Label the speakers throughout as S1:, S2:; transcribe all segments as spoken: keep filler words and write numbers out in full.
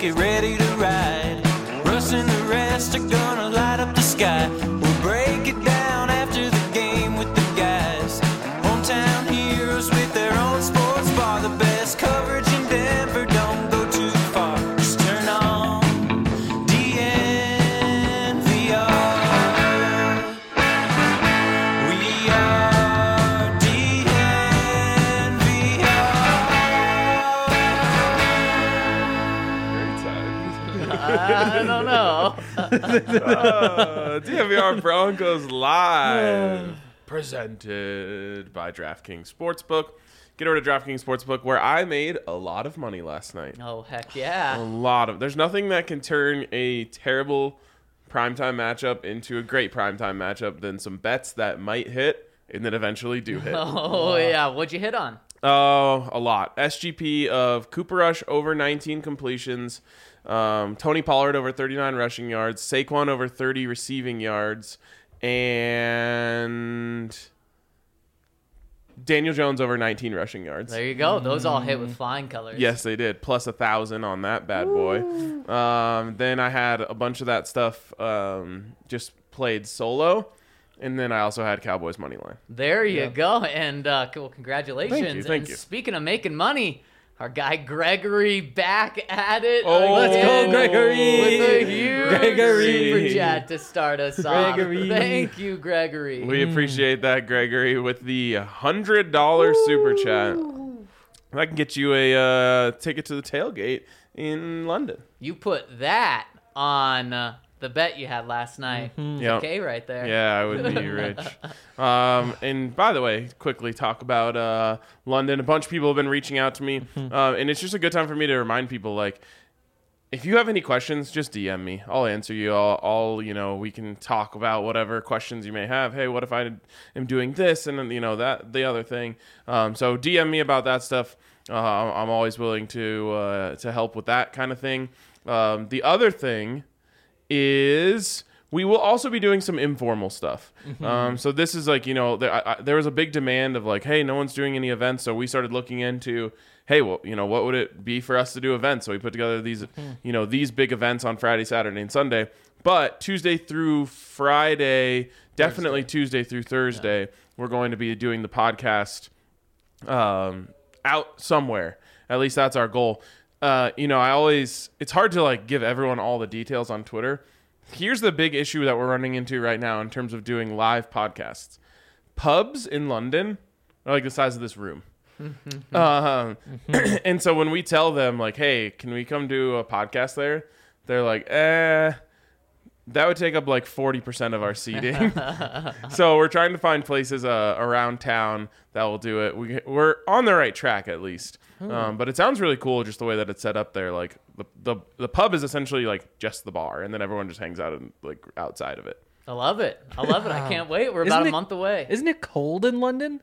S1: get ready to ride. Russ and the rest are gonna light up the sky. We'll break it down after the game with the guys. Hometown heroes with their own sports bar. The best coverage in Denver, don't go too far. Just turn on D N V R. We are D N V R.
S2: Great time.
S3: I don't know.
S2: uh, D N V R Broncos Live, presented by DraftKings Sportsbook. Get over to DraftKings Sportsbook, where I made a lot of money last night.
S3: Oh, heck
S2: A
S3: yeah.
S2: lot of. There's nothing that can turn a terrible primetime matchup into a great primetime matchup than some bets that might hit and then eventually do hit.
S3: Oh, yeah. What'd you hit on?
S2: Oh, a lot. S G P of Cooper Rush over nineteen completions. Um, Tony Pollard over thirty-nine rushing yards. Saquon over thirty receiving yards. And Daniel Jones over nineteen rushing yards.
S3: There you go. Those all hit with flying colors.
S2: Yes, they did. Plus a thousand on that bad boy. Um, then I had a bunch of that stuff um, just played solo. And then I also had Cowboys money line.
S3: There you
S4: Yeah.
S3: go. And uh, well, congratulations.
S2: Thank you, thank
S3: and
S2: you.
S3: Speaking of making money, our guy Gregory back at it.
S2: Oh,
S4: Let's
S3: again
S4: go, Gregory.
S3: With a huge
S4: Gregory.
S3: super chat to start us off.
S4: Gregory.
S3: Thank you, Gregory.
S2: We appreciate that, Gregory, with the one hundred dollars super chat. That can get you a uh, ticket to the tailgate in London.
S3: You put that on uh, the bet you had last night.
S4: Mm-hmm.
S2: Yep.
S3: Okay, right there.
S2: Yeah, I would be rich. Um, and by the way, quickly talk about uh, London. A bunch of people have been reaching out to me, uh, and it's just a good time for me to remind people, like, if you have any questions, just D M me. I'll answer you. I'll, I'll, you know, we can talk about whatever questions you may have. Hey, what if I am doing this and then, you know, that the other thing. Um, so D M me about that stuff. Uh, I'm always willing to uh, to help with that kind of thing. Um, the other thing is we will also be doing some informal stuff. Um, so this is like, you know, there, I, I, there was a big demand of like, hey, no one's doing any events. So we started looking into, hey, well, you know, what would it be for us to do events? So we put together these, you know, these big events on Friday, Saturday, and Sunday. But Tuesday through Friday, definitely Tuesday through Thursday, we're going to be doing the podcast um, out somewhere. At least that's our goal. Uh, you know, I always, it's hard to like give everyone all the details on Twitter. Here's the big issue that we're running into right now in terms of doing live podcasts. Pubs in London are like the size of this room. um, and so when we tell them like, hey, can we come do a podcast there? They're like, eh, that would take up like forty percent of our seating. So we're trying to find places uh, around town that will do it. We, we're on the right track at least. Um, but it sounds really cool just the way that it's set up there. Like the, the the pub is essentially like just the bar, and then everyone just hangs out in, like outside of it.
S3: I love it. I love it. I can't wait. We're
S4: Isn't
S3: about a
S4: it-
S3: month away.
S4: Isn't it cold in London?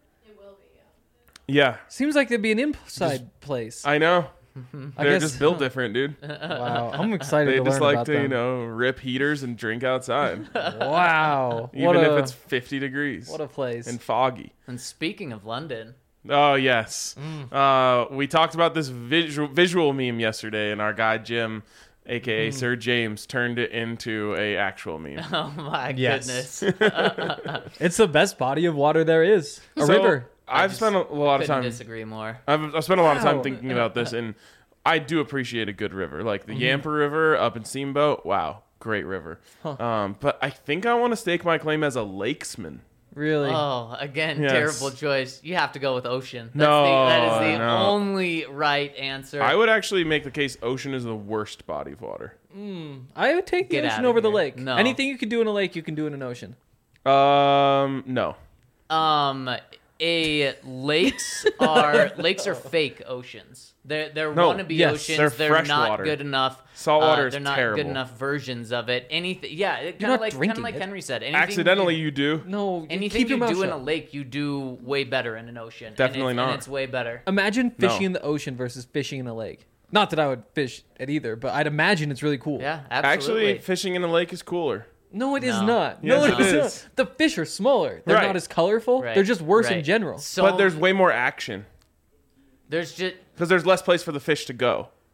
S2: Yeah,
S4: Seems like there'd be an inside place.
S2: I know.
S4: I
S2: They're
S4: guess-
S2: just built different, dude.
S4: Wow, I'm excited
S2: They
S4: to
S2: just
S4: learn
S2: like
S4: about
S2: to,
S4: them.
S2: you know, rip heaters and drink outside,
S4: Wow,
S2: even
S4: what a
S2: if it's fifty degrees
S4: what a place.
S2: and foggy.
S3: And speaking of London,
S2: Oh yes, uh, we talked about this visual visual meme yesterday, and our guy Jim, aka Sir James, turned it into a actual meme.
S3: oh my
S4: Yes.
S3: goodness.
S4: It's the best body of water there is. A
S2: So,
S4: river.
S2: I've
S3: just
S2: spent a lot of
S3: Couldn't
S2: time.
S3: disagree more.
S2: I've, I've spent a lot of time
S4: Wow.
S2: thinking about this, and I do appreciate a good river, like the
S4: Mm-hmm.
S2: Yampa River up in Steamboat. Wow, great river. Um, but I think I want to stake my claim as a lakesman.
S4: Really.
S3: Oh, again,
S2: Yes.
S3: terrible choice. You have to go with ocean. That's
S2: No,
S3: the, that is the
S2: no.
S3: only right answer.
S2: I would actually make the case ocean is the worst body of water.
S4: I would take the
S3: Get
S4: ocean
S3: outta
S4: over the
S3: here.
S4: lake.
S3: No.
S4: Anything you can do in a lake, you can do in an ocean.
S2: Um, no.
S3: Um, a lakes are lakes are fake oceans. They're they're
S2: No,
S3: wannabe
S4: yes,
S3: oceans.
S2: they're
S3: They're,
S2: fresh
S3: not
S2: water.
S3: good enough.
S2: Saltwater
S3: uh,
S2: is
S3: They're not
S2: terrible.
S3: good enough versions of it. Anything, yeah, kind
S4: not
S3: of like kind of
S4: drinking
S3: like
S4: it.
S3: Henry said. Anything
S2: Accidentally,
S3: you,
S2: you do.
S4: No,
S3: anything
S4: keep your
S3: you
S4: mouth
S3: do in
S4: shut.
S3: a lake, you do way better in an ocean. And
S2: Definitely
S3: it's,
S2: not.
S3: And it's way better.
S4: Imagine
S2: No.
S4: fishing in the ocean versus fishing in a lake. Not that I would fish at either, but I'd imagine it's really cool.
S3: Yeah, absolutely.
S2: Actually, fishing in a lake is cooler.
S4: No, it is
S3: No.
S4: not.
S2: Yes,
S4: no,
S2: it
S4: is
S2: is.
S4: not. The fish are smaller. They're
S2: Right.
S4: not as colorful.
S3: Right,
S4: They're just worse in
S3: right.
S4: general.
S3: So
S2: But there's way more action
S3: there's just
S2: because there's less place for the fish to go.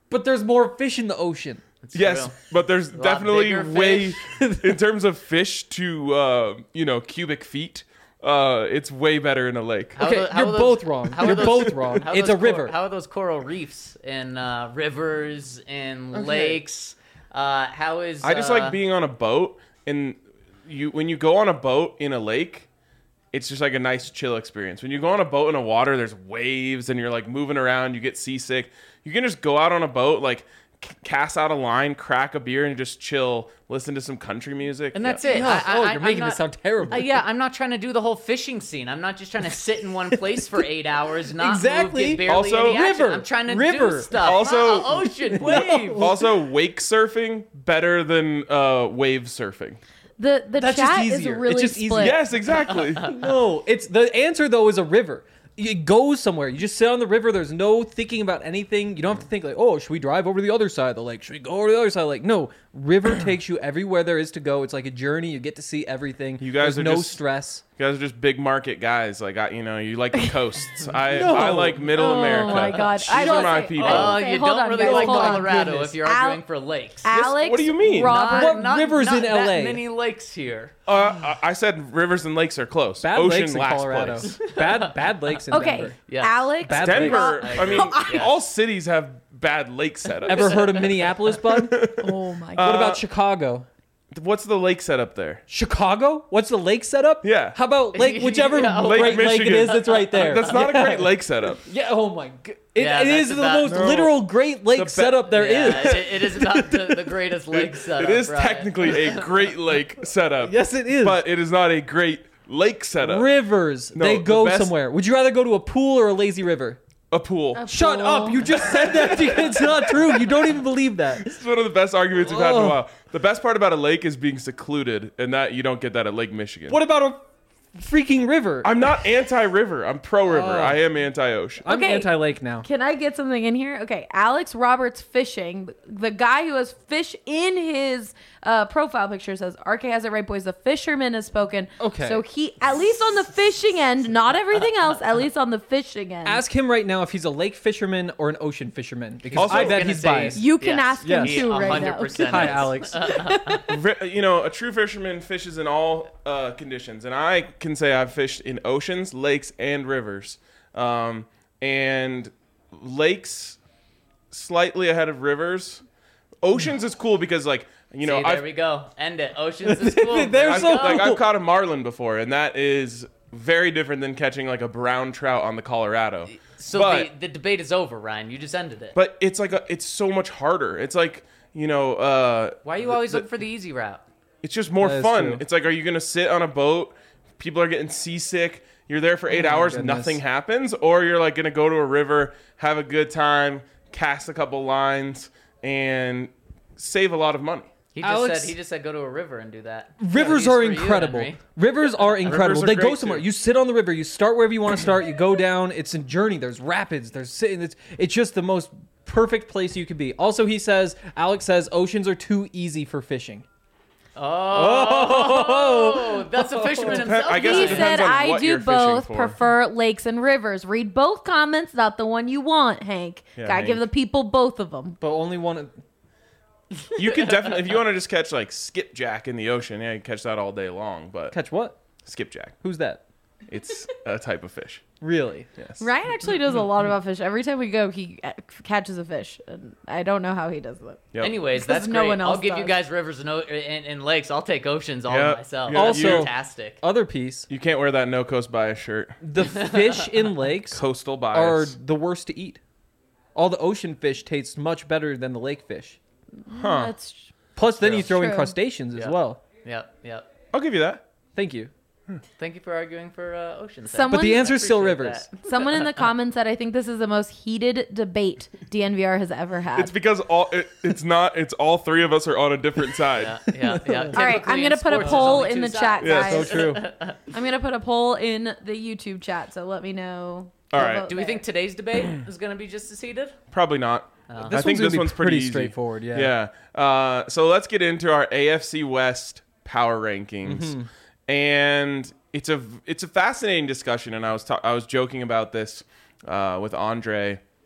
S4: But there's more fish in the ocean.
S2: Yes,
S3: true.
S2: but there's
S3: lot
S2: definitely
S3: bigger
S2: way, in terms of fish to, uh, you know, cubic feet, uh, it's way better in a lake.
S3: How
S4: Okay,
S3: are tho- how
S4: you're
S3: are those-
S4: both wrong.
S3: how are
S4: You're
S3: those-
S4: both wrong.
S3: how are
S4: It's
S3: those
S4: a river.
S3: Cor- how are those coral reefs in uh, rivers and
S2: Okay.
S3: lakes? Uh, how is
S2: I just
S3: uh,
S2: like being on a boat, and you when you go on a boat in a lake, it's just like a nice chill experience. When you go on a boat in a water, there's waves, and you're like moving around, you get seasick. You can just go out on a boat, like c- cast out a line, crack a beer, and just chill, listen to some country music.
S3: And that's
S2: Yeah.
S3: it.
S4: No,
S3: I, I,
S4: oh,
S3: I-
S4: you're
S3: I'm
S4: making
S3: not-
S4: this sound terrible.
S3: Uh, yeah, I'm not trying to do the whole fishing scene. I'm not just trying to sit in one place for eight hours, not
S4: Exactly.
S3: move, get barely
S2: Also-
S3: any action.
S4: River.
S3: I'm trying to
S4: River.
S3: do stuff.
S2: Also-
S3: Uh, ocean, wave.
S2: Also, wake surfing better than uh, wave surfing.
S5: The the
S4: That's just
S5: chat is
S4: easier. It's
S5: really
S4: just easier.
S5: split.
S2: Yes, exactly.
S4: No, it's the answer though is a river. You go somewhere. You just sit on the river. There's no thinking about anything. You don't have to think like, oh, should we drive over to the other side of the lake? Should we go over to the other side of the lake? No, river takes you everywhere there is to go. It's like a journey. You get to see everything.
S2: You guys
S4: There's
S2: are
S4: no
S2: just-
S4: stress.
S2: You guys are just big market guys. Like, I, you know, you like the coasts. I
S4: No.
S2: I like middle
S5: Oh
S2: America.
S5: my God.
S2: These
S5: I
S2: are
S5: don't
S2: my
S5: say-
S2: people.
S3: Oh,
S5: Okay,
S3: you
S5: hold
S3: don't
S5: on,
S3: really
S5: guys,
S3: like
S5: hold on.
S3: Colorado
S4: Goodness.
S3: if you're
S5: Al-
S3: arguing for lakes.
S5: Alex,
S2: what do you mean?
S5: Robert,
S4: What
S3: not,
S4: rivers
S3: not
S4: in
S3: that
S4: L A?
S3: many lakes here.
S2: Uh, I I said rivers and lakes are close.
S4: Bad
S2: Ocean
S4: lakes in
S2: last
S4: Colorado.
S2: place.
S4: Bad bad lakes in
S5: okay,
S4: Denver.
S3: Yes.
S5: Alex,
S4: Bad
S2: Denver.
S3: lakes.
S2: I mean,
S3: Yes.
S2: all cities have bad lake setups.
S4: Ever heard of Minneapolis, bud?
S5: oh my
S2: Uh,
S5: God.
S4: What about Chicago?
S2: What's the lake setup there?
S4: Chicago? What's the lake setup?
S2: Yeah.
S4: How about lake, whichever
S3: Yeah,
S2: Lake
S4: great lake it
S2: Michigan.
S4: is that's right there?
S2: That's not a great lake setup.
S4: Yeah. Oh my god. It,
S3: Yeah,
S4: it is
S3: that's
S4: the
S3: about-
S4: most
S2: No.
S4: literal Great Lake
S2: The be-
S4: setup there is.
S3: yeah, It, it is about the, the greatest lake setup.
S2: It is
S3: right?
S2: technically a great lake setup.
S4: Yes, it is.
S2: But it is not a great lake setup.
S4: Rivers.
S2: No,
S4: they
S2: the
S4: go
S2: best-
S4: somewhere. Would you rather go to a pool or a lazy river?
S2: A pool.
S4: Shut up. You just said that. It's not true. You don't even believe that.
S2: This is one of the best arguments we've had in a
S4: Ugh.
S2: while. The best part about a lake is being secluded, and that you don't get that at Lake Michigan.
S4: What about a freaking river?
S2: I'm not anti-river. I'm pro-river.
S4: Oh.
S2: I am anti-ocean.
S4: I'm
S5: Okay.
S4: anti-lake now.
S5: Can I get something in here? Okay, Alex Roberts fishing. The guy who has fish in his uh, profile picture says, R K has it right, boys. The fisherman has spoken.
S4: Okay.
S5: So he, at least on the fishing end, not everything else, at least on the fishing end.
S4: Ask him right now if he's a lake fisherman or an ocean fisherman, because
S2: Also-
S4: I
S2: I was
S4: bet
S3: gonna
S4: he's
S3: say-
S4: biased.
S5: you can
S3: Yes.
S5: ask him
S4: Yes.
S5: too
S3: He
S5: right
S3: one hundred
S5: now.
S3: percent
S4: Hi,
S3: is.
S4: Alex.
S2: Ve- You know, a true fisherman fishes in all uh, conditions, and I can say I've fished in oceans, lakes, and rivers. Um, and lakes slightly ahead of rivers. Oceans is cool because, like, you know,
S3: See, there
S2: I've,
S3: we go. End it. Oceans is cool.
S4: They're
S2: I've,
S4: so
S2: like,
S4: cool.
S2: I've caught a marlin before, and that is very different than catching like a brown trout on the Colorado.
S3: So
S2: but,
S3: the, the debate is over, Ryan. You just ended it.
S2: but it's like a, it's so much harder. It's like, you know, uh,
S3: Why are you
S2: the-
S3: always
S2: the-
S3: looking for the easy route?
S2: It's just more
S4: That is
S2: fun.
S4: true.
S2: It's like, are you gonna sit on a boat? People are getting seasick. You're there for eight
S4: Oh my
S2: hours,
S4: goodness.
S2: nothing happens, or you're like gonna go to a river, have a good time, cast a couple lines, and save a lot of money.
S3: He just
S4: Alex-
S3: said he just said go to a river and do that.
S4: Rivers
S3: Yeah,
S4: are
S3: he's for you,
S4: incredible.
S3: Henry.
S4: Rivers are incredible.
S2: are
S4: they go
S2: great,
S4: somewhere.
S2: too.
S4: You sit on the river. You start wherever you want to start. You go down. It's a journey. There's rapids. There's sitting. It's it's just the most perfect place you could be. Also, he says, Alex says, oceans are too easy for fishing.
S3: Oh, that's a fisherman himself.
S2: I guess
S5: He
S2: it depends
S5: said,
S2: on
S5: I
S2: what
S5: do
S2: you're fishing
S5: both
S2: for."
S5: prefer lakes and rivers. Read both comments, not the one you want, Hank.
S2: Yeah,
S5: Gotta give the
S2: Hank.
S5: people both of them.
S4: But only one.
S2: You can definitely, if you want to just catch like skipjack in the ocean, yeah, you can catch that all day long. But
S4: Catch what?
S2: skipjack,
S4: Who's that?
S2: it's a type of fish.
S4: Really?
S2: Yes.
S5: Ryan actually knows a lot about fish. Every time we go, he uh, catches a fish. And I don't know how he does that.
S2: Yep.
S3: Anyways,
S5: Because
S3: that's
S5: no
S3: great.
S5: one
S3: I'll
S5: else
S3: give you
S5: does.
S3: guys rivers and, o- and, and lakes. I'll take oceans all
S2: Yep.
S3: myself.
S2: Yeah,
S4: Also-
S3: fantastic.
S4: Other piece.
S2: You can't wear that no coast bias shirt.
S4: The fish in lakes
S2: Coastal
S4: are
S2: bias.
S4: the worst to eat. All the ocean fish taste much better than the lake fish.
S2: Huh.
S5: That's
S4: Plus, then
S3: True.
S4: you throw in
S5: True.
S4: crustaceans as
S3: Yeah.
S4: well.
S3: Yep, yep.
S2: I'll give you that.
S4: Thank you.
S3: Thank you for arguing for uh, oceans.
S5: Someone-
S4: But the answer is still
S3: Appreciate
S4: rivers.
S3: that.
S5: someone in the comments said, I think this is the most heated debate D N V R has ever had.
S2: It's because all it, it's not. It's all three of us are on a different side.
S3: Yeah, yeah, yeah.
S5: All right,
S3: Typically
S5: I'm
S3: in
S5: gonna put a
S3: sports, there's
S5: poll
S3: only
S5: in
S3: two
S5: the
S3: sides.
S5: chat,
S2: Yeah,
S5: guys.
S4: So true.
S5: I'm gonna put a poll in the YouTube chat, so let me know.
S2: All
S5: the
S2: right.
S5: vote
S3: Do we
S5: there.
S3: think today's debate is going to be just as heated?
S2: Probably not.
S3: Oh.
S4: This
S2: I think
S4: one's gonna
S2: this
S4: be
S2: one's pretty,
S4: pretty
S2: easy.
S4: straightforward, yeah.
S2: Yeah. Uh, so let's get into our A F C West power rankings,
S4: Mm-hmm.
S2: and it's a it's a fascinating discussion. And I was ta- I was joking about this uh, with Andre.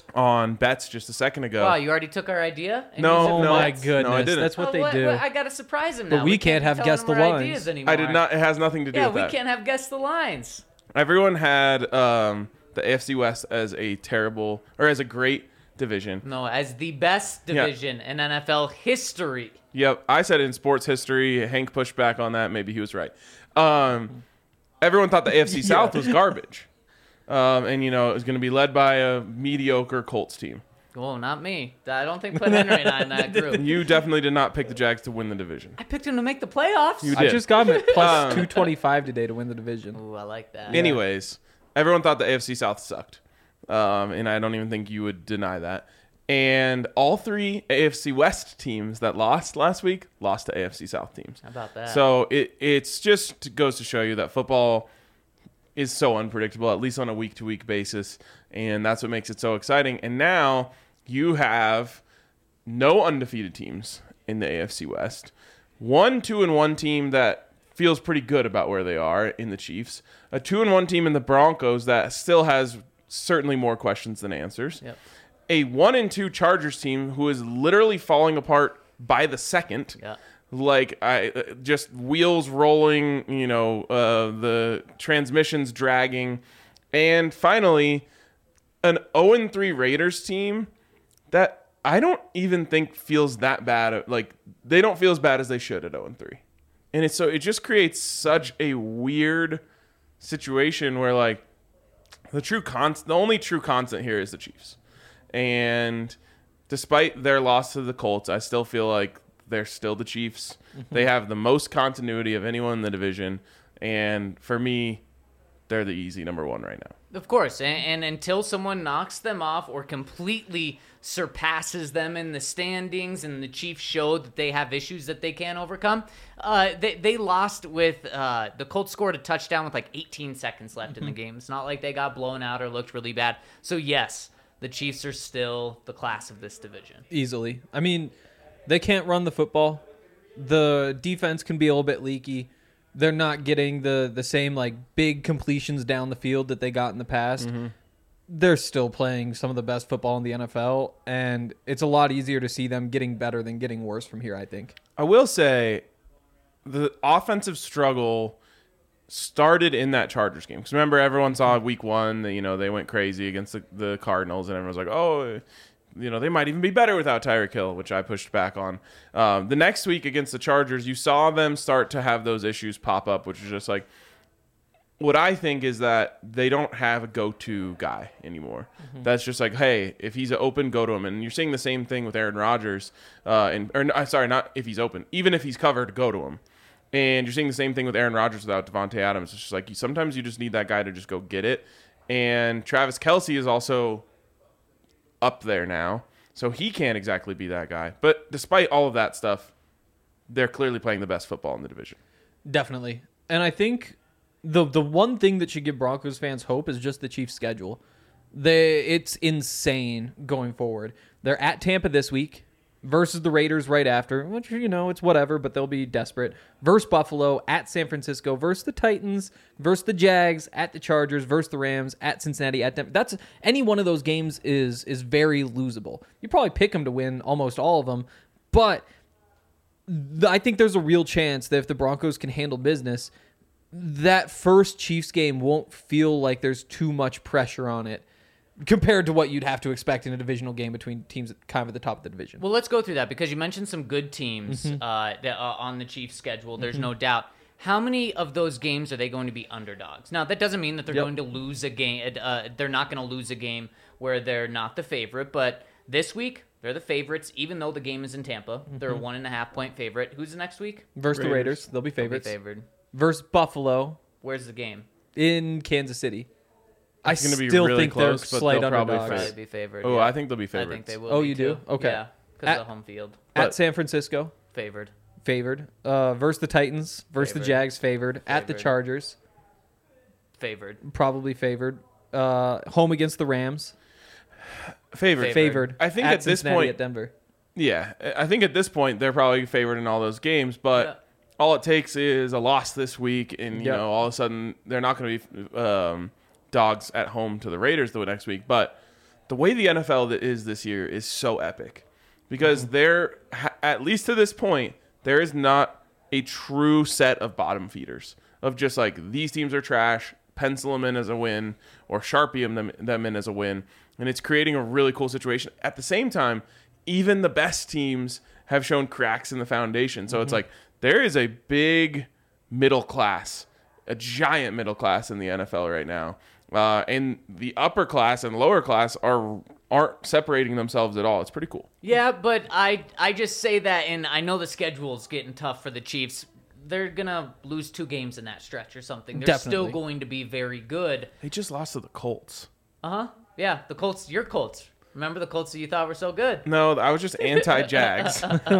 S2: on bets just a second ago.
S3: Wow, you already took our idea? And
S2: No,
S3: used it
S4: Oh
S3: for
S2: no,
S4: my
S3: bets?
S4: goodness,
S2: no, I didn't.
S4: that's what
S3: Oh,
S4: they
S3: what-
S4: do.
S3: what- I gotta surprise him
S4: But
S3: now.
S4: we
S3: We
S4: can't
S3: be
S4: have
S3: telling
S4: guess
S3: him
S4: the
S3: our
S4: lines.
S3: ideas anymore.
S2: I did not. It has nothing to do
S3: Yeah,
S2: with
S3: we
S2: that.
S3: can't have guess the lines.
S2: Everyone had um, the A F C West as a terrible or as a great division.
S3: No, as the best
S2: Yeah.
S3: division in N F L history.
S2: Yep, I said in sports history. Hank pushed back on that. Maybe he was right. Um, everyone thought the A F C South was garbage, um, and you know it was going to be led by a mediocre Colts team.
S3: Oh, not me. I don't think put Henry and I in that group.
S2: You definitely did not pick the Jags to win the division.
S3: I picked him to make the playoffs.
S2: You
S4: I
S2: did.
S4: just got him at plus
S2: Um,
S4: two twenty-five today to win the division.
S3: Ooh, I like that.
S2: Anyways, everyone thought the A F C South sucked, um, and I don't even think you would deny that. And all three A F C West teams that lost last week lost to A F C South teams.
S3: How about that?
S2: So it it's just goes to show you that football is so unpredictable, at least on a week to week basis, and that's what makes it so exciting. And now you have no undefeated teams in the A F C West, one two and one team that feels pretty good about where they are in the Chiefs, a two and one team in the Broncos that still has certainly more questions than answers.
S3: Yep.
S2: A one and two Chargers team who is literally falling apart by the second.
S3: Yeah.
S2: Like I uh, just wheels rolling, you know, uh, the transmissions dragging, and finally, an zero and three Raiders team that I don't even think feels that bad. Like they don't feel as bad as they should at zero and three, and it's so it just creates such a weird situation where like the true con the only true constant here is the Chiefs. And despite their loss to the Colts, I still feel like they're still the Chiefs.
S3: Mm-hmm.
S2: They have the most continuity of anyone in the division. And for me, they're the easy number one right now.
S3: Of course, and, and until someone knocks them off or completely surpasses them in the standings, and the Chiefs showed that they have issues that they can't overcome, uh, they they lost with uh, the Colts scored a touchdown with like eighteen seconds left in the game. It's not like they got blown out or looked really bad. So yes, the Chiefs are still the class of this division.
S4: Easily. I mean, they can't run the football. The defense can be a little bit leaky. They're not getting the, the same like big completions down the field that they got in the past.
S2: Mm-hmm.
S4: They're still playing some of the best football in the N F L, and it's a lot easier to see them getting better than getting worse from here, I think.
S2: I will say the offensive struggle started in that Chargers game. Because remember, everyone saw week one that, you know, they went crazy against the, the Cardinals, and everyone was like, oh, you know, they might even be better without Tyreek Hill, which I pushed back on. Um, the next week against the Chargers, you saw them start to have those issues pop up, which is just like, what I think is that they don't have a go-to guy anymore. Mm-hmm. That's just like, hey, if he's open, go to him. And you're seeing the same thing with Aaron Rodgers. Uh, and or uh, sorry, not if he's open. Even if he's covered, go to him. And you're seeing the same thing with Aaron Rodgers without Devontae Adams. It's just like you, sometimes you just need that guy to just go get it. And Travis Kelce is also up there now, so he can't exactly be that guy. But despite all of that stuff, they're clearly playing the best football in the division.
S4: Definitely. And I think the the one thing that should give Broncos fans hope is just the Chiefs' schedule. They it's insane going forward. They're at Tampa this week versus the Raiders right after, which, you know, it's whatever, but they'll be desperate. Versus Buffalo, at San Francisco, versus the Titans, versus the Jags, at the Chargers, versus the Rams, at Cincinnati, at Denver. That's any one of those games is is very losable. You probably pick them to win almost all of them, but th- I think there's a real chance that if the Broncos can handle business, that first Chiefs game won't feel like there's too much pressure on it compared to what you'd have to expect in a divisional game between teams kind of at the top of the division.
S3: Well, let's go through that because you mentioned some good teams
S4: Mm-hmm.
S3: uh, that are on the Chiefs' schedule. There's no doubt. How many of those games are they going to be underdogs? Now, that doesn't mean that they're
S4: Yep.
S3: going to lose a game. Uh, they're not going to lose a game where they're not the favorite. But this week, they're the favorites, even though the game is in Tampa. They're a one and a half point favorite. Who's the next week?
S4: Versus the
S2: Raiders.
S4: Raiders, they'll be
S3: They'll be
S4: favorites.
S3: favored.
S4: Versus Buffalo
S3: Where's the game?
S4: in Kansas City. I
S2: It's gonna be
S4: still
S2: really
S4: think
S2: close,
S4: they're
S2: but
S4: slight
S2: they'll probably
S4: underdogs.
S3: Probably
S2: Favorite.
S3: be favored.
S2: Oh,
S3: yeah.
S2: I think they'll be
S3: I
S2: favorites.
S3: think they will.
S4: Oh,
S3: be
S4: you do?
S3: too.
S4: Okay.
S3: Yeah, because
S4: At-
S3: of the home field.
S4: At
S2: But-
S4: San Francisco,
S3: Favored.
S4: favored. Uh, versus the Titans, versus the
S3: Favored.
S4: Jags, favored. At the
S3: Favored.
S4: Chargers,
S3: Favored.
S4: probably favored. Uh, home against the Rams,
S2: Favored.
S3: Favored.
S4: favored.
S2: I think
S4: at
S2: at this
S4: Cincinnati,
S2: point-
S4: at Denver.
S2: Yeah, I think at this point they're probably favored in all those games, but
S3: Yeah.
S2: all it takes is a loss this week, and you
S4: Yep.
S2: know all of a sudden they're not going to be um, dogs at home to the Raiders the next week. But the way the N F L is this year is so epic because there, at least to this point, there is not a true set of bottom feeders of just like these teams are trash, pencil them in as a win, or Sharpie them, them in as a win. And it's creating a really cool situation. At the same time, even the best teams have shown cracks in the foundation. So mm-hmm. it's like there is a big middle class, a giant middle class in the N F L right now. Uh, and the upper class and lower class are aren't separating themselves at all. It's pretty cool.
S3: Yeah, but I I just say that, and I know the schedule's getting tough for the Chiefs. They're gonna lose two games in that stretch or something. They're
S4: Definitely.
S3: still going to be very good.
S2: They just lost to the Colts.
S3: Uh huh. Yeah, the Colts. Your Colts. Remember the Colts that you thought were so good?
S2: No, I was just anti-Jags.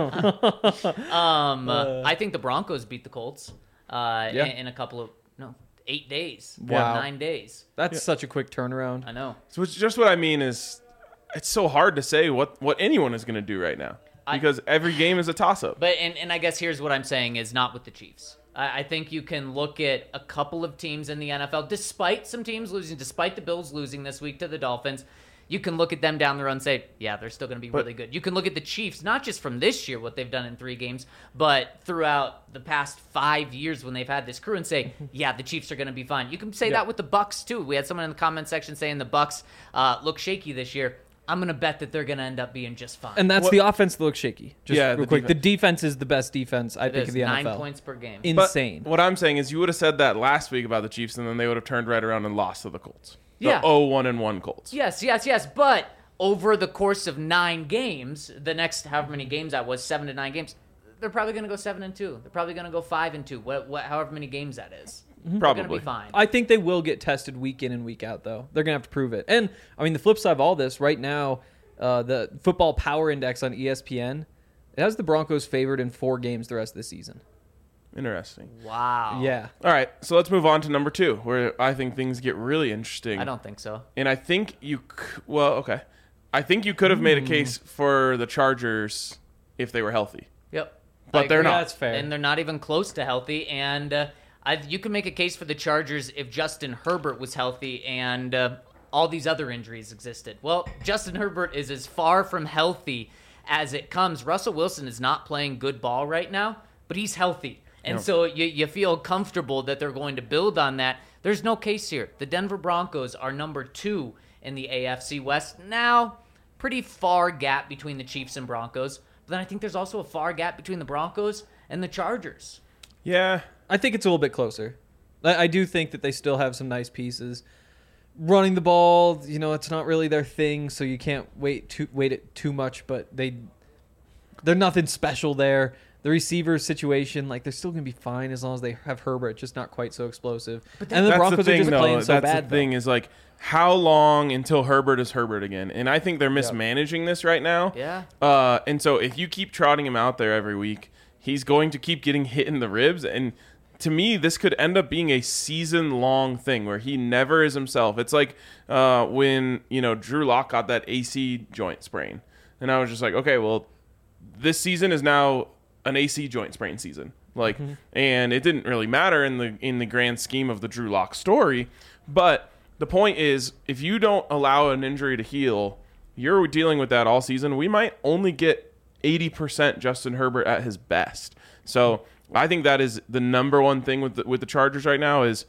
S3: um, uh, I think the Broncos beat the Colts uh,
S4: Yeah.
S3: in, in a couple of no eight days.
S4: Wow.
S3: nine days.
S4: That's such a quick turnaround.
S3: I know.
S2: So it's just what I mean is, it's so hard to say what, what anyone is going to do right now because I, every game is a toss-up.
S3: But and, and I guess here's what I'm saying is not with the Chiefs. I, I think you can look at a couple of teams in the N F L, despite some teams losing, despite the Bills losing this week to the Dolphins. You can look at them down the road and say, yeah, they're still going to be
S2: But-
S3: really good. You can look at the Chiefs, not just from this year, what they've done in three games, but throughout the past five years when they've had this crew and say, yeah, the Chiefs are going to be fine. You can say
S4: Yeah.
S3: that with the Bucks too. We had someone in the comment section saying the Bucks uh, look shaky this year. I'm going to bet that they're going to end up being just fine.
S4: And that's
S2: What-
S4: the offense that looks shaky. Just
S2: Yeah,
S4: real
S2: the
S4: quick.
S2: defense.
S4: The defense is the best defense, I
S3: It
S4: think,
S3: is
S4: of the
S3: nine
S4: N F L.
S3: points per game.
S2: But
S4: Insane.
S2: what I'm saying is you would have said that last week about the Chiefs, and then they would have turned right around and lost to the Colts. The
S3: Yeah.
S2: oh one and one Colts.
S3: Yes, yes, yes. But over the course of nine games, the next however many games that was, seven to nine games, they're probably going to go seven and two. They're probably going to go five and two. What, what, however many games that is, they're going to
S2: Probably.
S3: be fine.
S4: I think they will get tested week in and week out, though. They're going to have to prove it. And, I mean, the flip side of all this, right now, uh, the Football Power Index on E S P N, it has the Broncos favored in four games the rest of the season.
S2: Interesting.
S3: Wow.
S4: Yeah.
S2: All right, so let's move on to number two, where I think things get really interesting.
S3: I don't think so.
S2: And I think you, c- well, okay. I think you could have made a case for the Chargers if they were healthy.
S3: Yep.
S2: But
S3: I
S2: they're
S3: agree.
S2: not.
S4: That's fair.
S3: And they're not even close to healthy. And uh, I, you can make a case for the Chargers if Justin Herbert was healthy and uh, all these other injuries existed. Well, Justin Herbert is as far from healthy as it comes. Russell Wilson is not playing good ball right now, but he's healthy. And
S2: No.
S3: so you, you feel comfortable that they're going to build on that. There's no case here. The Denver Broncos are number two in the A F C West. Now, pretty far gap between the Chiefs and Broncos. But then I think there's also a far gap between the Broncos and the Chargers.
S2: Yeah.
S4: I think it's a little bit closer. I, I do think that they still have some nice pieces. Running the ball, you know, it's not really their thing, so you can't wait too wait it too much. But they, they're nothing special there. The receiver situation, like they're still gonna be fine as long as they have Herbert, just not quite so explosive.
S3: But
S4: and the
S2: That's
S4: Broncos
S2: the thing,
S4: are just
S2: though.
S4: playing so
S2: That's
S4: bad.
S2: the thing
S4: though.
S2: is like, how long until Herbert is Herbert again? And I think they're mismanaging this right now.
S3: Yeah.
S2: Uh, and so if you keep trotting him out there every week, he's going to keep getting hit in the ribs. And to me, this could end up being a season-long thing where he never is himself. It's like uh, when, you know, Drew Lock got that A C joint sprain. And I was just like, okay, well, this season is now an A C joint sprain season. Like,
S4: Mm-hmm.
S2: and it didn't really matter in the in the grand scheme of the Drew Lock story. But the point is, if you don't allow an injury to heal, you're dealing with that all season. We might only get eighty percent Justin Herbert at his best. So I think that is the number one thing with the, with the Chargers right now is,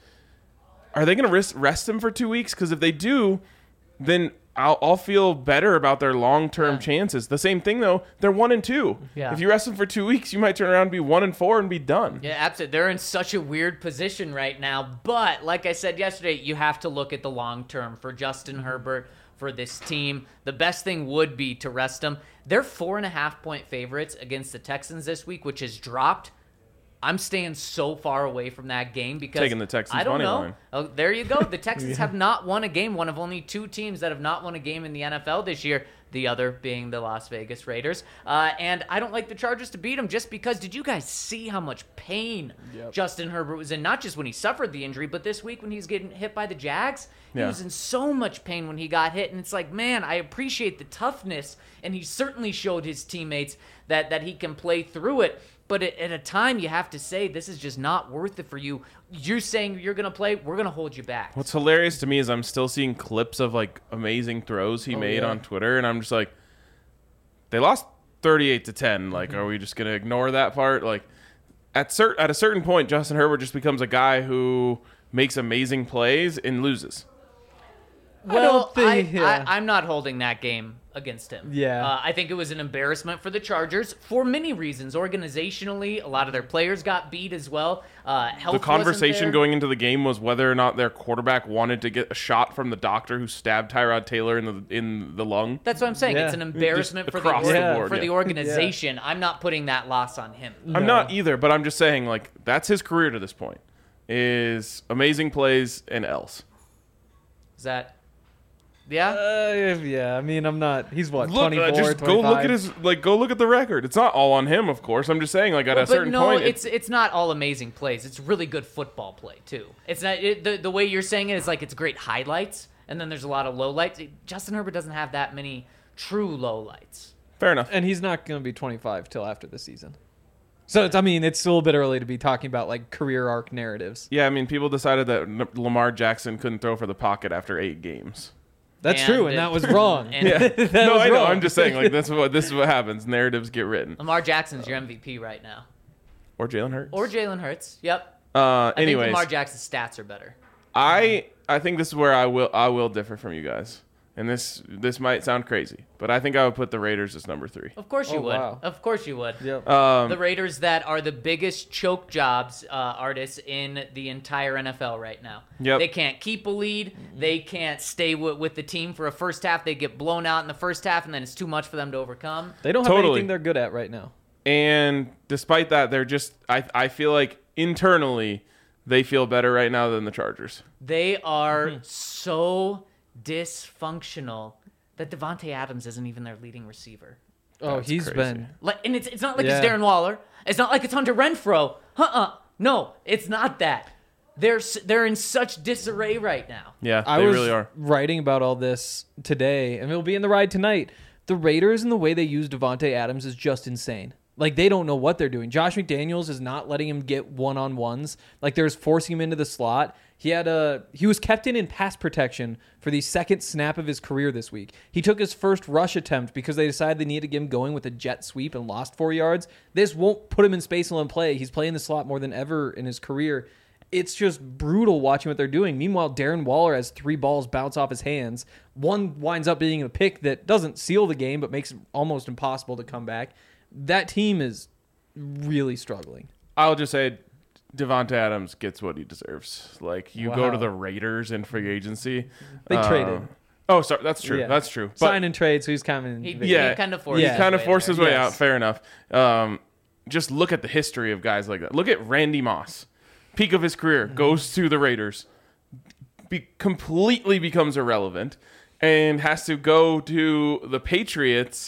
S2: are they going to rest, rest him for two weeks? Because if they do, then I'll, I'll feel better about their long-term
S3: Yeah.
S2: chances. The same thing, though, they're one and two.
S3: Yeah.
S2: If you rest them for two weeks, you might turn around and be one and four and be done.
S3: Yeah, absolutely. They're in such a weird position right now. But like I said yesterday, you have to look at the long term for Justin Herbert, for this team. The best thing would be to rest him. They're four and a half point favorites against the Texans this week, which has dropped. I'm staying so far away from that game because
S2: Taking the Texans
S3: I don't
S2: money
S3: know.
S2: line.
S3: Oh, there you go. The Texans have not won a game. One of only two teams that have not won a game in the N F L this year. the other being the Las Vegas Raiders. Uh, and I don't like the Chargers to beat them just because did you guys see how much pain
S4: Yep.
S3: Justin Herbert was in? Not just when he suffered the injury, but this week when he's getting hit by the Jags. He
S2: Yeah.
S3: was in so much pain when he got hit. And it's like, man, I appreciate the toughness. And he certainly showed his teammates that, that he can play through it. But at, at a time, you have to say, this is just not worth it for you. You're saying you're going to play, we're going to hold you back.
S2: What's hilarious to me is I'm still seeing clips of like amazing throws he
S4: Oh,
S2: made
S4: yeah.
S2: on Twitter, and I'm just like, they lost thirty-eight to ten. Like,
S4: Mm-hmm.
S2: are we just gonna ignore that part? Like, at cert at a certain point, Justin Herbert just becomes a guy who makes amazing plays and loses.
S3: Well,
S4: I don't think-
S3: I,
S4: yeah.
S3: I, I'm not holding that game against him.
S4: Yeah.
S3: Uh, I think it was an embarrassment for the Chargers for many reasons. Organizationally, a lot of their players got beat as well. Uh, health
S2: The conversation
S3: wasn't there.
S2: going into the game was whether or not their quarterback wanted to get a shot from the doctor who stabbed Tyrod Taylor in the in the lung.
S3: That's what I'm saying.
S4: Yeah.
S3: It's an embarrassment
S2: Just
S3: for the,
S2: across
S4: the
S3: org-
S2: board,
S3: for
S2: yeah.
S3: the organization. I'm not putting that loss on him.
S2: I'm not either, but I'm just saying, like, that's his career to this point. Is amazing plays and L's.
S3: Is that... Yeah?
S4: Uh, yeah, I mean, I'm not. He's what,
S2: Look,
S4: twenty-four,
S2: uh, just go look at
S4: twenty-five?
S2: his like go look at the record. It's not all on him, of course. I'm just saying, like at a
S3: But
S2: certain
S3: no,
S2: point,
S3: it's it's not all amazing plays. It's really good football play too. It's not it, the the way you're saying it is like it's great highlights, and then there's a lot of lowlights. Justin Herbert doesn't have that many true lowlights.
S2: fair enough.
S4: And he's not going to be twenty-five till after the season. So, it's, I mean, it's still a bit early to be talking about, like, career arc narratives.
S2: Yeah, I mean, people decided that N- Lamar Jackson couldn't throw for the pocket after eight games.
S4: That's
S3: And
S4: true, and
S3: it-
S4: that was wrong.
S3: and-
S2: Yeah,
S4: That
S2: no,
S4: was
S2: I know.
S4: wrong.
S2: I'm just saying, like this is what this is what happens. Narratives get written.
S3: Lamar Jackson's your M V P right now,
S2: Or Jalen Hurts.
S3: or Jalen Hurts. Yep.
S2: uh,
S3: I
S2: anyways,
S3: think Lamar Jackson's stats are better.
S2: I I think this is where I will I will differ from you guys, and this this might sound crazy, but I think I would put the Raiders as number three.
S3: Of course you
S4: Oh,
S3: would.
S4: wow.
S3: Of course you would.
S4: Yep.
S2: Um,
S3: The Raiders that are the biggest choke jobs uh, artists in the entire N F L right now.
S2: Yep.
S3: They can't keep a lead. They can't stay w- with the team for a first half. They get blown out in the first half, and then it's too much for them to overcome.
S4: They don't have
S2: Totally.
S4: anything they're good at right now.
S2: And despite that, they're just I I feel like internally they feel better right now than the Chargers.
S3: They are
S2: Mm-hmm.
S3: so dysfunctional that Devontae Adams isn't even their leading receiver.
S4: Oh,
S2: That's
S4: he's
S2: crazy.
S4: been.
S3: Like, and it's it's not like
S4: Yeah.
S3: it's Darren Waller. It's not like it's Hunter Renfro. Uh-uh. No, it's not that. They're s- they're in such disarray right now.
S2: Yeah,
S4: I
S2: they
S4: was
S2: really are.
S4: writing about all this today, and it'll be in the ride tonight. The Raiders and the way they use Devontae Adams is just insane. Like, they don't know what they're doing. Josh McDaniels is not letting him get one-on-ones. Like, they're just forcing him into the slot. He had a he was kept in in pass protection for the second snap of his career this week. He took his first rush attempt because they decided they needed to get him going with a jet sweep and lost four yards. This won't put him in space and let him play. He's playing the slot more than ever in his career. It's just brutal watching what they're doing. Meanwhile, Darren Waller has three balls bounce off his hands. One winds up being a pick that doesn't seal the game, but makes it almost impossible to come back. That team is really struggling.
S2: I'll just say Devonta Adams gets what he deserves. Like, you go
S4: Wow.
S2: to the Raiders in free agency.
S4: They
S2: um,
S4: traded.
S2: Oh, sorry. That's true.
S4: Yeah.
S2: That's true. But
S4: Sign and trade, so he's coming.
S3: He,
S2: Yeah.
S3: he kind of forced.
S4: Yeah.
S3: his
S2: kind of
S3: way
S2: forced
S3: there.
S2: his way
S4: Yes.
S2: out. Fair enough. Um, just look at the history of guys like that. Look at Randy Moss. Peak of his career, goes to the Raiders, be, completely becomes irrelevant, and has to go to the Patriots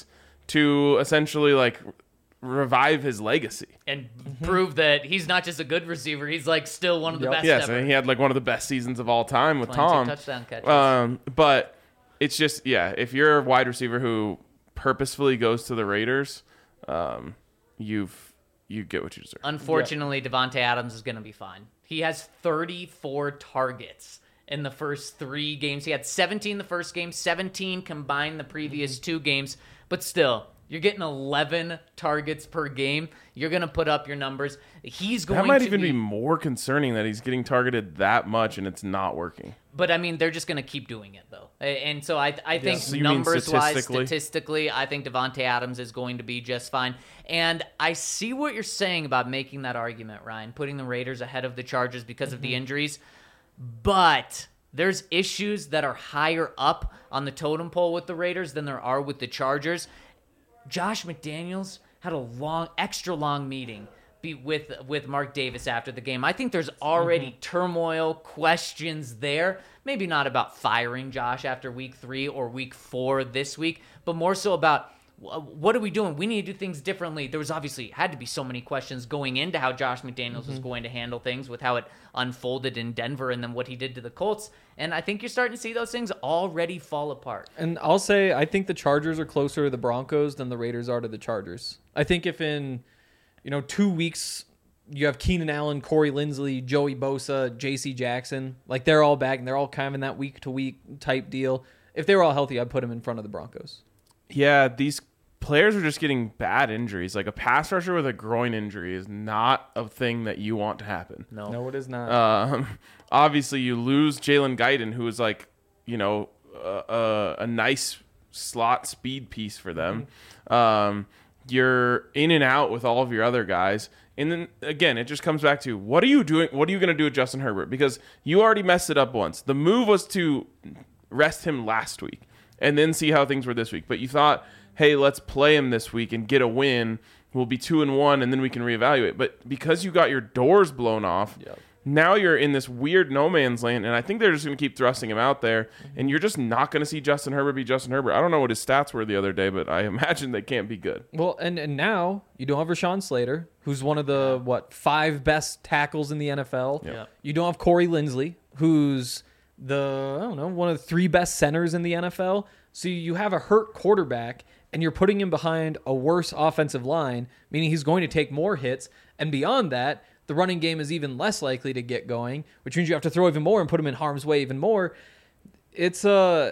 S2: to essentially like revive his legacy.
S3: and prove that he's not just a good receiver. He's like still one of the
S4: Yep.
S3: best
S2: Yes,
S3: ever.
S2: and he had like one of the best seasons of all time with
S3: twenty-two
S2: Tom.
S3: touchdown catches.
S2: Um, but it's just yeah, if you're a wide receiver who purposefully goes to the Raiders, um, you've you get what you deserve.
S3: Unfortunately, Devontae Adams is going to be fine. He has thirty-four targets in the first three games. He had seventeen the first game, seventeen combined the previous two games. But still, you're getting eleven targets per game. You're going to put up your numbers. He's going
S2: That might
S3: to
S2: even
S3: be,
S2: be more concerning that he's getting targeted that much and it's not working.
S3: But I mean, they're just going to keep doing it though. A- And so I, I think
S2: So you mean
S3: numbers wise,
S2: statistically?
S3: statistically, I think Devontae Adams is going to be just fine. And I see what you're saying about making that argument, Ryan, putting the Raiders ahead of the Chargers because of the injuries. But there's issues that are higher up on the totem pole with the Raiders than there are with the Chargers. Josh McDaniels had a long, extra long meeting be with with Mark Davis after the game. I think there's already mm-hmm. turmoil, questions there. Maybe not about firing Josh after week three or week four this week, but more so about what are we doing? We need to do things differently. There was obviously had to be so many questions going into how Josh McDaniels mm-hmm. was going to handle things with how it unfolded in Denver and then what he did to the Colts. And I think you're starting to see those things already fall apart.
S4: And I'll say I think the Chargers are closer to the Broncos than the Raiders are to the Chargers. I think if in, you know, two weeks you have Keenan Allen, Corey Linsley, Joey Bosa, J C Jackson, like they're all back and they're all kind of in that week-to-week type deal. If they were all healthy, I'd put them in front of the Broncos.
S2: Yeah, these players are just getting bad injuries. Like a pass rusher with a groin injury is not a thing that you want to happen.
S3: No,
S4: no, it is not.
S2: Um, obviously, you lose Jalen Guyton, who is like, you know, a, a, a nice slot speed piece for them. Mm-hmm. Um, you're in and out with all of your other guys. And then, again, it just comes back to, what are you doing? What are you going to do with Justin Herbert? Because you already messed it up once. The move was to rest him last week and then see how things were this week. But you thought, hey, let's play him this week and get a win. We'll be two and one, and then we can reevaluate. But because you got your doors blown off, yep. now you're in this weird no man's land, and I think they're just going to keep thrusting him out there, mm-hmm. and you're just not going to see Justin Herbert be Justin Herbert. I don't know what his stats were the other day, but I imagine they can't be good.
S4: Well, and, and now you don't have Rashawn Slater, who's one of the, what, five best tackles in the N F L.
S2: Yep. Yep.
S4: You don't have Corey Linsley, who's the, I don't know, one of the three best centers in the N F L. So you have a hurt quarterback, and you're putting him behind a worse offensive line, meaning he's going to take more hits. And beyond that, the running game is even less likely to get going, which means you have to throw even more and put him in harm's way even more. It's uh,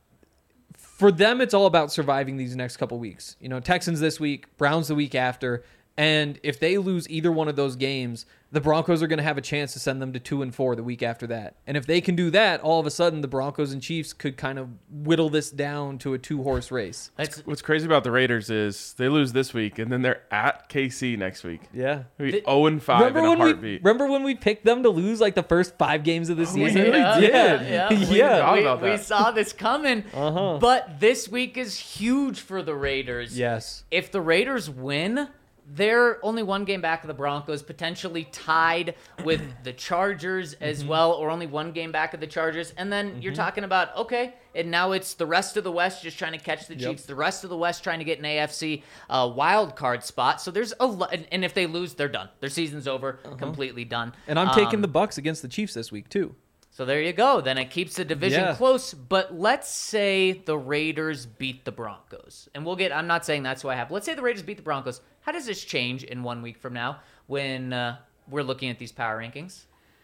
S4: for them, it's all about surviving these next couple weeks. You know, Texans this week, Browns the week after. And if they lose either one of those games, the Broncos are going to have a chance to send them to two and four the week after that. And if they can do that, all of a sudden the Broncos and Chiefs could kind of whittle this down to a two-horse race.
S2: That's, What's crazy about the Raiders is they lose this week, and then they're at K C next week.
S4: Yeah.
S2: The, oh and five in a heartbeat.
S4: We, remember when we picked them to lose like the first five games of the season?
S2: We
S3: yeah,
S2: did.
S3: Yeah, yeah.
S4: yeah.
S3: We,
S2: about
S3: we,
S2: that.
S3: we saw this coming,
S4: uh-huh.
S3: but this week is huge for the Raiders.
S4: Yes.
S3: If the Raiders win, they're only one game back of the Broncos, potentially tied with the Chargers as mm-hmm. well, or only one game back of the Chargers. And then mm-hmm. you're talking about, okay, and now it's the rest of the West just trying to catch the
S4: yep.
S3: Chiefs, the rest of the West trying to get an A F C uh, wild card spot. So there's a lot, and if they lose, they're done. Their season's over, uh-huh. completely done.
S4: And I'm um, taking the Bucs against the Chiefs this week too.
S3: So there you go. Then it keeps the division
S4: yeah.
S3: close. But let's say the Raiders beat the Broncos. And we'll get, I'm not saying that's who I have. Let's say the Raiders beat the Broncos. How does this change in one week from now when uh, we're looking at these power rankings?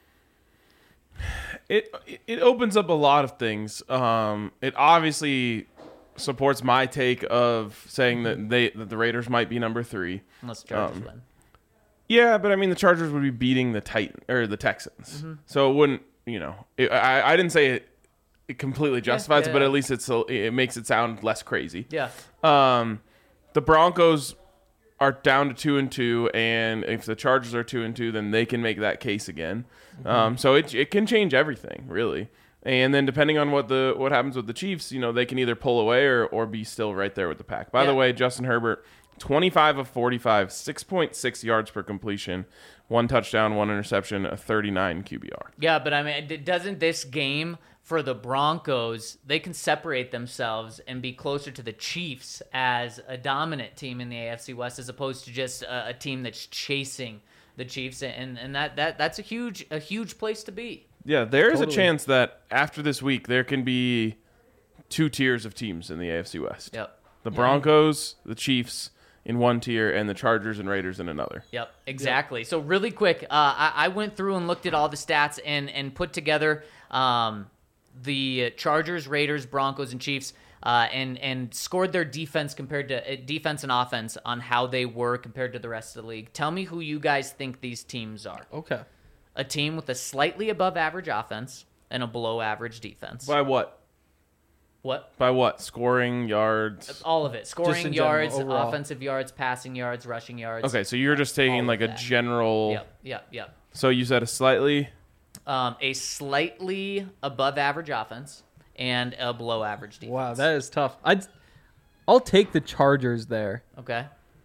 S2: It it opens up a lot of things. Um, it obviously supports my take of saying that they that the Raiders might be number three.
S3: Unless the Chargers
S2: um,
S3: win.
S2: Yeah, but I mean the Chargers would be beating the Titan or the Texans,
S3: mm-hmm.
S2: so it wouldn't. You know, it, I I didn't say it, it completely justifies
S3: yeah,
S2: it, but
S3: yeah.
S2: at least it's it makes it sound less crazy.
S3: Yeah.
S2: Um, the Broncos are down to two and two, and if the Chargers are two and two, then they can make that case again. Mm-hmm. Um, so it it can change everything really. And then depending on what the what happens with the Chiefs, you know, they can either pull away or or be still right there with the pack. By
S3: yeah.
S2: the way, Justin Herbert, twenty-five of forty-five, six point six yards per completion, one touchdown, one interception, a thirty-nine Q B R.
S3: Yeah, but I mean, doesn't this game for the Broncos, they can separate themselves and be closer to the Chiefs as a dominant team in the A F C West as opposed to just a, a team that's chasing the Chiefs, and and that, that that's a huge a huge place to be.
S2: Yeah, there is
S4: Totally.
S2: a chance that after this week there can be two tiers of teams in the A F C West.
S3: Yep.
S2: The Broncos, the Chiefs in one tier, and the Chargers and Raiders in another.
S3: Yep, exactly. Yep. So really quick, uh, I, I went through and looked at all the stats and and put together um, the Chargers, Raiders, Broncos, and Chiefs, uh, and and scored their defense compared to uh, defense and offense on how they were compared to the rest of the league. Tell me who you guys think these teams are.
S4: Okay.
S3: A team with a slightly above average offense and a below average defense.
S2: By what?
S3: What?
S2: By what? Scoring, yards?
S3: All of it. Scoring
S4: in general,
S3: yards,
S4: overall.
S3: offensive yards, passing yards, rushing yards.
S2: Okay, so you're just taking
S3: all
S2: like
S3: of
S2: a
S3: that.
S2: general.
S3: Yep, yep, yep.
S2: So you said a slightly.
S3: Um, a slightly above average offense and a below average defense.
S4: Wow, that is tough. I'd, I'll take the Chargers there.
S3: Okay.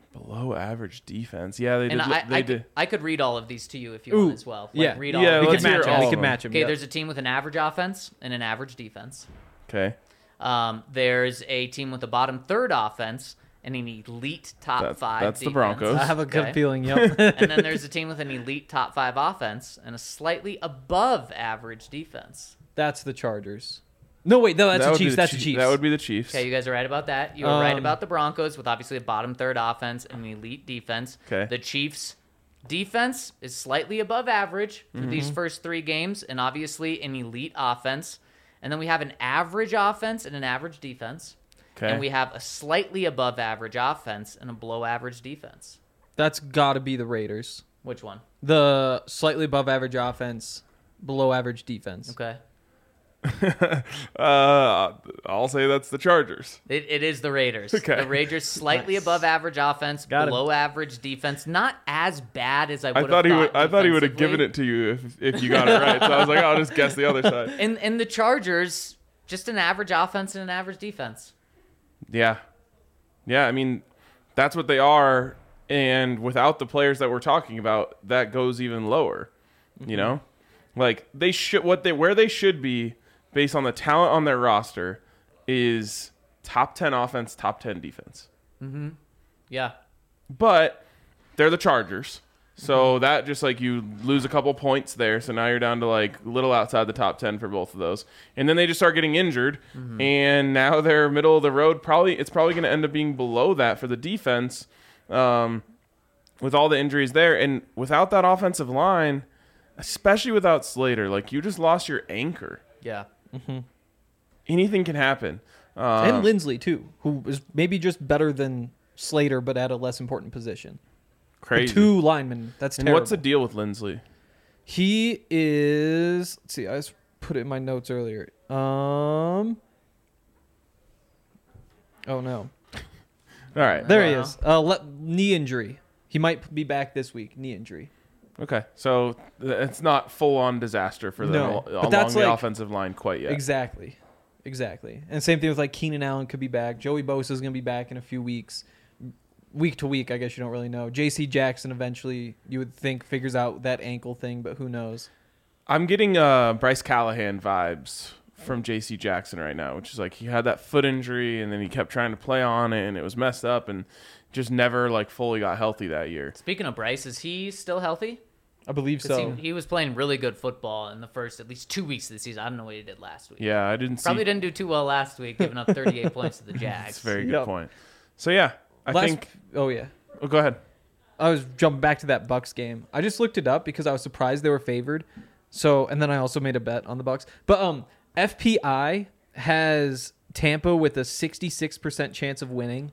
S2: Below average defense. Yeah, they did.
S3: And I,
S2: they
S3: I,
S2: did.
S3: could, I could read all of these to you if you
S4: Ooh,
S3: want as well. Like,
S4: yeah.
S3: read all
S2: Yeah,
S3: of
S4: We
S3: them.
S2: let's
S4: could
S2: hear
S4: match them.
S2: all
S4: We
S2: of
S4: could
S2: them.
S4: match them.
S3: Okay,
S4: Yep.
S3: there's a team with an average offense and an average defense.
S2: Okay.
S3: Um, there's a team with a bottom third offense and an elite top
S2: That's-
S3: five
S2: that's the
S3: defense.
S2: Broncos.
S4: I have a good
S3: Okay.
S4: feeling. Yep.
S3: And then there's a team with an elite top five offense and a slightly above average defense.
S4: That's the Chargers. No, wait, no, that's
S2: That
S4: the
S2: would be
S4: Chiefs. That's the
S2: Chiefs.
S4: Chiefs.
S2: That would be the Chiefs.
S3: Okay, you guys are right about that. You were right
S4: Um,
S3: about the Broncos with obviously a bottom third offense and an elite defense.
S2: Okay.
S3: The Chiefs' defense is slightly above average for
S2: Mm-hmm.
S3: these first three games, and obviously an elite offense. And then we have an average offense and an average defense.
S2: Okay.
S3: And we have a slightly above average offense and a below average defense.
S4: That's got to be the Raiders.
S3: Which one?
S4: The slightly above average offense, below average defense.
S3: Okay.
S2: uh, I'll say that's the Chargers.
S3: It, it is the Raiders.
S2: Okay.
S3: The Raiders slightly
S4: Nice.
S3: above average offense,
S4: Got him.
S3: below average defense. Not as bad as I would
S2: I
S3: have
S2: thought he would.
S3: thought
S2: I thought he would have
S3: defensively.
S2: given it to you if if you got it right. So I was like, I'll just guess the other side.
S3: And and the Chargers, just an average offense and an average defense.
S2: Yeah, yeah. I mean, that's what they are. And without the players that we're talking about, that goes even lower. You know, like they should what they where they should be based on the talent on their roster is top ten offense, top ten defense.
S3: Yeah.
S2: But they're the Chargers. So that just like you lose a couple points there. So now you're down to like little outside the top ten for both of those. And then they just start getting injured. And now they're middle of the road. Probably it's probably going to end up being below that for the defense um, with all the injuries there. And without that offensive line, especially without Slater, like you just lost your anchor.
S3: Yeah.
S2: Anything can happen. Um,
S4: And Lindsley, too, who is maybe just better than Slater, but at a less important position. The
S2: crazy.
S4: two linemen. That's
S2: and
S4: terrible.
S2: what's the deal with Lindsley?
S4: He is. Let's see. I just put it in my notes earlier. Um. Oh no!
S2: All right.
S4: There he
S3: Wow.
S4: is. Uh, le- knee injury. He might be back this week. Knee injury.
S2: Okay, so th- it's not full on disaster for them
S4: No,
S2: al-
S4: but
S2: along
S4: that's
S2: the
S4: like-
S2: offensive line quite yet.
S4: Exactly. Exactly. And same thing with like Keenan Allen could be back. Joey Bosa is going to be back in a few weeks. Week to week, I guess you don't really know. J C Jackson eventually, you would think, figures out that ankle thing, but who knows?
S2: I'm getting uh, Bryce Callahan vibes from J C Jackson right now, which is like he had that foot injury and then he kept trying to play on it and it was messed up and just never like fully got healthy that year.
S3: Speaking of Bryce, is he still healthy?
S4: I believe
S3: 'Cause
S4: so.
S3: he, he was playing really good football in the first at least two weeks of the season. I don't know what he did last week.
S2: Yeah, I didn't
S3: Probably
S2: see.
S3: didn't do too well last week, giving up thirty-eight points to the Jags.
S2: That's a very good
S4: Yep.
S2: point. So yeah, I
S4: Last-
S2: think.
S4: Oh, yeah.
S2: Oh, go ahead.
S4: I was jumping back to that Bucks game. I just looked it up because I was surprised they were favored. So, and then I also made a bet on the Bucks. But um, F P I has Tampa with a sixty-six percent chance of winning.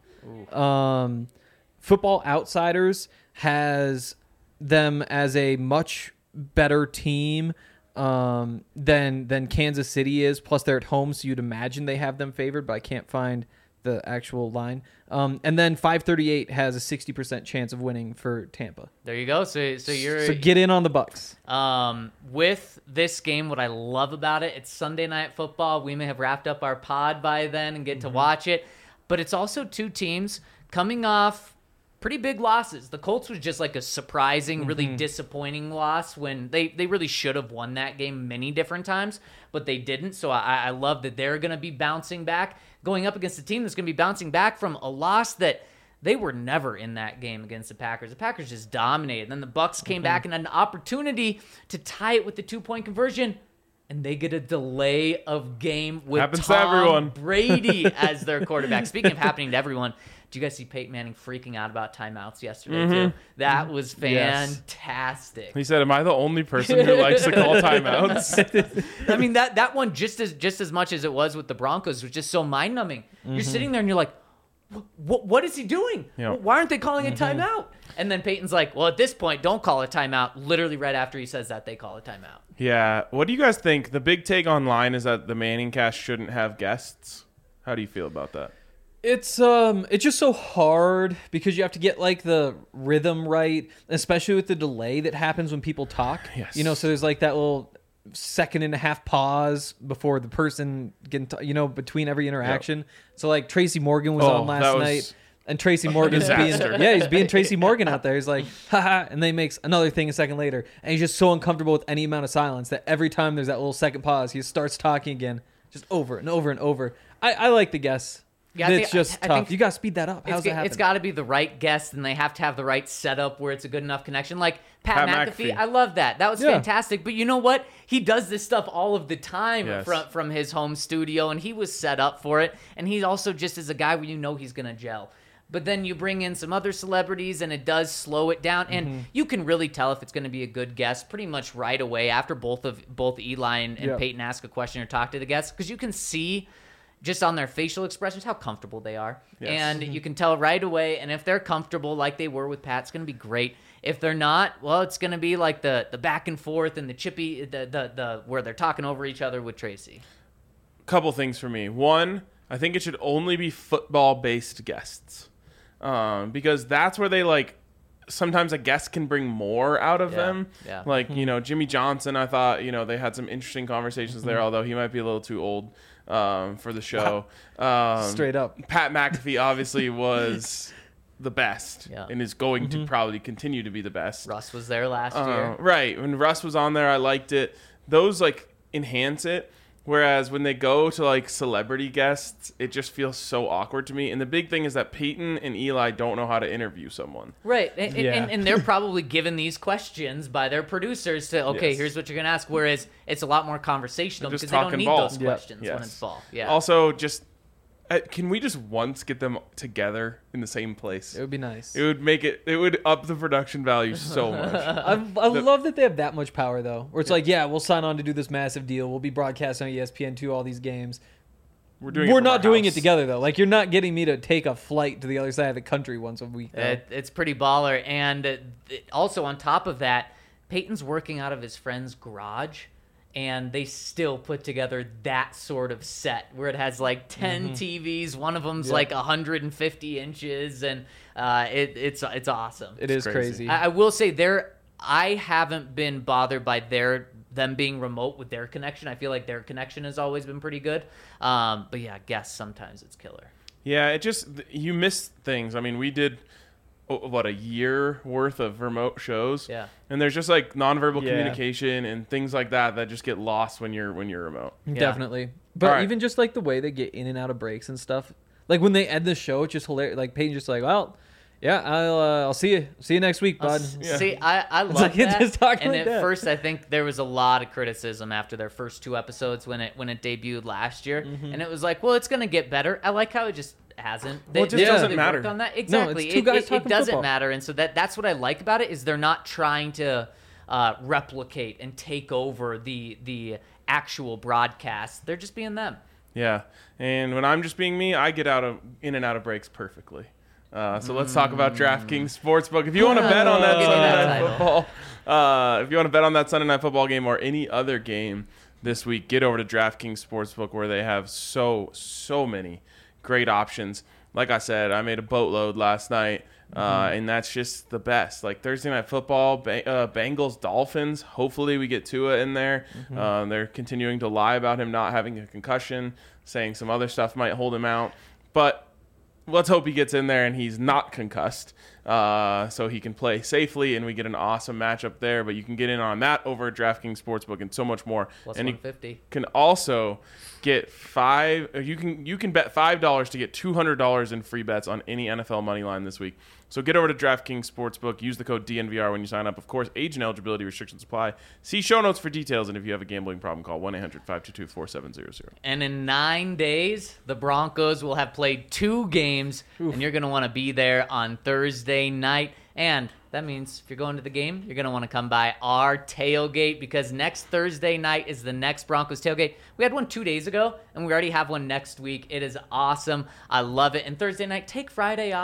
S4: Um, Football Outsiders has them as a much better team um, than than Kansas City is. Plus, they're at home, so you'd imagine they have them favored, but I can't find the actual line. Um, and then five thirty-eight has a sixty percent chance of winning for Tampa.
S3: There you go. So so you're
S4: So get in on the Bucks.
S3: Um, with this game, what I love about it, it's Sunday Night Football. We may have wrapped up our pod by then and get to watch it, but it's also two teams coming off pretty big losses. The Colts was just like a surprising, really disappointing loss when they, they really should have won that game many different times, but they didn't. So I, I love that they're going to be bouncing back, going up against a team that's going to be bouncing back from a loss that they were never in that game against the Packers. The Packers just dominated. And then the Bucks came back and had an opportunity to tie it with the two-point conversion, and they get a delay of game with
S2: Happens to
S3: Tom
S2: everyone.
S3: Brady as their quarterback. Speaking of happening to everyone, did you guys see Peyton Manning freaking out about timeouts yesterday, too? That was
S4: Yes.
S3: fantastic.
S2: He said, "Am I the only person who likes to call timeouts?"
S3: I mean, that, that one, just as just as much as it was with the Broncos, was just so mind-numbing. You're sitting there and you're like, what, what is he doing?
S2: Yeah.
S3: Why aren't they calling a timeout? And then Peyton's like, well, at this point, don't call a timeout. Literally right after he says that, they call a timeout.
S2: Yeah. What do you guys think? The big take online is that the Manning cast shouldn't have guests. How do you feel about that?
S4: It's um it's just so hard because you have to get like the rhythm right, especially with the delay that happens when people talk.
S2: Yes.
S4: You know, so there's like that little second and a half pause before the person getting, t- you know, between every interaction. So like Tracy Morgan was
S2: Oh,
S4: on last
S2: that was-
S4: night. And Tracy Morgan's being
S2: Disaster.
S4: yeah, he's being Tracy Morgan out there. He's like, haha, and then he makes another thing a second later, and he's just so uncomfortable with any amount of silence that every time there's that little second pause, he starts talking again, just over and over and over. I, I like the guess.
S3: Yeah, I
S4: it's
S3: think-
S4: just
S3: I- I
S4: tough.
S3: think
S4: You got to speed that up. How's
S3: It's,
S4: that
S3: g-
S4: happen?
S3: it's got to be the right guest, and they have to have the right setup where it's a good enough connection. Like Pat,
S2: Pat
S3: McAfee,
S2: McAfee.
S3: I love that. That was
S4: Yeah.
S3: fantastic. But you know what? He does this stuff all of the time
S2: Yes.
S3: from from his home studio, and he was set up for it. And he also just is a guy where you know he's gonna gel. But then you bring in some other celebrities, and it does slow it down. And
S4: Mm-hmm.
S3: you can really tell if it's going to be a good guest pretty much right away after both of both Eli and, and
S4: Yeah.
S3: Peyton ask a question or talk to the guests, because you can see just on their facial expressions how comfortable they are.
S2: Yes.
S3: And you can tell right away. And if they're comfortable like they were with Pat, it's going to be great. If they're not, well, it's going to be like the the back and forth and the chippy, the the, the where they're talking over each other with Tracy.
S2: Couple things for me. One, I think it should only be football-based guests, um, because that's where they like. Sometimes a guest can bring more out of
S3: Yeah,
S2: them.
S3: yeah.
S2: Like, you know, Jimmy Johnson, I thought, you know, they had some interesting conversations there, although he might be a little too old um, for the show. Um,
S4: Straight up.
S2: Pat McAfee obviously was the best
S3: Yeah.
S2: and is going to probably continue to be the best.
S3: Russ was there last
S2: Uh,
S3: year.
S2: right. When Russ was on there, I liked it. Those like enhance it. Whereas when they go to like celebrity guests, it just feels so awkward to me. And the big thing is that Peyton and Eli don't know how to interview someone.
S3: Right, and, and-
S4: Yeah.
S3: and, and they're probably given these questions by their producers to, okay,
S2: Yes.
S3: here's what you're going to ask, whereas it's a lot more conversational
S2: They're just
S3: because they don't
S2: talking
S3: need
S2: ball.
S3: those
S4: Yeah.
S3: questions when
S2: Yes.
S3: it's ball. Yeah.
S2: Also, just uh, can we just once get them together in the same place?
S4: It would be nice.
S2: It would make it. It would up the production value so much.
S4: I, I love that they have that much power, though. Where it's like, yeah, we'll sign on to do this massive deal. We'll be broadcasting on E S P N two all these games.
S2: We're doing.
S4: We're
S2: it from
S4: not
S2: our
S4: doing
S2: house.
S4: it together, though. Like, you're not getting me to take a flight to the other side of the country once a week. Though.
S3: It, it's pretty baller. And uh, th- also on top of that, Peyton's working out of his friend's garage, and they still put together that sort of set where it has like ten
S2: Mm-hmm.
S3: T Vs. One of them's
S4: Yeah.
S3: like one hundred fifty inches, and uh, it, it's it's awesome.
S4: It is
S2: crazy.
S4: crazy.
S3: I, I will say there, I haven't been bothered by their them being remote with their connection. I feel like their connection has always been pretty good. Um, but yeah, I guess sometimes it's killer.
S2: Yeah, it just you miss things. I mean, we did oh, what a year worth of remote shows.
S3: Yeah.
S2: and there's just like nonverbal
S4: Yeah.
S2: communication and things like that that just get lost when you're when you're remote.
S4: Definitely. But
S2: All right.
S4: even just like the way they get in and out of breaks and stuff. Like when they end the show, it's just hilarious. Like Peyton's just like, well, yeah, I'll uh, I'll see you. See you next week,
S3: I'll
S4: bud.
S3: s-
S2: Yeah.
S3: See, I, I love
S4: like it's
S3: that.
S4: just talking
S3: and
S4: like
S3: at
S4: that.
S3: first, I think there was a lot of criticism after their first two episodes when it when it debuted last year,
S4: Mm-hmm.
S3: and it was like, well, it's gonna get better. I like how it just hasn't.
S2: Well, it just
S3: they-
S2: doesn't
S3: they
S2: matter.
S3: worked on that exactly.
S4: two
S3: it,
S4: guys
S3: it- it
S4: talking
S3: doesn't
S4: football.
S3: matter, and so that that's what I like about it is they're not trying to uh, replicate and take over the the actual broadcast. They're just being them.
S2: Yeah, and when I'm just being me, I get out of in and out of breaks perfectly. Uh, so let's talk about DraftKings Sportsbook. If you want to bet on that
S3: Give me
S2: Sunday
S3: that
S2: Night
S3: title.
S2: Football, uh, if you want to bet on that Sunday Night Football game or any other game this week, get over to DraftKings Sportsbook where they have so so many great options. Like I said, I made a boatload last night, uh, and that's just the best. Like Thursday Night Football, ba- uh, Bengals, Dolphins. Hopefully we get Tua in there. Uh, they're continuing to lie about him not having a concussion, saying some other stuff might hold him out. But let's hope he gets in there and he's not concussed, uh, so he can play safely and we get an awesome matchup there. But you can get in on that over at DraftKings Sportsbook and so much more.
S3: Plus
S2: and you
S3: one fifty.
S2: can also get five. You can you can bet five dollars to get two hundred dollars in free bets on any N F L money line this week. So get over to DraftKings Sportsbook. Use the code D N V R when you sign up. Of course, age and eligibility restrictions apply. See show notes for details. And if you have a gambling problem, call one eight hundred five two two four seven zero zero.
S3: And in nine days, the Broncos will have played two games, and you're going to want to be there on Thursday night. And that means if you're going to the game, you're going to want to come by our tailgate because next Thursday night is the next Broncos tailgate. We had one two days ago, and we already have one next week. It is awesome. I love it. And Thursday night, take Friday off.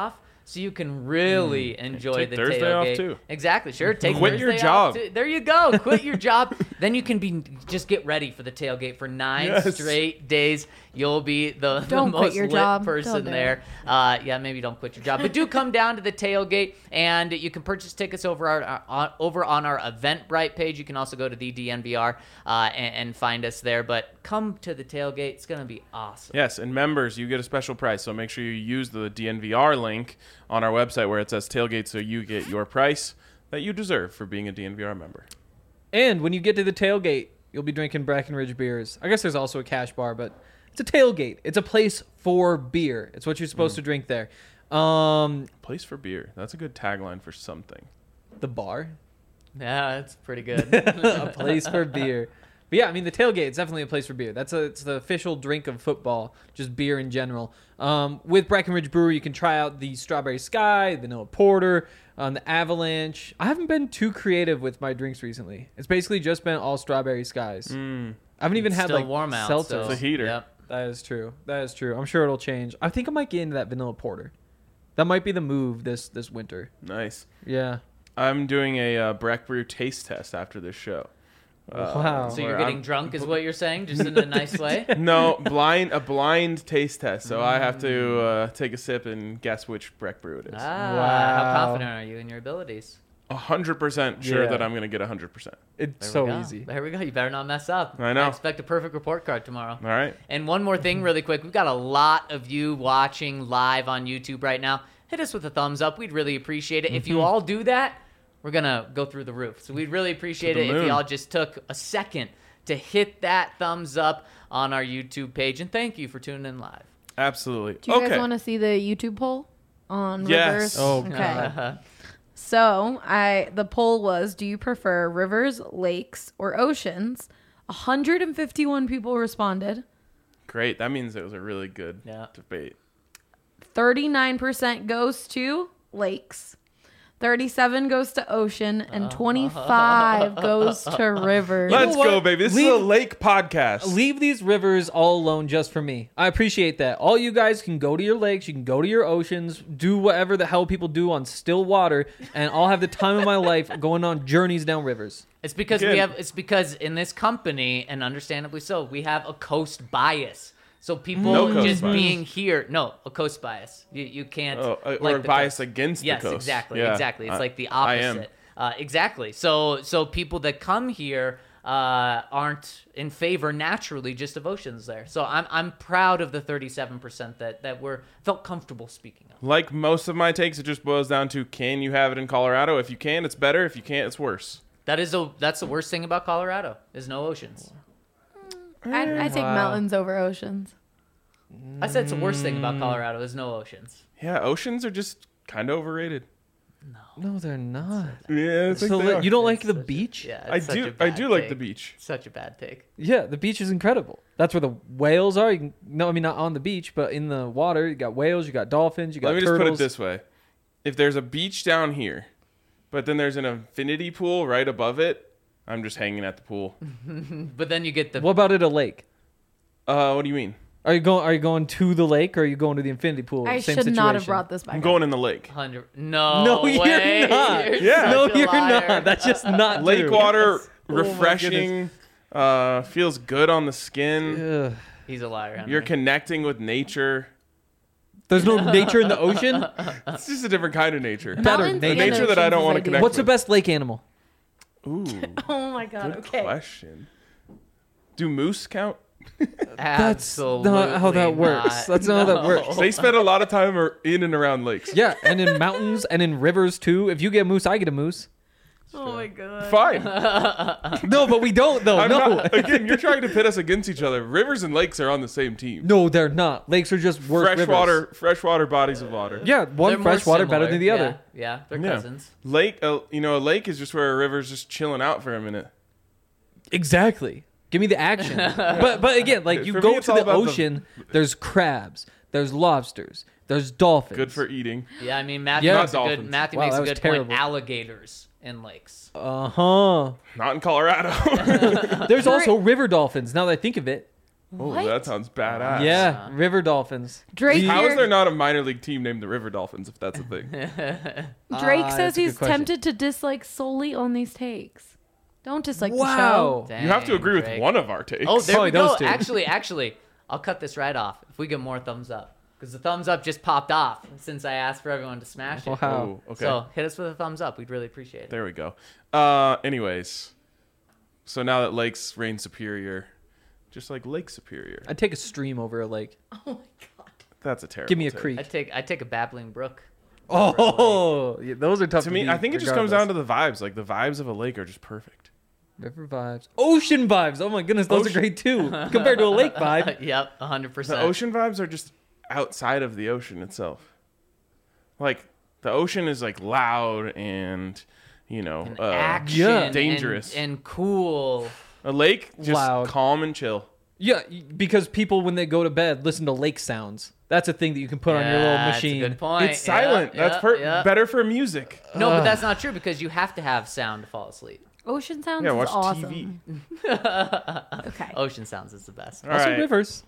S3: so you can really enjoy
S2: Take
S3: the
S2: Thursday off,
S3: tailgate.
S2: too.
S3: Exactly, sure. Take
S2: Quit
S3: Thursday
S2: your
S3: off,
S2: job.
S3: too. There you go. Quit your job. Then you can be just get ready for the tailgate for nine
S2: Yes.
S3: straight days. You'll be the, the
S5: Don't quit
S3: most
S5: your
S3: lit
S5: job.
S3: person
S5: Don't do
S3: there. Uh, yeah, maybe don't quit your job, but do come down to the tailgate, and you can purchase tickets over our on, over on our Eventbrite page. You can also go to the D N V R uh, and, and find us there. But come to the tailgate; it's gonna be awesome.
S2: Yes, and members, you get a special price. So make sure you use the D N V R link on our website where it says tailgate, so you get your price that you deserve for being a D N V R member.
S4: And when you get to the tailgate, you'll be drinking Breckenridge beers. I guess there's also a cash bar, but it's a tailgate. It's a place for beer. It's what you're supposed
S2: Mm.
S4: to drink there. Um,
S2: Place for beer. That's a good tagline for something.
S4: the bar.
S3: Yeah, that's pretty good.
S4: A place for beer. But yeah, I mean the tailgate is definitely a place for beer. That's a, it's the official drink of football, just beer in general. Um, with Breckenridge Brewery, you can try out the Strawberry Sky, Vanilla Porter, um, the Avalanche. I haven't been too creative with my drinks recently. It's basically just been all Strawberry Skies.
S2: Mm.
S4: I haven't even
S3: It's
S4: had
S3: still
S4: like
S3: warm out.
S4: seltzers.
S3: So,
S2: It's a heater.
S3: Yep.
S4: That is true. That is true. I'm sure it'll change. I think I might get into that Vanilla Porter. That might be the move this this winter.
S2: Nice.
S4: Yeah.
S2: I'm doing a uh, Breck Brew taste test after this show. Uh,
S4: Wow.
S3: So you're
S2: where
S3: getting
S2: I'm-
S3: drunk, is what you're saying, just in a nice way.
S2: No, blind a blind taste test. So I have to uh, take a sip and guess which Breck Brew it is.
S3: Ah,
S4: Wow.
S3: how confident are you in your abilities?
S2: A hundred percent sure
S4: Yeah.
S2: that I'm gonna get a hundred percent.
S4: It's
S3: There
S4: so
S3: we go.
S4: easy.
S3: There we go. You better not mess up.
S2: I know.
S3: expect a perfect report card tomorrow.
S2: All right.
S3: And one more thing, really quick. We've got a lot of you watching live on YouTube right now. Hit us with a thumbs up. We'd really appreciate it. If you all do that, we're going to go through the roof. So we'd really appreciate
S2: To the
S3: it if
S2: moon.
S3: y'all just took a second to hit that thumbs up on our YouTube page. And thank you for tuning in live.
S2: Absolutely.
S5: Do you
S2: okay.
S5: guys want to see the YouTube poll on
S2: Yes.
S5: rivers?
S4: Oh,
S5: okay.
S3: Uh,
S5: So I the poll was: do you prefer rivers, lakes, or oceans? one hundred fifty-one people responded.
S2: Great. That means it was a really good
S3: Yeah.
S2: debate.
S5: thirty-nine percent goes to lakes. thirty-seven goes to ocean, and twenty-five goes to rivers.
S2: Let's
S4: what?
S2: go, baby. This is
S4: Leave-
S2: a lake podcast.
S4: Leave these rivers all alone just for me. I appreciate that. All you guys can go to your lakes, you can go to your oceans, do whatever the hell people do on still water, and I'll have the time of my life going on journeys down rivers.
S3: It's because
S2: Good.
S3: we have. It's because in this company, and understandably so, we have a coast bias. So people
S2: No coast
S3: just
S2: bias.
S3: being here, no, a coast bias. You you can't.
S2: Oh, uh,
S3: like
S2: or
S3: the
S2: bias
S3: coast.
S2: against
S3: Yes,
S2: the coast.
S3: exactly,
S2: Yeah.
S3: exactly. It's
S2: I-
S3: like the
S2: I am.
S3: opposite. Uh, exactly. So so people that come here uh, aren't in favor naturally just of oceans there. So I'm I'm proud of the thirty-seven percent that that were felt comfortable speaking of.
S2: Like most of my takes, it just boils down to can you have it in Colorado? If you can, it's better. If you can't, it's worse.
S3: That is a that's the worst thing about Colorado is no oceans.
S5: I, I take
S4: Wow.
S5: mountains over oceans.
S3: I said it's the worst thing about Colorado is no oceans.
S2: Yeah, oceans are just kind of overrated.
S4: No, they're not.
S2: Yeah, I think
S4: So
S2: they
S4: li-
S2: are.
S4: you don't like
S3: It's
S4: the
S3: such a-
S4: beach?
S3: Yeah,
S2: I
S3: it's such a
S2: do. I
S3: bad
S2: do like
S3: take.
S2: the beach.
S3: Such a bad take.
S4: Yeah, the beach is incredible. That's where the whales are. You can, no, I mean not on the beach, but in the water. You got whales, you got dolphins, you got
S2: Let me just
S4: turtles.
S2: put it this way: if there's a beach down here, but then there's an infinity pool right above it, I'm just hanging at the pool.
S3: But then you get the
S4: What about at a lake?
S2: Uh, what do you mean?
S4: Are you going? Are you going to the lake, or are you going to the infinity pool?
S5: I
S4: Same
S5: should not have
S4: situation.
S5: brought this back.
S2: I'm
S5: up.
S2: going in the lake.
S3: hundred. No,
S4: No, you're
S3: way.
S4: not.
S3: You're
S2: Yeah.
S4: No,
S3: such a
S4: you're
S3: liar.
S4: not. That's just not
S2: Lake
S4: true.
S2: water,
S4: my
S2: refreshing. Uh, feels good on the skin.
S4: Ugh.
S3: He's a liar. Henry.
S2: You're connecting with nature.
S4: There's no nature in the ocean.
S2: It's just a different kind of nature.
S4: Better
S5: Mountains
S4: nature.
S5: and
S2: Nature that I
S5: oceans
S2: don't
S5: is
S2: wanna
S5: ideal.
S2: connect
S4: What's the best lake animal?
S2: Ooh,
S5: Oh my god.
S2: good
S5: Okay.
S2: question. Do moose count?
S4: That's
S3: Absolutely
S4: not how that works.
S3: not.
S4: That's not how that
S3: No.
S4: works.
S2: They spend a lot of time ar- in and around lakes.
S4: Yeah, and in mountains and in rivers too. If you get a moose, I get a moose.
S5: Oh my god.
S2: Fine.
S4: No, but we don't though.
S2: I'm
S4: no.
S2: not, again, you're trying to pit us against each other. Rivers and lakes are on the same team.
S4: No, they're not. Lakes are just worse rivers.
S2: Freshwater, freshwater bodies of water.
S4: Yeah,
S3: They're
S4: one
S3: more
S4: freshwater better
S3: similar.
S4: than the
S3: Yeah,
S4: other.
S3: Yeah, they're
S2: Yeah.
S3: cousins.
S2: Lake, uh, you know, a lake is just where a river's just chilling out for a minute.
S4: Exactly. Give me the action. but but again, like you
S2: For me,
S4: go
S2: it's
S4: to
S2: all
S4: the
S2: about the-
S4: ocean, there's crabs, there's lobsters, there's dolphins.
S2: Good for eating.
S3: Yeah, I mean Matthew
S4: Yeah.
S3: makes a
S2: Not
S3: good
S2: dolphins.
S3: Matthew
S4: Wow,
S3: makes
S4: that
S3: a
S4: was
S3: good
S4: terrible.
S3: point. Alligators in lakes.
S4: Uh huh.
S2: Not in Colorado.
S4: There's also river dolphins. Now that I think of it,
S2: Oh,
S5: What?
S2: that sounds badass.
S4: Yeah, River Dolphins.
S5: Drake
S2: How is
S5: here-
S2: there not a minor league team named the River Dolphins if that's a thing?
S5: Drake
S4: Ah,
S5: says
S4: that's a good
S5: he's
S4: question.
S5: tempted to dislike solely on these takes. Don't dislike the show.
S4: Wow.
S2: You have to
S3: Dang,
S2: agree with
S3: Drake.
S2: one of our takes.
S3: Oh, there
S4: Probably
S3: we go.
S4: those two.
S3: Actually, actually, I'll cut this right off if we get more thumbs up. Because the thumbs up just popped off since I asked for everyone to smash it.
S4: Wow.
S2: Oh, okay.
S3: So hit us with a thumbs up. We'd really appreciate it.
S2: There we go. Uh, anyways, so now that Lakes reign superior, just like Lake Superior,
S4: I'd take a stream over a lake.
S3: Oh my god.
S2: that's a terrible.
S4: Give me a
S2: take.
S4: creek.
S3: I take I take a babbling brook.
S4: Oh, yeah, those are tough
S2: To
S4: to
S2: me,
S4: beat
S2: I think it just comes down
S4: regardless.
S2: to the vibes. Like the vibes of a lake are just perfect.
S4: River vibes, ocean vibes. Oh my goodness, those
S2: Ocean-
S4: are great too compared to a lake vibe.
S3: Yep, one hundred
S2: The
S3: percent.
S2: ocean vibes are just outside of the ocean itself. Like the ocean is like loud and you know uh,
S3: Action
S4: yeah.
S3: and-
S2: dangerous.
S3: and cool.
S2: a lake just
S4: Loud.
S2: calm and chill.
S4: Yeah, because people when they go to bed listen to lake sounds. That's a thing that you can put on your little
S3: Yeah, that's a
S4: machine.
S3: good point.
S2: It's silent.
S3: Yeah,
S2: That's
S3: yeah,
S2: per-
S3: yeah.
S2: better for music.
S3: No, but that's not true because you have to have sound to fall asleep.
S5: Ocean sounds
S2: Yeah,
S5: is
S2: watch
S5: awesome.
S2: T V.
S5: Okay.
S3: Ocean sounds is the best.
S2: All
S4: Also
S2: right,
S4: rivers.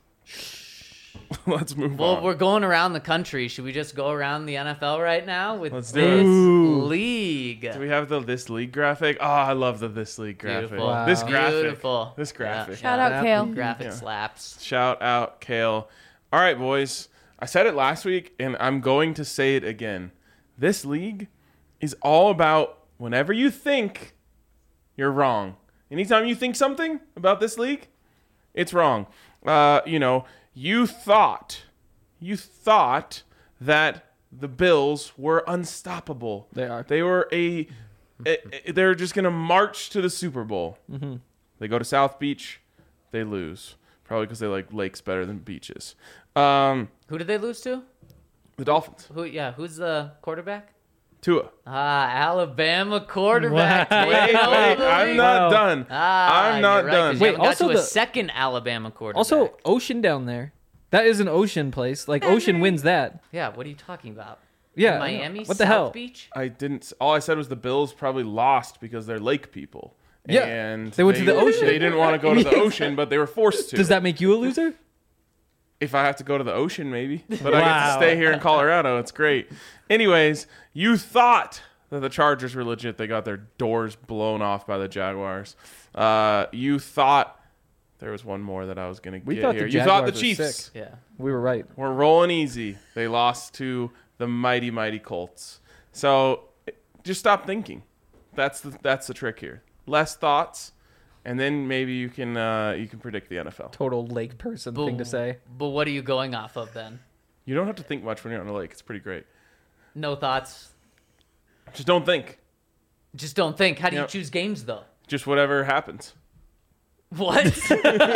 S2: let's move
S3: Well,
S2: on.
S3: we're going around the country. Should we just go around the N F L right now with
S2: Let's do
S3: this
S2: it.
S4: Ooh.
S3: league?
S2: Do we have the this league graphic? Oh, I love the this league graphic.
S3: Beautiful.
S4: Wow.
S2: This graphic.
S3: Beautiful.
S2: This graphic.
S5: Shout
S3: Yeah.
S5: out Kale.
S3: Graphic
S2: Yeah.
S3: slaps.
S2: Shout out Kale. All right, boys. I said it last week, and I'm going to say it again. This league is all about whenever you think you're wrong. Anytime you think something about this league, it's wrong. Uh, you know, you thought, you thought that the Bills were unstoppable.
S4: They are.
S2: They were a. a- a- they're just gonna march to the Super Bowl.
S4: Mm-hmm.
S2: They go to South Beach, they lose. Probably because they like lakes better than beaches. Um,
S3: Who did they lose to?
S2: the Dolphins.
S3: Who? Yeah, who's the quarterback?
S2: Tua.
S3: Ah, Alabama quarterback.
S4: Wow.
S2: Wait,
S3: taking over
S2: wait,
S3: the
S2: I'm
S3: league.
S2: not
S4: Wow.
S2: done.
S3: Ah,
S2: I'm not
S3: you're right, 'cause
S2: done.
S3: you
S4: Wait,
S3: haven't got
S4: also
S3: to a
S4: the-
S3: second Alabama quarterback.
S4: Also, ocean down there. That is an ocean place. Like ocean wins that.
S3: yeah. What are you talking about?
S4: Yeah.
S3: Miami.
S4: What the
S3: South
S4: hell?
S3: Beach.
S2: I didn't. All I said was the Bills probably lost because they're lake people.
S4: Yeah,
S2: and
S4: they went to the ocean.
S2: They didn't want to go to the ocean, but they were forced to.
S4: Does that make you a loser?
S2: If I have to go to the ocean, maybe. But I get to
S4: Wow.
S2: stay here in Colorado. It's great. Anyways, you thought that the Chargers were legit. They got their doors blown off by the Jaguars. Uh, you thought there was one more that I was going to
S4: We
S2: get
S4: thought the
S2: here. You thought the
S4: Jaguars were
S2: Chiefs
S4: sick.
S3: Yeah.
S4: We were right.
S2: were rolling easy. They lost to the mighty, mighty Colts. So just stop thinking. That's the that's the trick here. Less thoughts, and then maybe you can uh, you can predict the N F L.
S4: Total lake person thing to say.
S3: But what are you going off of then?
S2: You don't have to think much when you're on a lake. It's pretty great.
S3: No thoughts.
S2: Just don't think.
S3: Just don't think. How do you
S2: Yep.
S3: choose games though?
S2: Just whatever happens.
S3: What?
S2: You just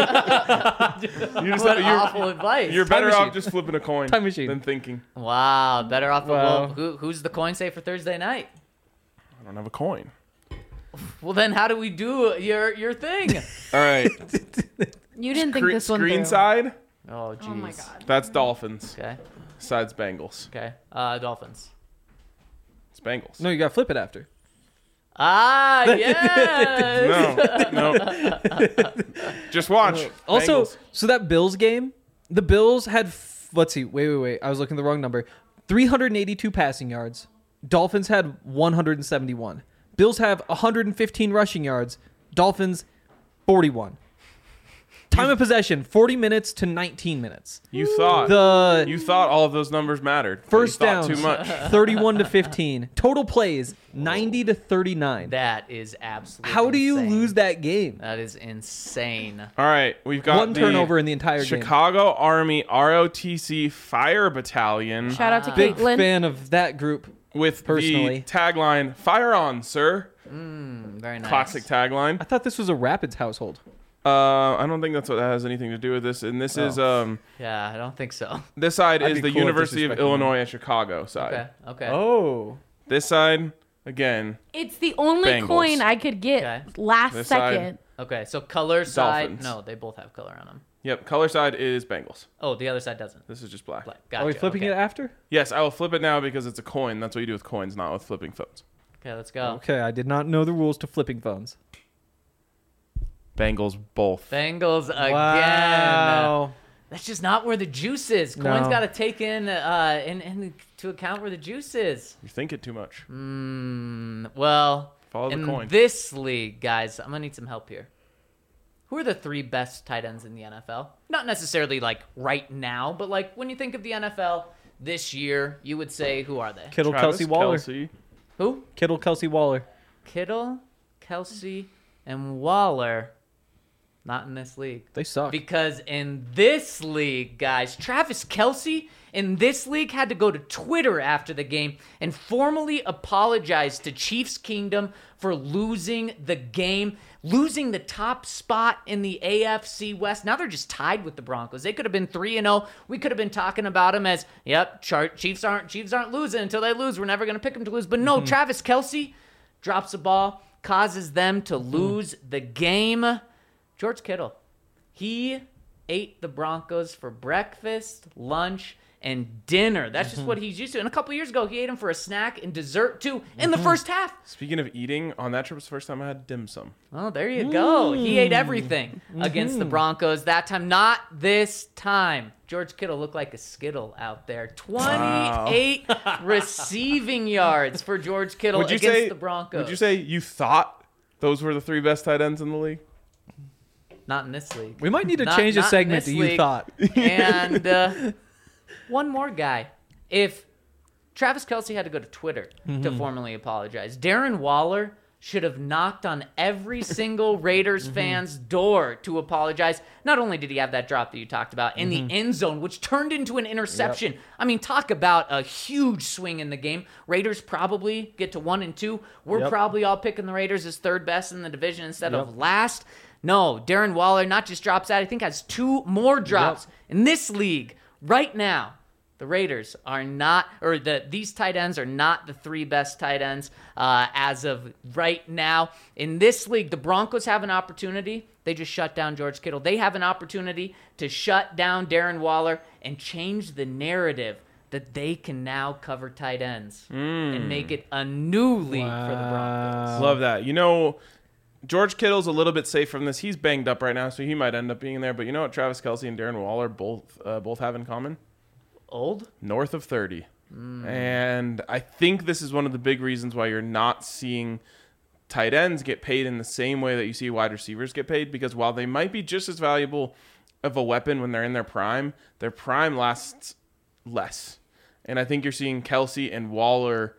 S3: what
S2: you're,
S3: awful advice.
S2: you're better
S4: machine.
S2: off just flipping a coin
S4: Time machine.
S2: than thinking.
S3: Wow, better off.
S4: Wow.
S3: Well, who, who's the coin say for Thursday night?
S2: I don't have a coin.
S3: Well, then how do we do your your thing?
S2: All right.
S5: You didn't think
S2: Screen,
S5: this one
S2: screen
S5: through.
S2: side.
S3: Oh, jeez.
S5: Oh my god.
S2: That's Dolphins.
S3: Okay.
S2: Sides Bengals.
S3: Okay. Uh, Dolphins.
S2: It's Bengals.
S4: No, you gotta flip it after.
S3: Ah, yes.
S2: No, no. Just watch.
S4: Also,
S2: Bengals.
S4: so that Bills game, the Bills had, f- let's see, wait, wait, wait. I was looking at the wrong number. three hundred eighty-two passing yards. Dolphins had one hundred seventy-one. Bills have one hundred fifteen rushing yards. Dolphins, forty-one. Time of possession, forty minutes to nineteen minutes.
S2: you thought
S4: The
S2: you thought all of those numbers mattered. but
S4: first
S2: you thought
S4: downs,
S2: too much.
S4: thirty-one to fifteen. Total plays, ninety to thirty-nine.
S3: That is absolutely.
S4: How do you
S3: insane.
S4: lose that game?
S3: That is insane.
S2: All right, we've got
S4: One
S2: the
S4: turnover in the entire game.
S2: Chicago Army R O T C Fire Battalion
S5: Shout out to
S4: Big
S5: Caitlin.
S4: fan of that group.
S2: with
S4: personally.
S2: the tagline "Fire on, sir."
S3: Mm, very nice.
S2: Classic tagline.
S4: I thought this was a Rapids household.
S2: Uh, I don't think that's what that has anything to do with this. And this is um
S3: Yeah, I don't think so.
S2: this side
S4: I'd
S2: is
S4: be
S2: the
S4: cool if
S2: University of
S4: disrespecting
S2: Illinois at Chicago side.
S3: Okay. Okay.
S4: Oh.
S2: This side again.
S5: It's the only
S2: Bengals.
S5: coin I could get
S3: Okay.
S5: last
S2: This side.
S5: second.
S3: Okay. So color side.
S2: Dolphins.
S3: No, they both have color on them.
S2: Yep, color side is Bengals.
S3: Oh, the other side doesn't.
S2: This is just black.
S3: Black. Gotcha.
S4: Are we flipping
S3: okay.
S4: it after?
S2: Yes, I will flip it now because it's a coin. That's what you do with coins, not with flipping phones.
S3: Okay, let's go.
S4: Okay, I did not know the rules to flipping phones.
S2: Bengals both.
S3: Bengals again.
S4: Wow.
S3: That's just not where the juice is.
S4: No.
S3: Coin's got to take in, uh, in, in to account where the juice is.
S2: You think it too much.
S3: Mm, well,
S2: Follow the
S3: in
S2: coin.
S3: this league, guys, I'm going to need some help here. Who are the three best tight ends in the N F L? Not necessarily like right now, but like when you think of the N F L this year, you would say, who are they?
S4: Kittle,
S2: Travis
S4: Kelsey, Waller.
S2: Kelce.
S3: Who?
S4: Kittle, Kelsey, Waller.
S3: Kittle, Kelsey, and Waller. Not in this league.
S4: They suck.
S3: Because in this league, guys, Travis Kelce in this league had to go to Twitter after the game and formally apologize to Chiefs Kingdom for losing the game, losing the top spot in the A F C West. Now they're just tied with the Broncos. They could have been three and oh. We could have been talking about them as, yep, chart Chiefs aren't Chiefs aren't losing until they lose. We're never going to pick them to lose. But no, mm-hmm. Travis Kelce drops the ball, causes them to mm-hmm. lose the game. George Kittle, he ate the Broncos for breakfast, lunch, and dinner. That's just what he's used to. And a couple years ago, he ate him for a snack and dessert, too, in the first half.
S2: Speaking of eating, on that trip was the first time I had dim sum.
S3: Oh, there you go. He ate everything against the Broncos that time. Not this time. George Kittle looked like a Skittle out there. twenty-eight wow. receiving yards for George Kittle
S2: would you
S3: against
S2: say,
S3: the Broncos.
S2: Would you say you thought those were the three best tight ends in the league?
S3: Not in this league.
S4: We might need to
S3: not,
S4: change the
S3: not
S4: segment to you
S3: league.
S4: thought.
S3: And uh, one more guy. If Travis Kelce had to go to Twitter mm-hmm. to formally apologize, Darren Waller should have knocked on every single Raiders mm-hmm. fan's door to apologize. Not only did he have that drop that you talked about in mm-hmm. the end zone, which turned into an interception. Yep. I mean, talk about a huge swing in the game. Raiders probably get to one and two. We're yep. probably all picking the Raiders as third best in the division instead yep. of last. No, Darren Waller not just drops that, I think has two more drops yep. in this league right now. The Raiders are not, or the these tight ends are not the three best tight ends uh, as of right now. In this league, the Broncos have an opportunity. They just shut down George Kittle. They have an opportunity to shut down Darren Waller and change the narrative that they can now cover tight ends mm. and make it a new league wow. for the Broncos.
S2: Love that. You know, George Kittle's a little bit safe from this. He's banged up right now, so he might end up being there. But you know what Travis Kelce and Darren Waller both uh, both have in common?
S3: Old?
S2: North of thirty. Mm. And I think this is one of the big reasons why you're not seeing tight ends get paid in the same way that you see wide receivers get paid, because while they might be just as valuable of a weapon when they're in their prime, their prime lasts less. And I think you're seeing Kelce and Waller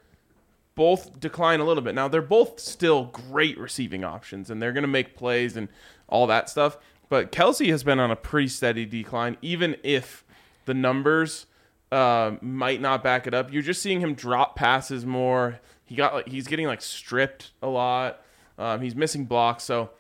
S2: both decline a little bit. Now, they're both still great receiving options, and they're going to make plays and all that stuff. But Kelce has been on a pretty steady decline, even if the numbers uh, might not back it up. You're just seeing him drop passes more. He got like he's getting like stripped a lot. Um, he's missing blocks, so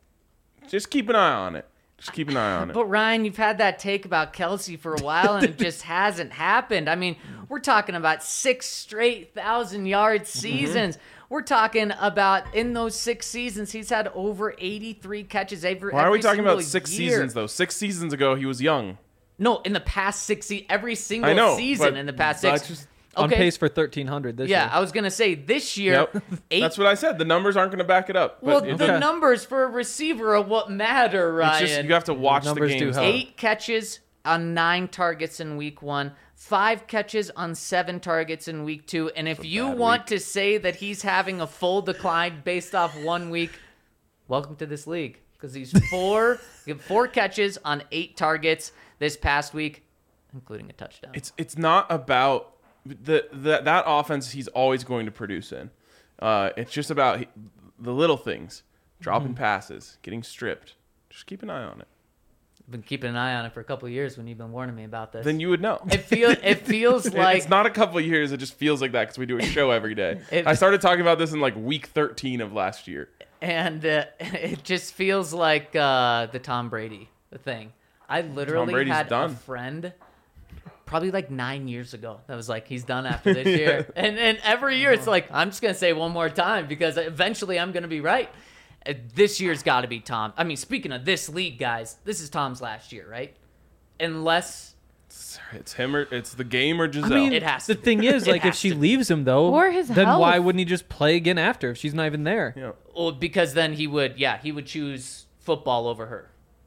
S2: just keep an eye on it. Just keep an eye on it.
S3: But Ryan, you've had that take about Kelce for a while, and it just hasn't happened. I mean, we're talking about six straight thousand-yard seasons. Mm-hmm. We're talking about in those six seasons, he's had over eighty-three catches every.
S2: Why are
S3: every
S2: we talking about six
S3: year.
S2: seasons though? Six seasons ago, he was young.
S3: No, in the past six, se- every single
S2: I know,
S3: season in the past six.
S2: Just,
S4: on
S3: okay.
S4: pace for thirteen hundred this
S3: yeah,
S4: year.
S3: I was going to say this year.
S2: Yep.
S3: Eight,
S2: That's what I said. The numbers aren't going to back it up. But
S3: well,
S2: it,
S3: the
S4: okay.
S3: numbers for a receiver are what matter, Ryan.
S2: It's just, you have to watch the,
S4: the
S2: games.
S4: Do help.
S3: Eight catches on nine targets in week one. Five catches on seven targets in week two. And if you want
S2: week.
S3: to say that he's having a full decline based off one week, welcome to this league. Because he's four, four catches on eight targets this past week, including a touchdown.
S2: It's it's not about the, the that offense he's always going to produce in. Uh, it's just about he, the little things, dropping mm-hmm. passes, getting stripped. Just keep an eye on it.
S3: I've been keeping an eye on it for a couple of years when you've been warning me about this.
S2: Then you would know.
S3: It feels it feels like
S2: it's not a couple of years. It just feels like that because we do a show every day.
S3: It,
S2: I started talking about this in like week thirteen of last year,
S3: and uh, it just feels like uh, the Tom Brady thing. I literally had
S2: done.
S3: a friend. Probably like nine years ago. That was like, he's done after this year. And and every year it's like, I'm just going to say one more time because eventually I'm going to be right. Uh, this year's got to be Tom. I mean, speaking of this league, guys, this is Tom's last year, right? Unless...
S2: It's, it's him or it's the game or Giselle.
S4: I mean,
S3: it has
S4: the
S3: to
S4: thing
S3: be.
S4: is,
S3: It
S4: like, if
S3: has
S4: she
S3: to be.
S4: leaves him, though,
S5: Or his
S4: then
S5: health.
S4: why wouldn't he just play again after if she's not even there?
S2: yeah.
S3: Well, because then he would, yeah, he would choose football over her.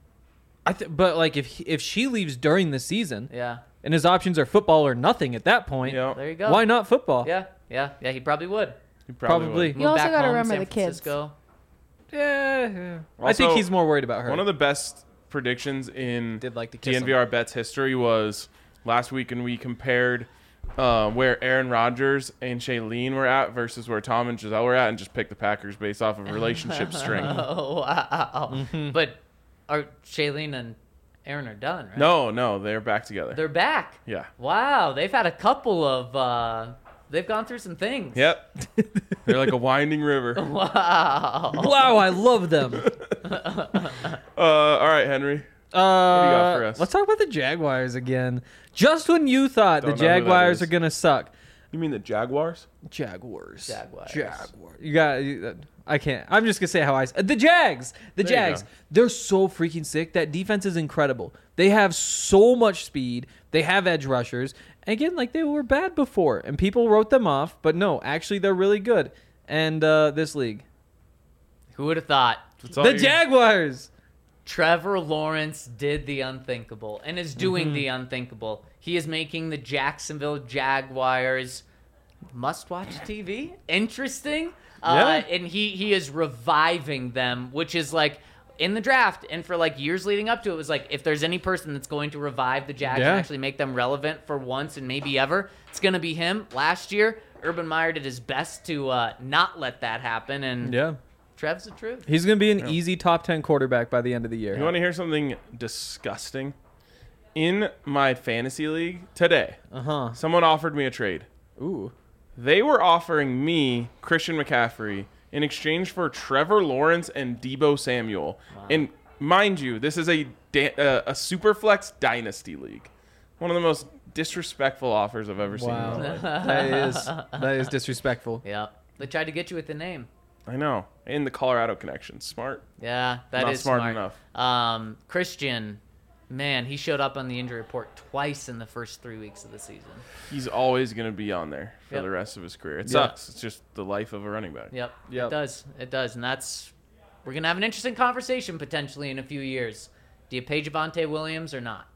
S4: I th- but like if if she leaves during the season
S3: Yeah.
S4: and his options are football or nothing at that point,
S2: Yeah.
S3: There you go.
S4: why not football?
S3: Yeah, yeah, yeah. He probably would.
S2: You
S4: Probably.
S2: would.
S5: You also
S3: back
S5: gotta
S3: home,
S5: remember
S3: San
S5: the kids.
S3: Francisco.
S4: Yeah, yeah. I think
S2: Also,
S4: he's more worried about her.
S2: One of the best predictions in
S4: Did like to kiss him.
S2: D N V R Bets history was last week, and we compared uh, where Aaron Rodgers and Shailene were at versus where Tom and Giselle were at, and just picked the Packers based off of relationship string.
S3: Oh wow!
S4: Mm-hmm.
S3: But are Shailene and Aaron are done, right?
S2: No, no, they're back together.
S3: They're back.
S2: yeah.
S3: Wow, they've had a couple of. Uh, they've gone through some things.
S2: Yep. They're like a winding river.
S3: Wow.
S4: Wow, I love them.
S2: Uh, all right, Henry.
S4: Uh,
S2: you got for us?
S4: Let's talk about the Jaguars again. Just when you thought
S2: Don't
S4: the
S2: know who that
S4: Jaguars
S2: is.
S4: are gonna suck,
S2: You mean the Jaguars?
S4: Jaguars.
S3: Jaguars.
S4: Jaguars. You got. You, I can't. I'm just gonna say how I. s- The Jags. The
S2: There you
S4: Jags.
S2: go.
S4: They're so freaking sick. That defense is incredible. They have so much speed. They have edge rushers. Again, like they were bad before, and people wrote them off. But no, actually, they're really good. And uh, this league,
S3: Who would have thought?
S2: That's all
S4: the
S2: you-
S4: Jaguars.
S3: Trevor Lawrence did the unthinkable and is doing
S4: Mm-hmm.
S3: the unthinkable. He is making the Jacksonville Jaguars must-watch T V. Interesting. Uh,
S4: Yeah.
S3: and he, he is reviving them, which is like in the draft and for like years leading up to it, it was like if there's any person that's going to revive the Jags
S4: Yeah.
S3: and actually make them relevant for once and maybe ever, it's going to be him. Last year, Urban Meyer did his best to uh, not let that happen, and
S4: Yeah.
S3: Trev's the truth.
S4: He's going to be an easy top ten quarterback by the end of the year.
S2: You want to hear something disgusting? In my fantasy league today,
S4: Uh-huh.
S2: someone offered me a trade.
S4: Ooh.
S2: They were offering me Christian McCaffrey in exchange for Trevor Lawrence and Debo Samuel. And mind you, this is a da- uh, a Superflex dynasty league. One of the most disrespectful offers I've ever seen in
S4: Wow.
S2: my life.
S4: that is that is disrespectful.
S3: Yeah. They tried to get you with the name.
S2: I know. And the Colorado connection. Smart.
S3: Yeah, that is
S2: Not smart enough.
S3: Um, Christian, man, he showed up on the injury report twice in the first three weeks of the season.
S2: He's always going to be on there for
S3: Yep.
S2: the rest of his career. It
S4: Yeah.
S2: sucks. It's just the life of a running back.
S3: Yep,
S4: Yep.
S3: it does. It does. And that's, we're going to have an interesting conversation potentially in a few years. Do you pay Javonte Williams or not?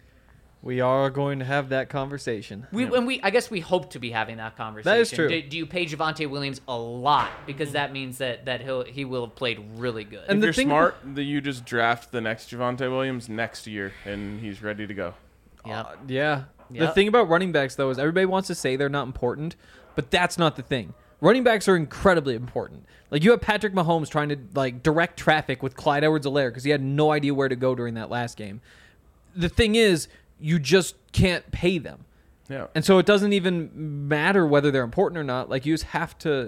S4: We are going to have that conversation.
S3: We, and we, I guess we hope to be having that conversation.
S4: That is true.
S3: Do, do you pay Javonte Williams a lot? Because that means that, that he'll, he will have played really good.
S4: And
S2: If
S4: the
S2: you're
S4: thing
S2: smart, that you just draft the next Javonte Williams next year, and he's ready to go.
S3: Yep.
S4: Uh, yeah. The
S3: Yep.
S4: thing about running backs, though, is everybody wants to say they're not important, but that's not the thing. Running backs are incredibly important. Like, you have Patrick Mahomes trying to, like, direct traffic with Clyde Edwards-Helaire because he had no idea where to go during that last game. The thing is, you just can't pay them.
S2: Yeah.
S4: And so it doesn't even matter whether they're important or not. Like, you just have to...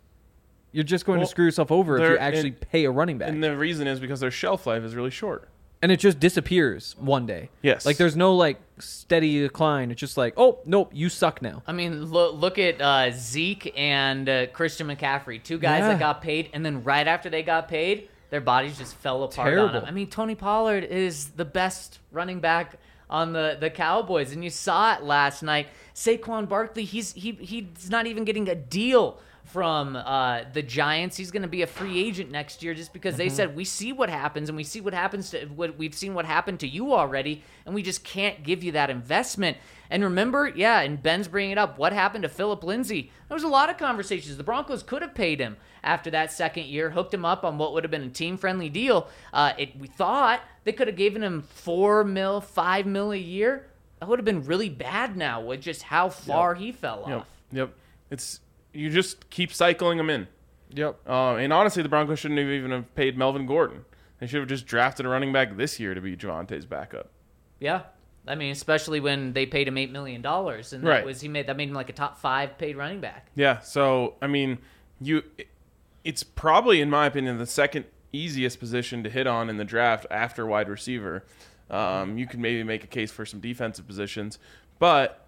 S4: You're just going
S2: Well,
S4: to screw yourself over if you
S2: they're-
S4: actually
S2: and-
S4: pay a running back.
S2: And the reason is because their shelf life is really short.
S4: And it just disappears one day.
S2: Yes.
S4: Like, there's no, like, steady decline. It's just like, oh, nope, you suck now.
S3: I mean, look, look at uh, Zeke and uh, Christian McCaffrey, two guys
S4: Yeah.
S3: that got paid, and then right after they got paid, their bodies just fell apart on
S4: Terrible.
S3: them. I mean, Tony Pollard is the best running back on the, the Cowboys, and you saw it last night. Saquon Barkley, he's he he's not even getting a deal from uh, the Giants. He's going to be a free agent next year just because they said we see what happens and we see what happens to what we've seen what happened to you already, and we just can't give you that investment. And remember, yeah, and Ben's bringing it up. What happened to Philip Lindsay? There was a lot of conversations. The Broncos could have paid him after that second year, hooked him up on what would have been a team-friendly deal. Uh, it, we thought they could have given him four mil, five mil a year. That would have been really bad now with just how far he fell
S2: Yep.
S3: off.
S2: Yep. It's you just keep cycling them in.
S4: Yep.
S2: Uh, and honestly, the Broncos shouldn't have even have paid Melvin Gordon. They should have just drafted a running back this year to be Javonte's backup.
S3: Yeah. I mean, especially when they paid him eight million dollars, and that
S2: Right.
S3: was he made that made him like a top five paid running back.
S2: Yeah. So I mean, you, it's probably in my opinion the second easiest position to hit on in the draft after wide receiver. Um, you could maybe make a case for some defensive positions, but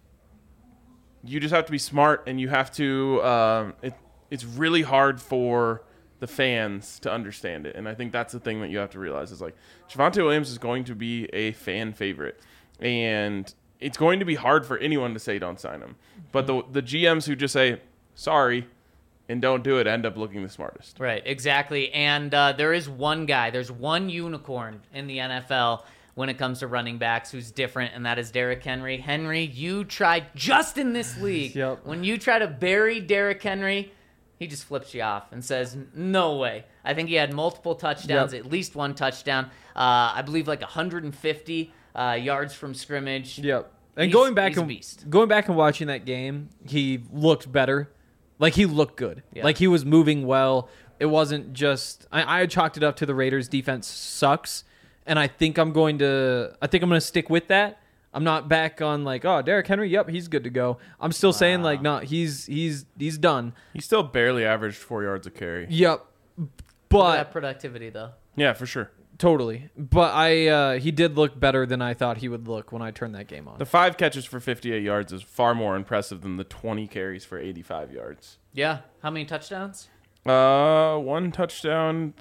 S2: you just have to be smart, and you have to. Um, it, it's really hard for the fans to understand it, and I think that's the thing that you have to realize is like Javonte Williams is going to be a fan favorite, and it's going to be hard for anyone to say don't sign him. But the the G Ms who just say sorry, and don't do it end up looking the smartest.
S3: Right, exactly. And uh, there is one guy, there's one unicorn in the N F L when it comes to running backs who's different, and that is Derrick Henry. Henry, you tried just in this league.
S4: Yep.
S3: When you try to bury Derrick Henry, he just flips you off and says, no way. I think he had multiple touchdowns,
S4: Yep.
S3: at least one touchdown. Uh, I believe like one hundred fifty uh, yards from scrimmage.
S4: Yep. And
S3: He's-
S4: going back
S3: he's a
S4: and
S3: beast.
S4: going back and watching that game, he looked better. Like he looked good.
S3: Yeah.
S4: Like he was moving well. It wasn't just I, I chalked it up to the Raiders defense sucks. And I think I'm going to I think I'm going to stick with that. I'm not back on like, oh, Derrick Henry, yep, he's good to go. I'm still saying like, no, he's he's he's done.
S2: He still barely averaged four yards a carry.
S4: Yep.
S3: Look at
S4: But
S3: that productivity, though.
S2: Yeah, for sure.
S4: totally. But I uh, he did look better than I thought he would look when I turned that game on.
S2: The five catches for fifty-eight yards is far more impressive than the twenty carries for eighty-five yards.
S3: Yeah. How many touchdowns?
S2: Uh, one touchdown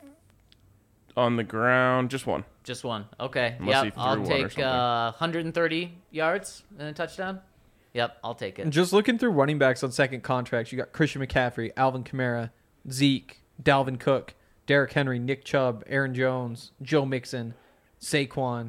S2: on the ground, just one.
S3: Just one. Okay.
S2: Unless he
S3: Yep.
S2: threw
S3: I'll
S2: one or
S3: take
S2: something.
S3: uh, one hundred thirty yards and a touchdown. Yep. I'll take it.
S4: Just looking through running backs on second contracts, you got Christian McCaffrey, Alvin Kamara, Zeke, Dalvin Cook, Derrick Henry, Nick Chubb, Aaron Jones, Joe Mixon, Saquon.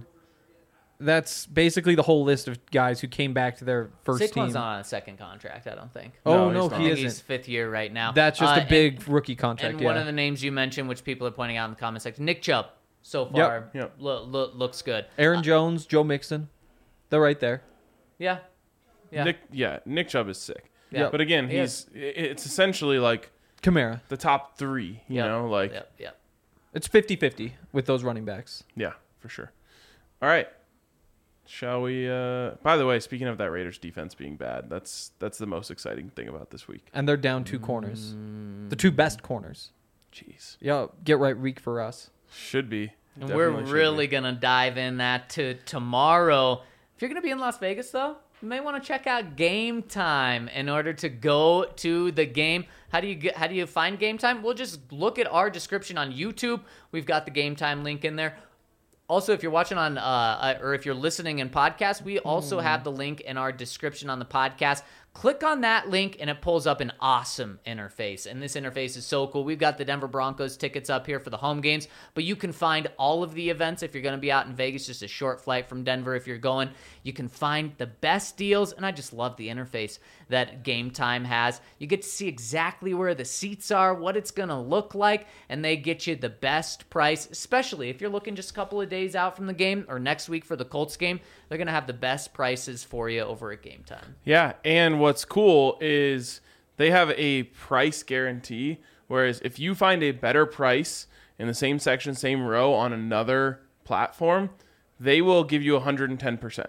S4: That's basically the whole list of guys who came back to their first
S3: Saquon's
S4: team.
S3: not on a second contract, I don't think.
S4: Oh,
S2: No,
S4: no,
S2: he's
S3: I
S2: not.
S4: he
S3: think he's
S4: isn't.
S3: fifth year right now.
S4: That's just
S3: Uh,
S4: a big
S3: and,
S4: rookie contract.
S3: and
S4: yeah.
S3: one of the names you mentioned, which people are pointing out in the comment section, Nick Chubb, so far
S2: Yep.
S3: lo- lo- looks good.
S4: Aaron
S3: Uh,
S4: Jones, Joe Mixon. They're right there.
S3: yeah. Yeah.
S2: Nick, yeah, Nick Chubb is sick.
S3: Yeah.
S2: But again,
S3: He
S2: he's i- it's essentially like
S4: Kamara.
S2: the top three. You
S3: Yep.
S2: know, like
S3: Yep. Yep.
S4: It's fifty-fifty with those running backs.
S2: yeah, for sure. All right. Shall we? Uh, by the way, speaking of that Raiders defense being bad, that's that's the most exciting thing about this week.
S4: And they're down two corners. The two best corners.
S2: Jeez,
S4: Yeah, get right week for us.
S2: should be.
S3: And
S2: Definitely
S3: we're
S2: should be.
S3: really going to dive in that to tomorrow. If you're going to be in Las Vegas, though, you may want to check out Game Time in order to go to the game. How do you get, how do you find Game Time? Well, just look at our description on YouTube. We've got the Game Time link in there. Also, if you're watching on, uh, or if you're listening in podcast, we also have the link in our description on the podcast. Click on that link, and it pulls up an awesome interface. And this interface is so cool. We've got the Denver Broncos tickets up here for the home games, but you can find all of the events if you're going to be out in Vegas, just a short flight from Denver if you're going. You can find the best deals, and I just love the interface that Game Time has. You get to see exactly where the seats are, what it's going to look like, and they get you the best price, especially if you're looking just a couple of days out from the game or next week for the Colts game. They're going to have the best prices for you over at Game Time.
S2: Yeah, and what's cool is they have a price guarantee, whereas if you find a better price in the same section, same row on another platform, they will give you one hundred ten percent.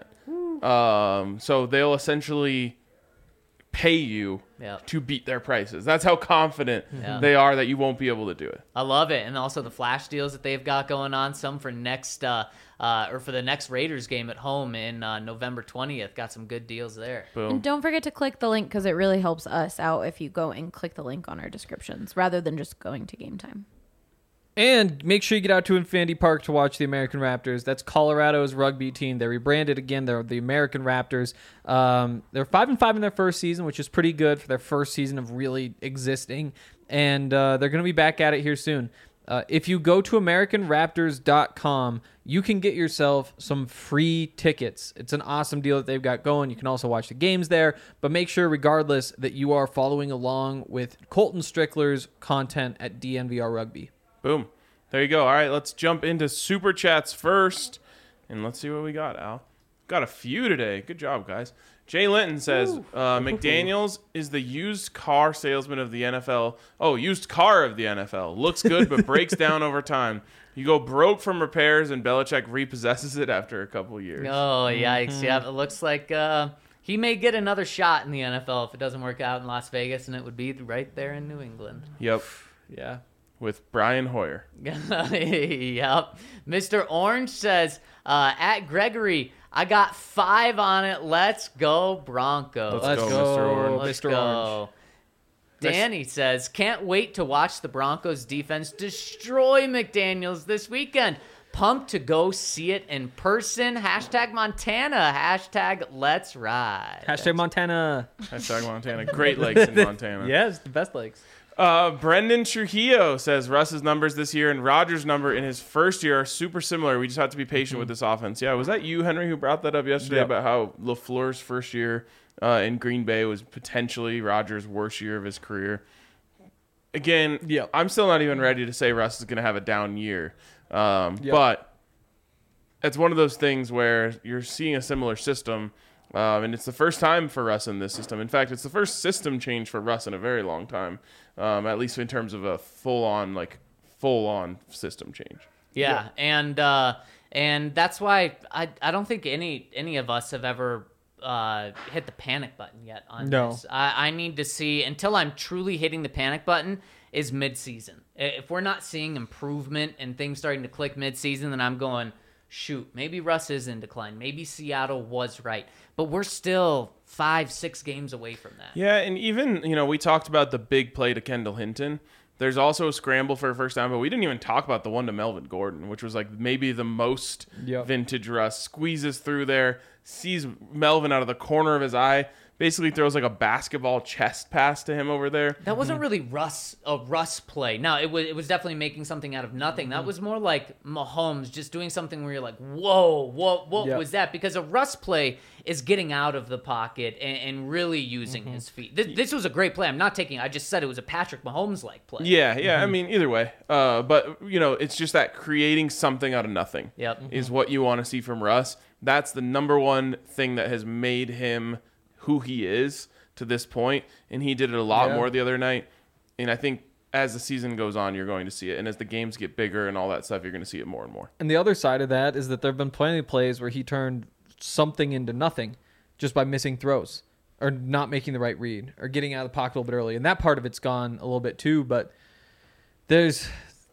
S2: Um, so they'll essentially pay you
S3: Yeah.
S2: to beat their prices. That's how confident
S3: Yeah.
S2: they are that you won't be able to do it.
S3: I love it. And also the flash deals that they've got going on, some for next uh, uh, or for the next Raiders game at home in uh, November twentieth. Got some good deals there.
S2: Boom.
S5: And don't forget to click the link because it really helps us out if you go and click the link on our descriptions rather than just going to Game Time.
S4: And make sure you get out to Infinity Park to watch the American Raptors. That's Colorado's rugby team. They rebranded again. They're the American Raptors. Um, they're five and five in their first season, which is pretty good for their first season of really existing. And uh, they're going to be back at it here soon. Uh, if you go to American Raptors dot com, you can get yourself some free tickets. It's an awesome deal that they've got going. You can also watch the games there, but make sure, regardless, that you are following along with Colton Strickler's content at D N V R Rugby.
S2: Boom. There you go. All right, let's jump into Super Chats first, and let's see what we got, Al. Got a few today. Good job, guys. Jay Linton says, uh, McDaniels is the used car salesman of the N F L. Oh, used car of the N F L. Looks good, but breaks down over time. You go broke from repairs, and Belichick repossesses it after a couple years.
S3: Oh, yikes. Yeah, it looks like uh, he may get another shot in the N F L if it doesn't work out in Las Vegas, and it would be right there in New England.
S2: Yep,
S4: Yeah.
S2: with Brian Hoyer.
S3: Yep. Mister Orange says, uh, at Gregory, I got five on it. Let's go, Broncos.
S2: Let's
S4: Let's
S2: go,
S4: go,
S2: Mister Orange.
S3: Let's
S4: Mister
S3: go.
S4: Orange.
S3: Danny says, can't wait to watch the Broncos defense destroy McDaniels this weekend. Pumped to go see it in person. Hashtag Montana. Hashtag let's ride.
S4: Hashtag Montana.
S2: Hashtag Montana. Great lakes in Montana.
S4: Yes, the best legs.
S2: Uh, Brendan Trujillo says Russ's numbers this year and Rodgers' number in his first year are super similar. We just have to be patient mm-hmm. with this offense. Yeah, was that you, Henry, who brought that up yesterday yep. about how LaFleur's first year uh, in Green Bay was potentially Rodgers' worst year of his career? Again, yep. I'm still not even ready to say Russ is going to have a down year. Um, yep. But it's one of those things where you're seeing a similar system, um, and it's the first time for Russ in this system. In fact, it's the first system change for Russ in a very long time, um, at least in terms of a full-on, like, full-on system change.
S3: Yeah, yeah. and uh, and that's why I I don't think any any of us have ever uh, hit the panic button yet on
S4: no.
S3: this. I, I need to see, until I'm truly hitting the panic button, is mid-season. If we're not seeing improvement and things starting to click mid-season, then I'm going, shoot, maybe Russ is in decline. Maybe Seattle was right. But we're still five, six games away from that.
S2: Yeah, and even, you know, we talked about the big play to Kendall Hinton. There's also a scramble for a first down, but we didn't even talk about the one to Melvin Gordon, which was like maybe the most yep. vintage Russ. Squeezes through there, sees Melvin out of the corner of his eye, basically throws like a basketball chest pass to him over there.
S3: That wasn't really Russ a Russ play. No, it was it was definitely making something out of nothing. That was more like Mahomes just doing something where you're like, whoa, what what yep. was that? Because a Russ play is getting out of the pocket and, and really using mm-hmm. his feet. This, this was a great play. I'm not taking. I just said it was a Patrick Mahomes-like play.
S2: Yeah, yeah. Mm-hmm. I mean, either way. Uh, but you know, it's just that creating something out of nothing.
S3: Yep.
S2: is mm-hmm. what you want to see from Russ. That's the number one thing that has made him who he is to this point, and he did it a lot yeah. more the other night. And I think as the season goes on, you're going to see it, and as the games get bigger and all that stuff, you're going to see it more and more.
S4: And the other side of that is that there have been plenty of plays where he turned something into nothing just by missing throws or not making the right read or getting out of the pocket a little bit early, and that part of it's gone a little bit too. But there's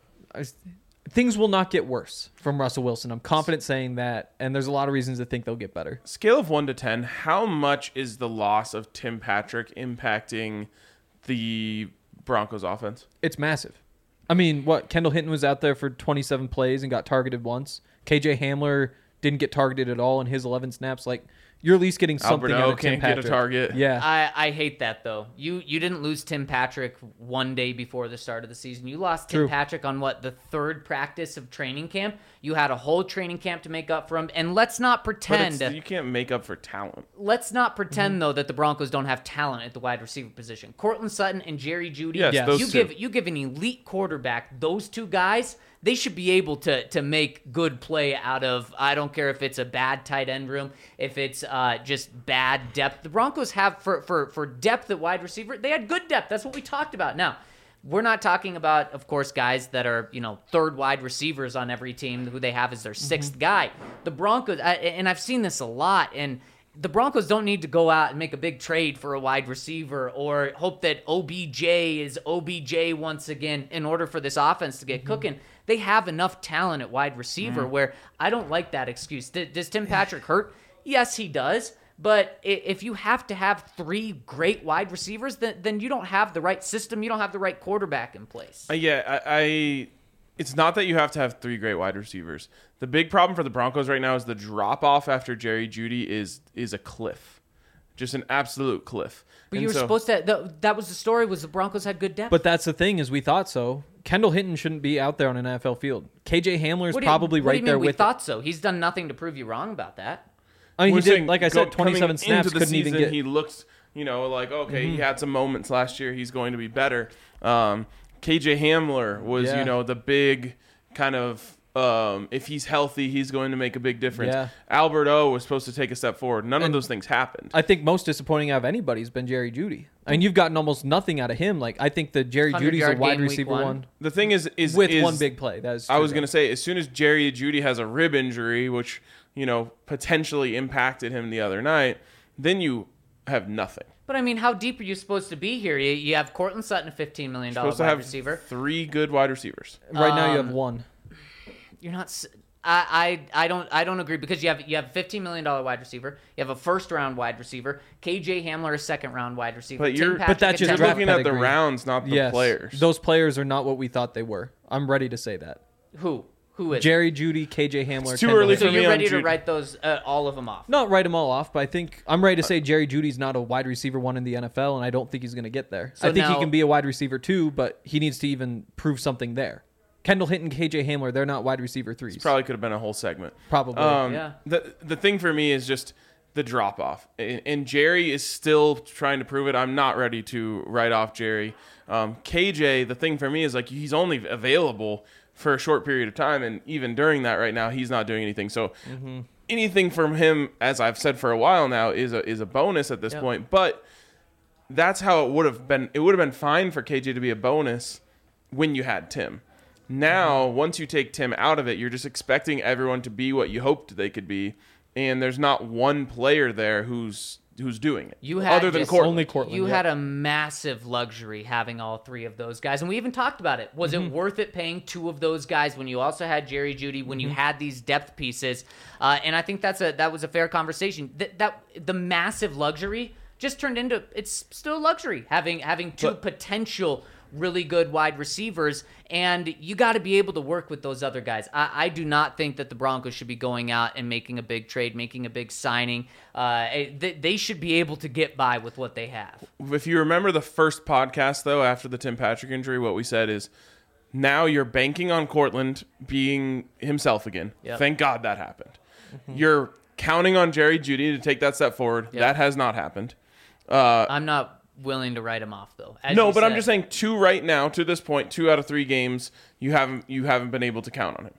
S4: things will not get worse from Russell Wilson. I'm confident saying that, and there's a lot of reasons to think they'll get better.
S2: Scale of one to ten, how much is the loss of Tim Patrick impacting the Broncos offense?
S4: It's massive. I mean, what, Kendall Hinton was out there for twenty-seven plays and got targeted once. K J Hamler didn't get targeted at all in his eleven snaps. Like, you're at least getting something
S2: Alberto
S4: out of Tim
S2: can't
S4: Patrick.
S2: Get a target.
S4: Yeah.
S3: I, I hate that, though. You you didn't lose Tim Patrick one day before the start of the season. You lost Tim
S4: True.
S3: Patrick on, what, the third practice of training camp? You had a whole training camp to make up for him. And let's not pretend...
S2: But you can't make up for talent.
S3: Let's not pretend, mm-hmm. though, that the Broncos don't have talent at the wide receiver position. Cortland Sutton and Jerry Jeudy,
S2: yes,
S4: yes.
S2: Those
S3: you,
S2: two.
S3: give, you give an elite quarterback those two guys... They should be able to to make good play out of, I don't care if it's a bad tight end room, if it's uh, just bad depth. The Broncos have, for, for, for depth at wide receiver, they had good depth. That's what we talked about. Now, we're not talking about, of course, guys that are, you know, third wide receivers on every team who they have as their sixth mm-hmm. guy. The Broncos, I, and I've seen this a lot, and the Broncos don't need to go out and make a big trade for a wide receiver or hope that O B J is O B J once again in order for this offense to get mm-hmm. cooking. They have enough talent at wide receiver mm. where I don't like that excuse. D- does Tim Patrick hurt? Yes, he does. But if you have to have three great wide receivers, then, then you don't have the right system. You don't have the right quarterback in place.
S2: Uh, yeah, I, I. It's not that you have to have three great wide receivers. The big problem for the Broncos right now is the drop-off after Jerry Jeudy is is a cliff. Just an absolute cliff.
S3: But
S2: and
S3: you were
S2: so,
S3: supposed to... That, that was the story, was the Broncos had good depth.
S4: But that's the thing, is we thought so. Kendall Hinton shouldn't be out there on an N F L field. K J Hamler is probably
S3: you,
S4: right
S3: do you
S4: there
S3: mean we
S4: with
S3: thought
S4: it.
S3: so. He's done nothing to prove you wrong about that.
S4: I mean,
S2: We're
S4: he did,
S2: saying,
S4: like I said,
S2: go,
S4: twenty-seven snaps,
S2: into the
S4: couldn't
S2: season,
S4: even get...
S2: He looked, you know, like, okay,
S4: mm-hmm.
S2: he had some moments last year. He's going to be better. Um, K J Hamler was,
S4: yeah.
S2: you know, the big kind of... Um, if he's healthy, he's going to make a big difference.
S4: Yeah.
S2: Albert O was supposed to take a step forward. None
S4: and
S2: of those things happened.
S4: I think most disappointing out of anybody has been Jerry Jeudy. I mean, you've gotten almost nothing out of him. Like, I think that Jerry Judy's a wide receiver one. one.
S2: The thing is, is
S4: with
S2: is,
S4: one big play. That is
S2: I was going to say, as soon as Jerry Jeudy has a rib injury, which, you know, potentially impacted him the other night, then you have nothing.
S3: But I mean, how deep are you supposed to be here? You, you have Cortland Sutton, a fifteen million dollars wide
S2: have
S3: receiver.
S2: Three good wide receivers.
S4: Right
S3: um,
S4: now, you have one.
S3: You're not. I, I I don't I don't agree because you have you have a fifteen million dollars wide receiver, you have a first round wide receiver, K J Hamler a second round wide receiver.
S2: But you're
S3: Tim
S4: but that's
S3: Patrick,
S4: just
S2: you're
S4: draft
S2: looking
S4: pedigree.
S2: at the rounds, not the
S4: yes.
S2: players.
S4: Those players are not what we thought they were. I'm ready to say that.
S3: Who? Who is?
S4: Jerry Judy, K J Hamler.
S2: It's too
S4: Kendall
S2: early
S3: So
S2: for
S4: Hinton.
S2: me
S3: you're
S2: on
S3: ready to
S2: Judy.
S3: write those uh, all of them off?
S4: Not write them all off, but I think I'm ready to say Jerry Judy's not a wide receiver one in the N F L, and I don't think he's going to get there.
S3: So
S4: I think
S3: now-
S4: he can be a wide receiver two, but he needs to even prove something there. Kendall Hinton, K J Hamler, they're not wide receiver threes.
S2: Probably could have been a whole segment.
S4: Probably.
S2: Um,
S3: Yeah.
S2: The the thing for me is just the drop off, and, and Jerry is still trying to prove it. I'm not ready to write off Jerry. Um, K J, the thing for me is like he's only available for a short period of time, and even during that, right now, he's not doing anything. So
S4: Mm-hmm.
S2: anything from him, as I've said for a while now, is a is a bonus at this
S3: Yep.
S2: point. But that's how it would have been. It would have been fine for K J to be a bonus when you had Tim. Now, once you take Tim out of it, you're just expecting everyone to be what you hoped they could be, and there's not one player there who's who's doing it.
S3: You had
S2: other than
S3: just-
S2: Cortland.
S4: Only Cortland.
S3: You
S4: yeah.
S3: had a massive luxury having all three of those guys, and we even talked about it. Was
S4: Mm-hmm.
S3: it worth it paying two of those guys when you also had Jerry Judy, when
S4: Mm-hmm.
S3: you had these depth pieces? Uh, and I think that's a that was a fair conversation. That that the massive luxury just turned into it's still a luxury having having two
S2: But-
S3: potential really good wide receivers, and you got to be able to work with those other guys. I, I do not think that the Broncos should be going out and making a big trade, making a big signing. Uh, they, they should be able to get by with what they have.
S2: If you remember the first podcast, though, after the Tim Patrick injury, what we said is now you're banking on Cortland being himself again.
S3: Yep.
S2: Thank God that happened. You're counting on Jerry Judy to take that step forward.
S3: Yep.
S2: That has not happened. Uh,
S3: I'm not willing to write him off, though. As
S2: no,
S3: you
S2: but I'm
S3: said.
S2: just saying two right now to this point, two out of three games, you haven't you haven't been able to count on him.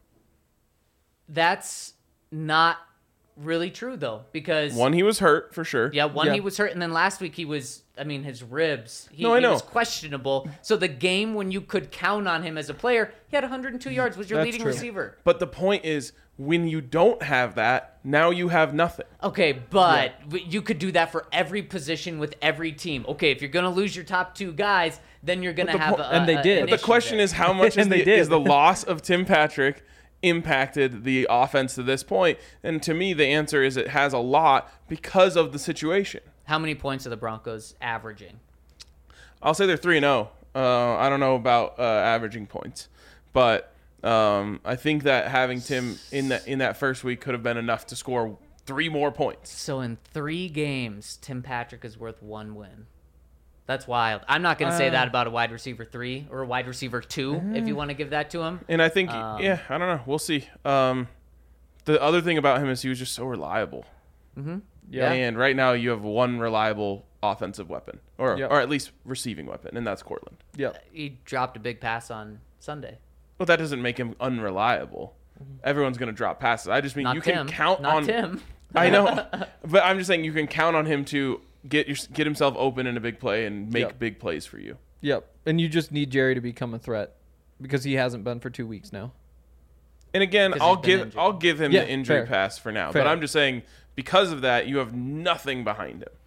S3: That's not really true, though, because
S2: One, he was hurt for sure.
S3: yeah, one
S4: Yeah.
S3: he was hurt, and then last week he was. I mean, his ribs. He,
S2: No, I
S3: he
S2: know.
S3: was questionable. So the game when you could count on him as a player, he had one hundred two yards. Was your
S4: That's
S3: leading
S4: true.
S3: receiver?
S2: But the point is, when you don't have that, now you have nothing.
S3: Okay, but w you could do that for every position with every team. Okay, if you're gonna lose your top two guys, then you're gonna
S2: But the
S3: have
S2: po-
S3: a,
S4: and they
S3: a-
S4: did.
S3: an
S2: But the
S3: issue
S2: question
S3: there.
S2: is, how much is
S4: And they
S2: the,
S4: did.
S2: is the loss of Tim Patrick impacted the offense to this point? And to me, the answer is it has a lot because of the situation.
S3: how many points are the Broncos averaging?
S2: I'll say they're three and zero. Uh, I don't know about uh, averaging points, but um, I think that having Tim in that in that first week could have been enough to score three more points.
S3: So in three games, Tim Patrick is worth one win. That's wild. I'm not going to say
S4: Uh,
S3: that about a wide receiver three or a wide receiver two, if you want to give that to him.
S2: And I think,
S3: Um,
S2: yeah, I don't know. We'll see. Um, the other thing about him is he was just so reliable.
S3: Yeah.
S2: And right now you have one reliable offensive weapon, or
S4: Yep.
S2: or at least receiving weapon, and that's Cortland.
S4: Yep.
S3: He dropped a big pass on Sunday.
S2: But that doesn't make him unreliable. Everyone's going to drop passes. I just mean
S3: Not
S2: you
S3: Tim.
S2: can count
S3: Not
S2: on
S3: Tim.
S2: I know, but I'm just saying you can count on him to get your, get himself open in a big play and make
S4: Yep.
S2: big plays for you.
S4: Yep. And you just need Jerry to become a threat because he hasn't been for two weeks now.
S2: And again,
S3: 'Cause
S2: I'll
S3: he's been
S2: give
S3: injured.
S2: I'll give him
S4: Yeah,
S2: the injury
S4: fair.
S2: pass for now.
S4: Fair.
S2: But I'm just saying because of that, you have nothing behind him.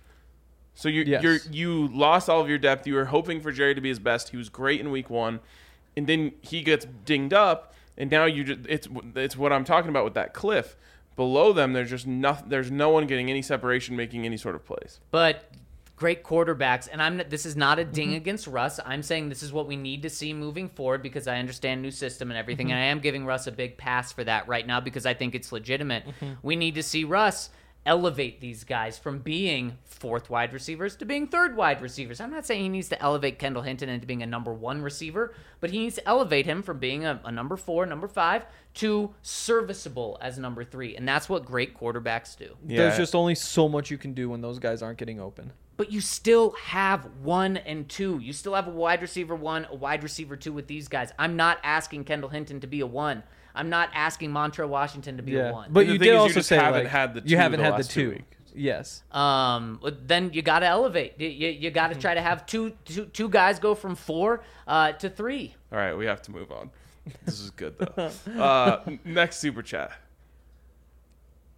S2: So you
S4: Yes.
S2: you're you lost all of your depth. You were hoping for Jerry to be his best. He was great in week one, and then he gets dinged up, and now you just it's it's what I'm talking about with that cliff. Below them, there's just nothing. There's no one getting any separation, making any sort of plays.
S3: But great quarterbacks, and I'm not, this is not a ding
S2: Mm-hmm.
S3: against Russ. I'm saying this is what we need to see moving forward because I understand new system and everything,
S2: Mm-hmm.
S3: and I am giving Russ a big pass for that right now because I think it's legitimate.
S2: Mm-hmm.
S3: We need to see Russ elevate these guys from being fourth wide receivers to being third wide receivers. I'm not saying he needs to elevate Kendall Hinton into being a number one receiver, but he needs to elevate him from being a, a number four, number five, to serviceable as number three, and that's what great quarterbacks do.
S2: Yeah.
S4: There's just only so much you can do when those guys aren't getting open.
S3: But you still have one and two. You still have a wide receiver one, a wide receiver two with these guys. I'm not asking Kendall Hinton to be a one. I'm not asking Montrell Washington to be a one.
S4: But
S2: The
S4: you
S2: thing
S4: did
S2: is you
S4: also
S2: just
S4: say
S2: haven't
S4: like,
S2: had the
S4: you
S2: two
S4: haven't
S2: the
S4: had the
S2: last two
S4: two.
S2: weeks.
S4: Yes.
S3: um, then you got to elevate. You, you, you got to try to have two, two, two guys go from four uh, to three.
S2: All right, we have to move on. This is good though. Uh, n- next super chat.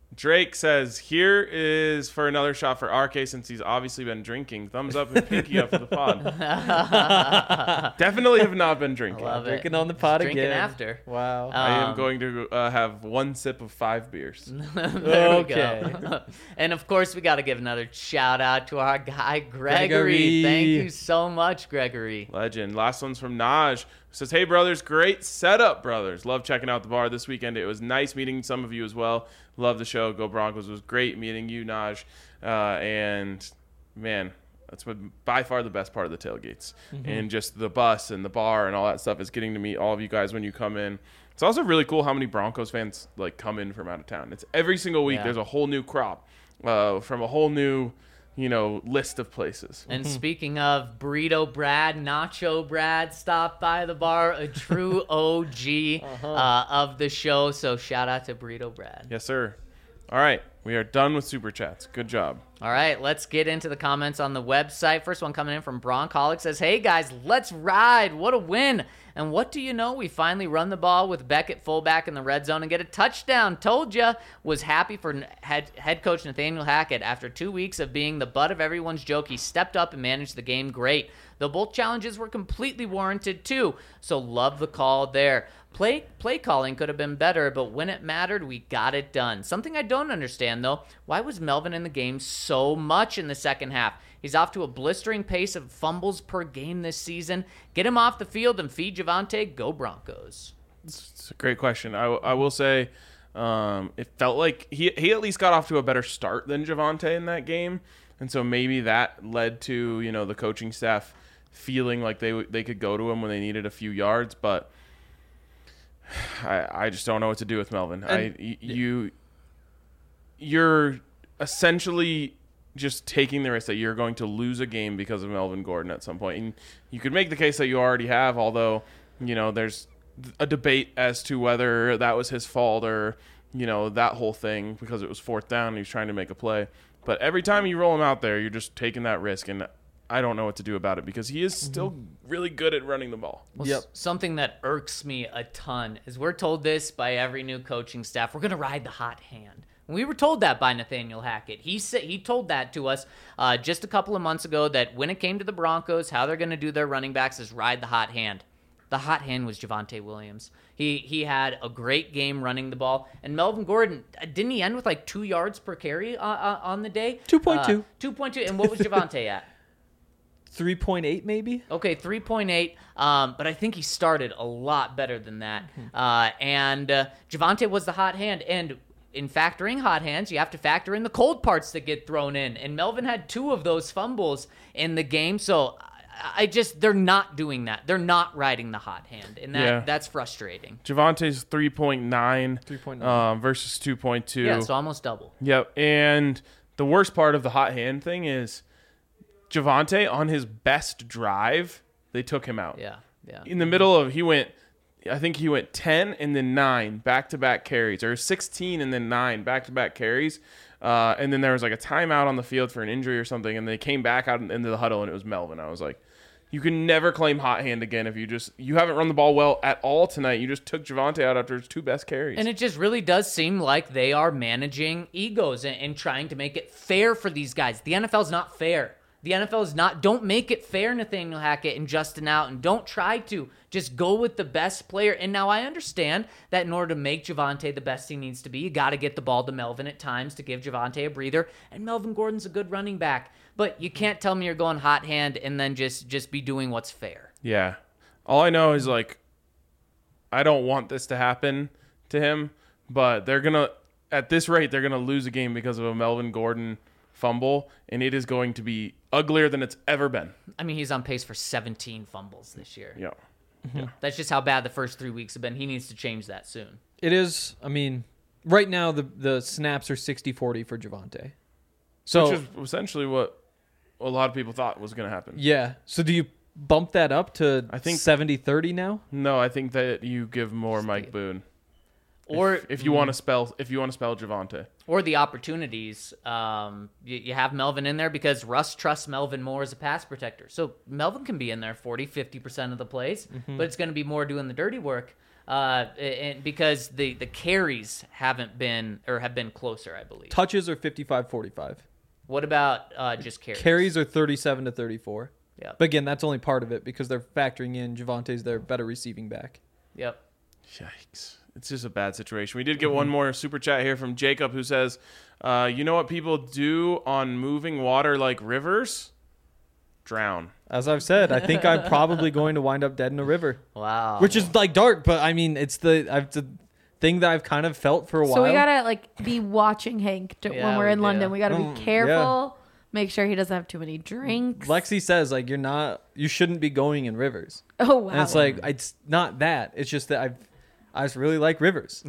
S2: Drake says, here is for another shot for R K since he's obviously been drinking. Thumbs up and pinky up for the pod. Definitely have not been drinking.
S3: Love it.
S4: Drinking on the pod
S3: Drinking
S4: again.
S3: after.
S4: Wow.
S2: I am
S3: Um,
S2: going to uh, have one sip of five beers.
S3: There
S4: Okay.
S3: we go. And of course, we got to give another shout out to our guy Gregory.
S4: Gregory.
S3: Thank you so much, Gregory.
S2: Legend. Last one's from Naj. Who says, hey, brothers, great setup, brothers. Love checking out the bar this weekend. It was nice meeting some of you as well. Love the show. Go Broncos. It was great meeting you, Naj. Uh, and, man, that's what, by far the best part of the tailgates.
S4: Mm-hmm.
S2: And just the bus and the bar and all that stuff is getting to meet all of you guys when you come in. It's also really cool how many Broncos fans, like, come in from out of town. It's every single week
S3: Yeah.
S2: there's a whole new crop uh, from a whole new, you know, list of places.
S3: And speaking of Burrito Brad, Nacho Brad stopped by the bar, a true O G
S4: Uh-huh.
S3: uh, of the show. So shout out to Burrito Brad.
S2: Yes, sir. All right. We are done with Super Chats. Good job.
S3: All right, let's get into the comments on the website. First one coming in from Broncholic says, hey guys, let's ride. What a win. And what do you know? We finally run the ball with Beckett fullback in the red zone and get a touchdown. Told ya. Was happy for head, head coach Nathaniel Hackett. After two weeks of being the butt of everyone's joke, he stepped up and managed the game great. Though both challenges were completely warranted too. So love the call there. Play play calling could have been better, but when it mattered, we got it done. Something I don't understand, though, why was Melvin in the game so much in the second half? He's off to a blistering pace of fumbles per game this season. Get him off the field and feed Javonte. Go Broncos.
S2: It's a great question. I, I will say um, it felt like he, he at least got off to a better start than Javonte in that game. And so maybe that led to, you know, the coaching staff feeling like they they could go to him when they needed a few yards. But I, I just don't know what to do with Melvin. I
S4: And-
S2: y- you you're essentially just taking the risk that you're going to lose a game because of Melvin Gordon at some point. And you could make the case that you already have, although, you know, there's a debate as to whether that was his fault or, you know, that whole thing because it was fourth down and he was trying to make a play. But every time you roll him out there, you're just taking that risk, and I don't know what to do about it because he is still really good at running the ball.
S3: Well,
S4: Yep.
S3: s- Something that irks me a ton is we're told this by every new coaching staff. We're going to ride the hot hand. We were told that by Nathaniel Hackett. He said he told that to us uh, just a couple of months ago that when it came to the Broncos, how they're going to do their running backs is ride the hot hand. The hot hand was Javonte Williams. He he had a great game running the ball. And Melvin Gordon, uh, didn't he end with like two yards per carry uh, uh, on the day?
S4: two point two.
S3: Uh, two point two. And what was Javonte at?
S4: three point eight maybe?
S3: Okay, three point eight, um, but I think he started a lot better than that. Uh, and uh, Javonte was the hot hand. And in factoring hot hands, you have to factor in the cold parts that get thrown in. And Melvin had two of those fumbles in the game. So I, I just, they're not doing that. They're not riding the hot hand. And that
S2: Yeah.
S3: that's frustrating.
S2: Javonte's three point nine
S4: three point nine.
S2: um, versus two point two.
S3: Yeah, so almost double.
S2: Yep. And the worst part of the hot hand thing is Javonte on his best drive, they took him out.
S3: Yeah, yeah.
S2: In the middle of, he went, I think he went ten and then nine back-to-back carries, or sixteen and then nine back-to-back carries. Uh, and then there was like a timeout on the field for an injury or something, and they came back out into the huddle, and it was Melvin. I was like, you can never claim hot hand again if you just, you haven't run the ball well at all tonight. You just took Javonte out after his two best carries.
S3: And it just really does seem like they are managing egos and, and trying to make it fair for these guys. The N F L is not fair. The N F L is not, don't make it fair, Nathaniel Hackett and Justin Allen. Don't try to. Just go with the best player. And now I understand that in order to make Javonte the best he needs to be, you got to get the ball to Melvin at times to give Javonte a breather. And Melvin Gordon's a good running back. But you can't tell me you're going hot hand and then just, just be doing what's fair.
S2: Yeah. All I know is, like, I don't want this to happen to him, but they're going to, at this rate, they're going to lose a game because of a Melvin Gordon fumble, and it is going to be uglier than it's ever been.
S3: I mean, he's on pace for seventeen fumbles this year.
S2: Yeah.
S3: That's just how bad the first three weeks have been. He needs to change that soon.
S4: It is, I mean, right now the the snaps are sixty forty for Javonte. So,
S2: Which is essentially what a lot of people thought was going to happen.
S4: yeah. So do you bump that up to
S2: I think-
S4: seventy thirty now?
S2: No, I think that you give more Mike Boone.
S3: Or
S2: If, if you want to spell if you want to spell Javonte.
S3: or the opportunities. Um, you, you have Melvin in there because Russ trusts Melvin more as a pass protector. So Melvin can be in there forty, fifty percent of the plays, but it's going to be more doing the dirty work. Uh, and because the, the carries haven't been or have been closer, I believe.
S4: Touches are fifty-five forty-five.
S3: What about uh, just carries?
S4: Carries are thirty-seven to thirty-four.
S3: Yep.
S4: But again, that's only part of it because they're factoring in Javante's their better receiving back.
S3: Yep.
S2: Yikes. It's just a bad situation. We did get one more super chat here from Jacob who says, uh, you know what people do on moving water like rivers? Drown.
S4: As I've said, I think I'm probably going to wind up dead in a river,
S3: Wow.
S4: which is like dark, but I mean, it's the I've the thing that I've kind of felt for a while.
S5: So we gotta like be watching Hank to,
S3: Yeah,
S5: when we're
S3: we
S5: in
S3: do.
S5: London. We gotta
S4: Mm,
S5: be
S4: yeah.
S5: careful. Make sure he doesn't have too many drinks.
S4: Lexi says like you're not, you shouldn't be going in rivers,
S5: oh wow.
S4: and it's like it's not that. It's just that I've I just really like rivers.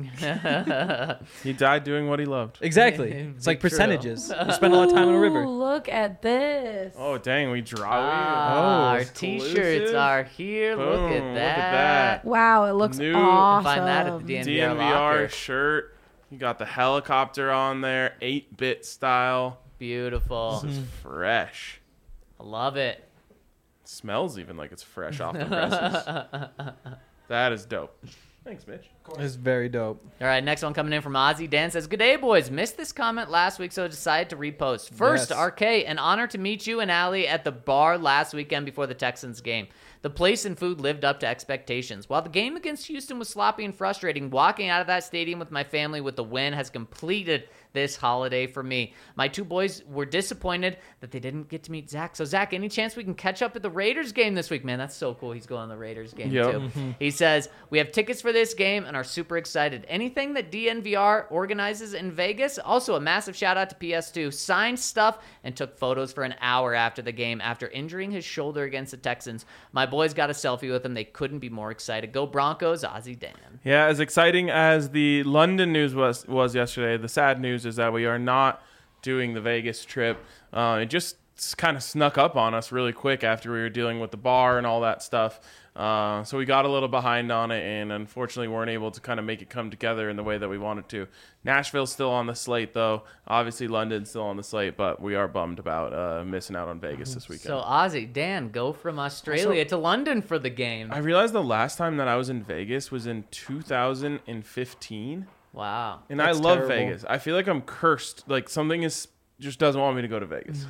S2: He died doing what he loved.
S4: Exactly. It's like
S3: True.
S4: percentages. You spend a lot of time on a
S5: Ooh,
S4: river.
S5: look at this.
S2: Oh, dang. We draw.
S3: Ah, our
S2: exclusive.
S3: T-shirts are here.
S2: Boom,
S3: Look at
S2: look
S3: that.
S2: at that.
S5: Wow, it looks
S2: New-
S5: awesome.
S3: Find that at the D N V R
S2: D N V R
S3: locker.
S2: shirt. You got the helicopter on there, eight-bit style.
S3: Beautiful.
S2: This is fresh.
S3: I love it.
S2: Smells even like it's fresh off the presses. That is dope. Thanks, Mitch.
S4: It's very dope.
S3: All right, next one coming in from Ozzy. Dan says, good day, boys. Missed this comment last week, so decided to repost. First,
S4: Yes.
S3: R K, an honor to meet you and Allie at the bar last weekend before the Texans game. The place and food lived up to expectations. While the game against Houston was sloppy and frustrating, walking out of that stadium with my family with the win has completed this holiday for me. My two boys were disappointed that they didn't get to meet Zach. So, Zach, any chance we can catch up at the Raiders game this week? Man, that's so cool. He's going to the Raiders game,
S2: Yep.
S3: too. He says, we have tickets for this game and are super excited. Anything that D N V R organizes in Vegas, also a massive shout out to P S two, signed stuff and took photos for an hour after the game after injuring his shoulder against the Texans. My boys got a selfie with him. They couldn't be more excited. Go Broncos, Ozzy Dan.
S2: Yeah, as exciting as the London news was was yesterday, the sad news is that we are not doing the Vegas trip. Uh, it just kind of snuck up on us really quick after we were dealing with the bar and all that stuff. Uh, so we got a little behind on it and unfortunately weren't able to kind of make it come together in the way that we wanted to. Nashville's still on the slate, though. Obviously, London's still on the slate, but we are bummed about uh, missing out on Vegas this weekend.
S3: So, Ozzy, Dan, go from Australia to London for the game.
S2: I realized the last time that I was in Vegas was in two thousand fifteen.
S3: Wow.
S2: And
S4: That's
S2: I love
S4: terrible.
S2: Vegas. I feel like I'm cursed. Like something is just doesn't want me to go to Vegas.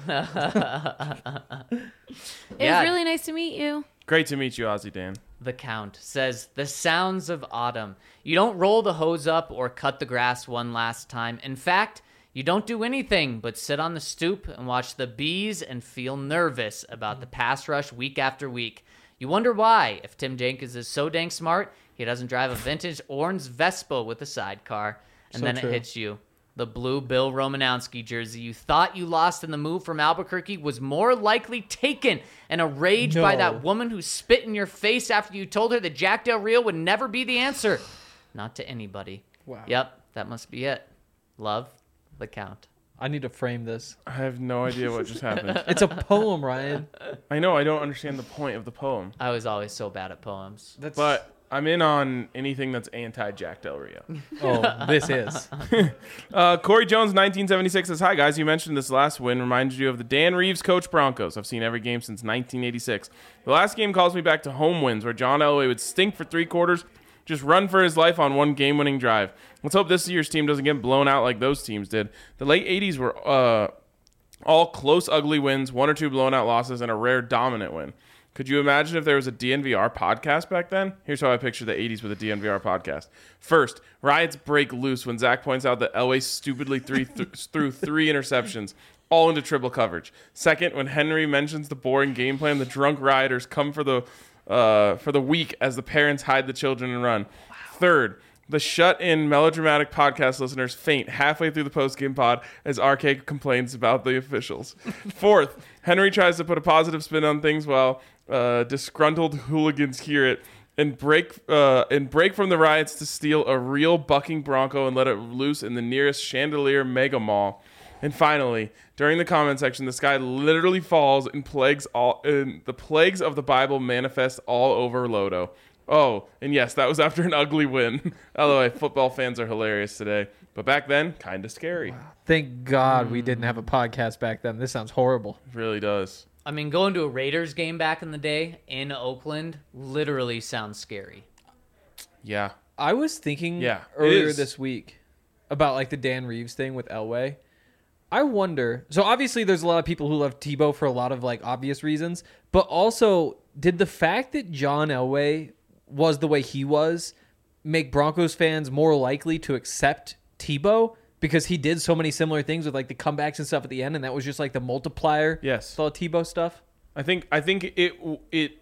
S5: It
S3: Yeah.
S5: was really nice to meet you.
S2: Great to meet you, Ozzy Dan.
S3: The Count says, the sounds of autumn. You don't roll the hose up or cut the grass one last time. In fact, you don't do anything but sit on the stoop and watch the bees and feel nervous about the pass rush week after week. You wonder why, if Tim Jenkins is so dang smart, he doesn't drive a vintage orange Vespa with a sidecar. And
S4: So
S3: then
S4: true.
S3: it hits you. The blue Bill Romanowski jersey you thought you lost in the move from Albuquerque was more likely taken and a rage by
S4: No.
S3: that woman who spit in your face after you told her that Jack Del Rio would never be the answer. Not to anybody.
S4: Wow.
S3: Yep, that must be it. Love, the Count.
S4: I need to frame this.
S2: I have no idea what just happened.
S4: It's a poem, Ryan.
S2: I know I don't understand the point of the poem,
S3: I was always so bad at poems.
S4: That's
S2: but I'm in on anything that's anti-Jack Del Rio.
S4: oh, this is.
S2: Uh, Corey Jones, nineteen seventy-six says, "Hi guys, you mentioned this last win reminded you of the Dan Reeves coach Broncos. I've seen every game since nineteen eighty-six. The last game calls me back to home wins where John Elway would stink for three quarters, just run for his life on one game-winning drive. Let's hope this year's team doesn't get blown out like those teams did. The late eighties were uh, all close, ugly wins, one or two blown-out losses, and a rare dominant win. Could you imagine if there was a D N V R podcast back then? Here's how I picture the eighties with a D N V R podcast. First, riots break loose when Zach points out that Elway stupidly three th- threw three interceptions, all into triple coverage. Second, when Henry mentions the boring game plan, the drunk rioters come for the uh, for the week as the parents hide the children and run. Third, the shut-in melodramatic podcast listeners faint halfway through the post-game pod as R K complains about the officials. Fourth, Henry tries to put a positive spin on things while uh, disgruntled hooligans hear it and break uh, and break from the riots to steal a real bucking Bronco and let it loose in the nearest chandelier mega mall. And finally, during the comment section, the sky literally falls and plagues all and the plagues of the Bible manifest all over Lodo. Oh, and yes, that was after an ugly win. L O A, football fans are hilarious today. But back then, kind of scary.
S4: Thank God we didn't have a podcast back then. This sounds horrible.
S2: It really does.
S3: I mean, going to a Raiders game back in the day in Oakland literally sounds scary.
S2: Yeah.
S4: I was thinking
S2: Yeah, it
S4: earlier
S2: is.
S4: this week about like the Dan Reeves thing with Elway. I wonder. So obviously, there's a lot of people who love Tebow for a lot of like obvious reasons, but also did the fact that John Elway was the way he was make Broncos fans more likely to accept Tebow because he did so many similar things with like the comebacks and stuff at the end, and that was just like the multiplier.
S2: Yes.
S4: with all the Tebow stuff.
S2: I think I think it it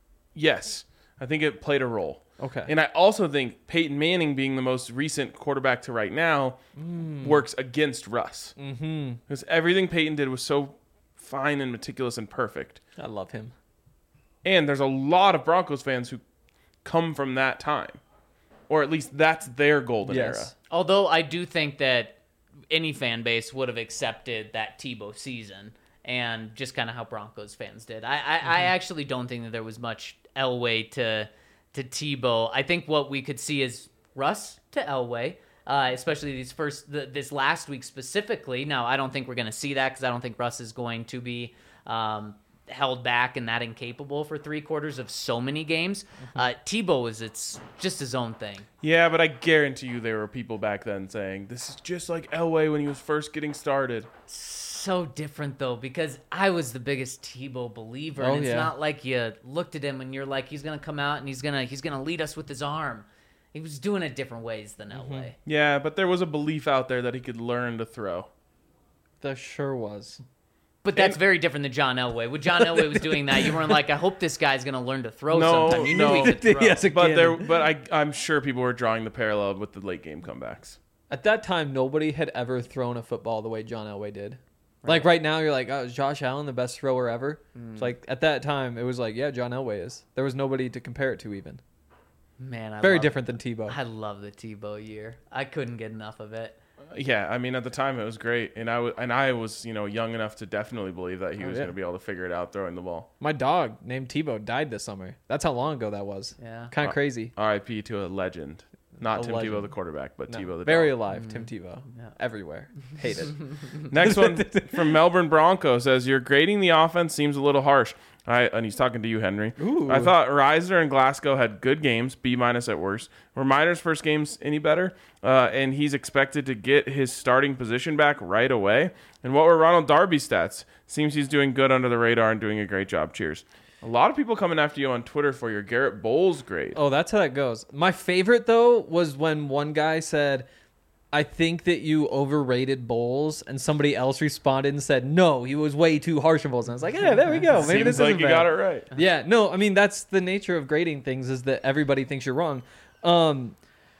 S2: yes. I think it played a role.
S4: Okay.
S2: And I also think Peyton Manning being the most recent quarterback to right now
S4: Mm.
S2: works against Russ. Mm-hmm. Because everything Peyton did was so fine and meticulous and perfect.
S4: I love him.
S2: And there's a lot of Broncos fans who come from that time. Or at least that's their golden
S4: Yes.
S2: era.
S3: Although I do think that any fan base would have accepted that Tebow season and just kind of how Broncos fans did. I, I,
S2: Mm-hmm.
S3: I actually don't think that there was much Elway to to Tebow. I think what we could see is Russ to Elway, uh, especially these first the, this last week specifically. Now, I don't think we're going to see that because I don't think Russ is going to be um, held back and that incapable for three quarters of so many games. Uh, Tebow is it's just his own thing.
S2: Yeah, but I guarantee you there were people back then saying, this is just like Elway when he was first getting started.
S3: So different though, because I was the biggest Tebow believer,
S4: Oh,
S3: and it's
S4: yeah.
S3: not like you looked at him and you're like, he's gonna come out and he's gonna he's gonna lead us with his arm. He was doing it different ways than Elway.
S2: Yeah, but there was a belief out there that he could learn to throw.
S4: There sure was.
S3: But that's very different than John Elway. When John Elway was doing that, you weren't like, I hope this guy's gonna learn to throw
S2: No,
S3: sometime. You
S2: no.
S3: knew he could throw.
S4: Yes, it
S2: But
S4: can.
S2: there, but I, I'm sure people were drawing the parallel with the late game comebacks.
S4: At that time, nobody had ever thrown a football the way John Elway did. Like right now, you're like, oh, is Josh Allen the best thrower ever? It's like at that time, it was like, yeah, John Elway is. There was nobody to compare it to even.
S3: Man, I
S4: Very
S3: love,
S4: different than Tebow.
S3: I love the Tebow year. I couldn't get enough of it.
S2: Yeah, I mean, at the time it was great, and I was, and I was, you know, young enough to definitely believe that he
S4: Oh,
S2: was
S4: yeah.
S2: going to be able to figure it out throwing the ball.
S4: My dog named Tebow died this summer. That's how long ago that was.
S3: Yeah.
S4: Kind of crazy.
S2: R I P to a legend, not
S4: A
S2: Tim
S4: legend.
S2: Tebow the quarterback, but
S4: No,
S2: Tebow the
S4: very
S2: dog.
S4: alive, Tim Tebow.
S3: Yeah.
S4: Everywhere. Hated.
S2: Next one from Melbourne Bronco says, "Your grading the offense seems a little harsh." I, and he's talking to you, Henry.
S4: Ooh.
S2: I thought Reisner and Glasgow had good games, B minus at worst. Were Miner's first games any better? Uh, and he's expected to get his starting position back right away. And what were Ronald Darby's stats? Seems he's doing good under the radar and doing a great job. Cheers. A lot of people coming after you on Twitter for your Garrett Bowles grade.
S4: Oh, that's how that goes. My favorite, though, was when one guy said, I think that you overrated Bowles, and somebody else responded and said, no, he was way too harsh on Bowles. And I was like, yeah, there we go. Maybe
S2: Seems
S4: this
S2: like
S4: isn't
S2: you
S4: bad.
S2: got it right.
S4: Yeah, no, I mean, that's the nature of grading things is that everybody thinks you're wrong. Um,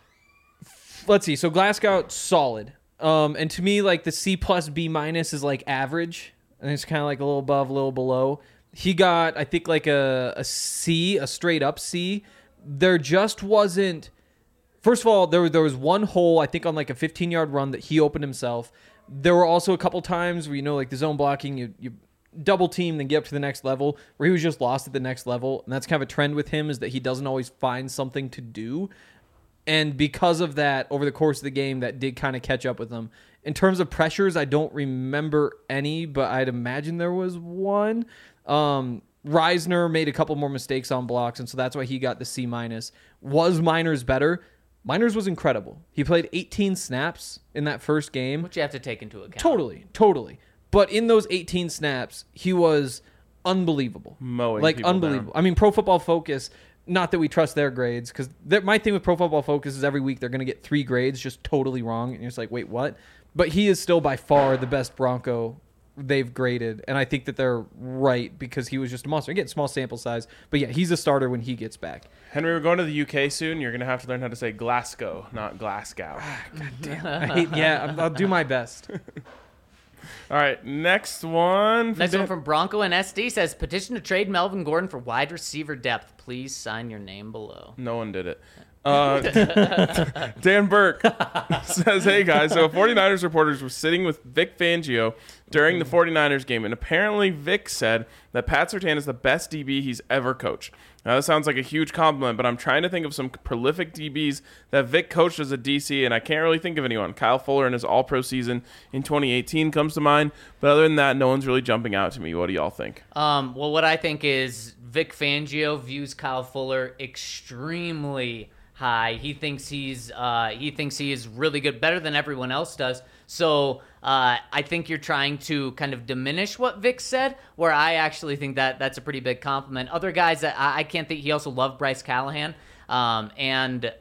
S4: f- let's see. So Glasgow, solid. Um, and to me, like the C plus B minus is like average. And it's kind of like a little above, a little below. He got, I think, like a, a C, a straight up C. There just wasn't... First of all, there, there was one hole, I think, on like a fifteen-yard run that he opened himself. There were also a couple times where, you know, like the zone blocking, you, you double team, then get up to the next level, where he was just lost at the next level. And that's kind of a trend with him is that he doesn't always find something to do. And because of that, over the course of the game, that did kind of catch up with him. In terms of pressures, I don't remember any, but I'd imagine there was one. Um, Reisner made a couple more mistakes on blocks, and so that's why he got the C minus. Was Miners better? Miners was incredible. He played eighteen snaps in that first game.
S3: Which you have to take into account.
S4: Totally, totally. But in those eighteen snaps, he was unbelievable.
S2: Mowing
S4: like
S2: people
S4: unbelievable.
S2: down.
S4: I mean, Pro Football Focus. Not that we trust their grades, because my thing with Pro Football Focus is every week they're going to get three grades just totally wrong, and you're just like, wait, what? But he is still by far the best Bronco they've graded, and I think that they're right because he was just a monster. Again, small sample size, but yeah, he's a starter when he gets back.
S2: Henry, we're going to the U K soon. You're going to have to learn how to say Glasgow, not Glasgow.
S4: I hate, yeah, I'm- I'll do my best.
S2: All right, next one. from
S3: Next
S2: Dan-
S3: one from Bronco and S D says, petition to trade Melvin Gordon for wide receiver depth. Please sign your name below.
S2: No one did it. Uh, Dan Burke says, hey guys, so 49ers reporters were sitting with Vic Fangio during the 49ers game, and apparently Vic said that Pat Surtain is the best D B he's ever coached. Now, that sounds like a huge compliment, but I'm trying to think of some prolific D Bs that Vic coached as a D C, and I can't really think of anyone. Kyle Fuller in his all-pro season in twenty eighteen comes to mind, but other than that, no one's really jumping out to me. What do y'all think?
S3: Um, well, what I think is Vic Fangio views Kyle Fuller extremely high. He thinks he's uh, he thinks he is really good, better than everyone else does. So uh, I think you're trying to kind of diminish what Vic said, where I actually think that that's a pretty big compliment. Other guys that I, I can't think. He also loved Bryce Callahan, um, and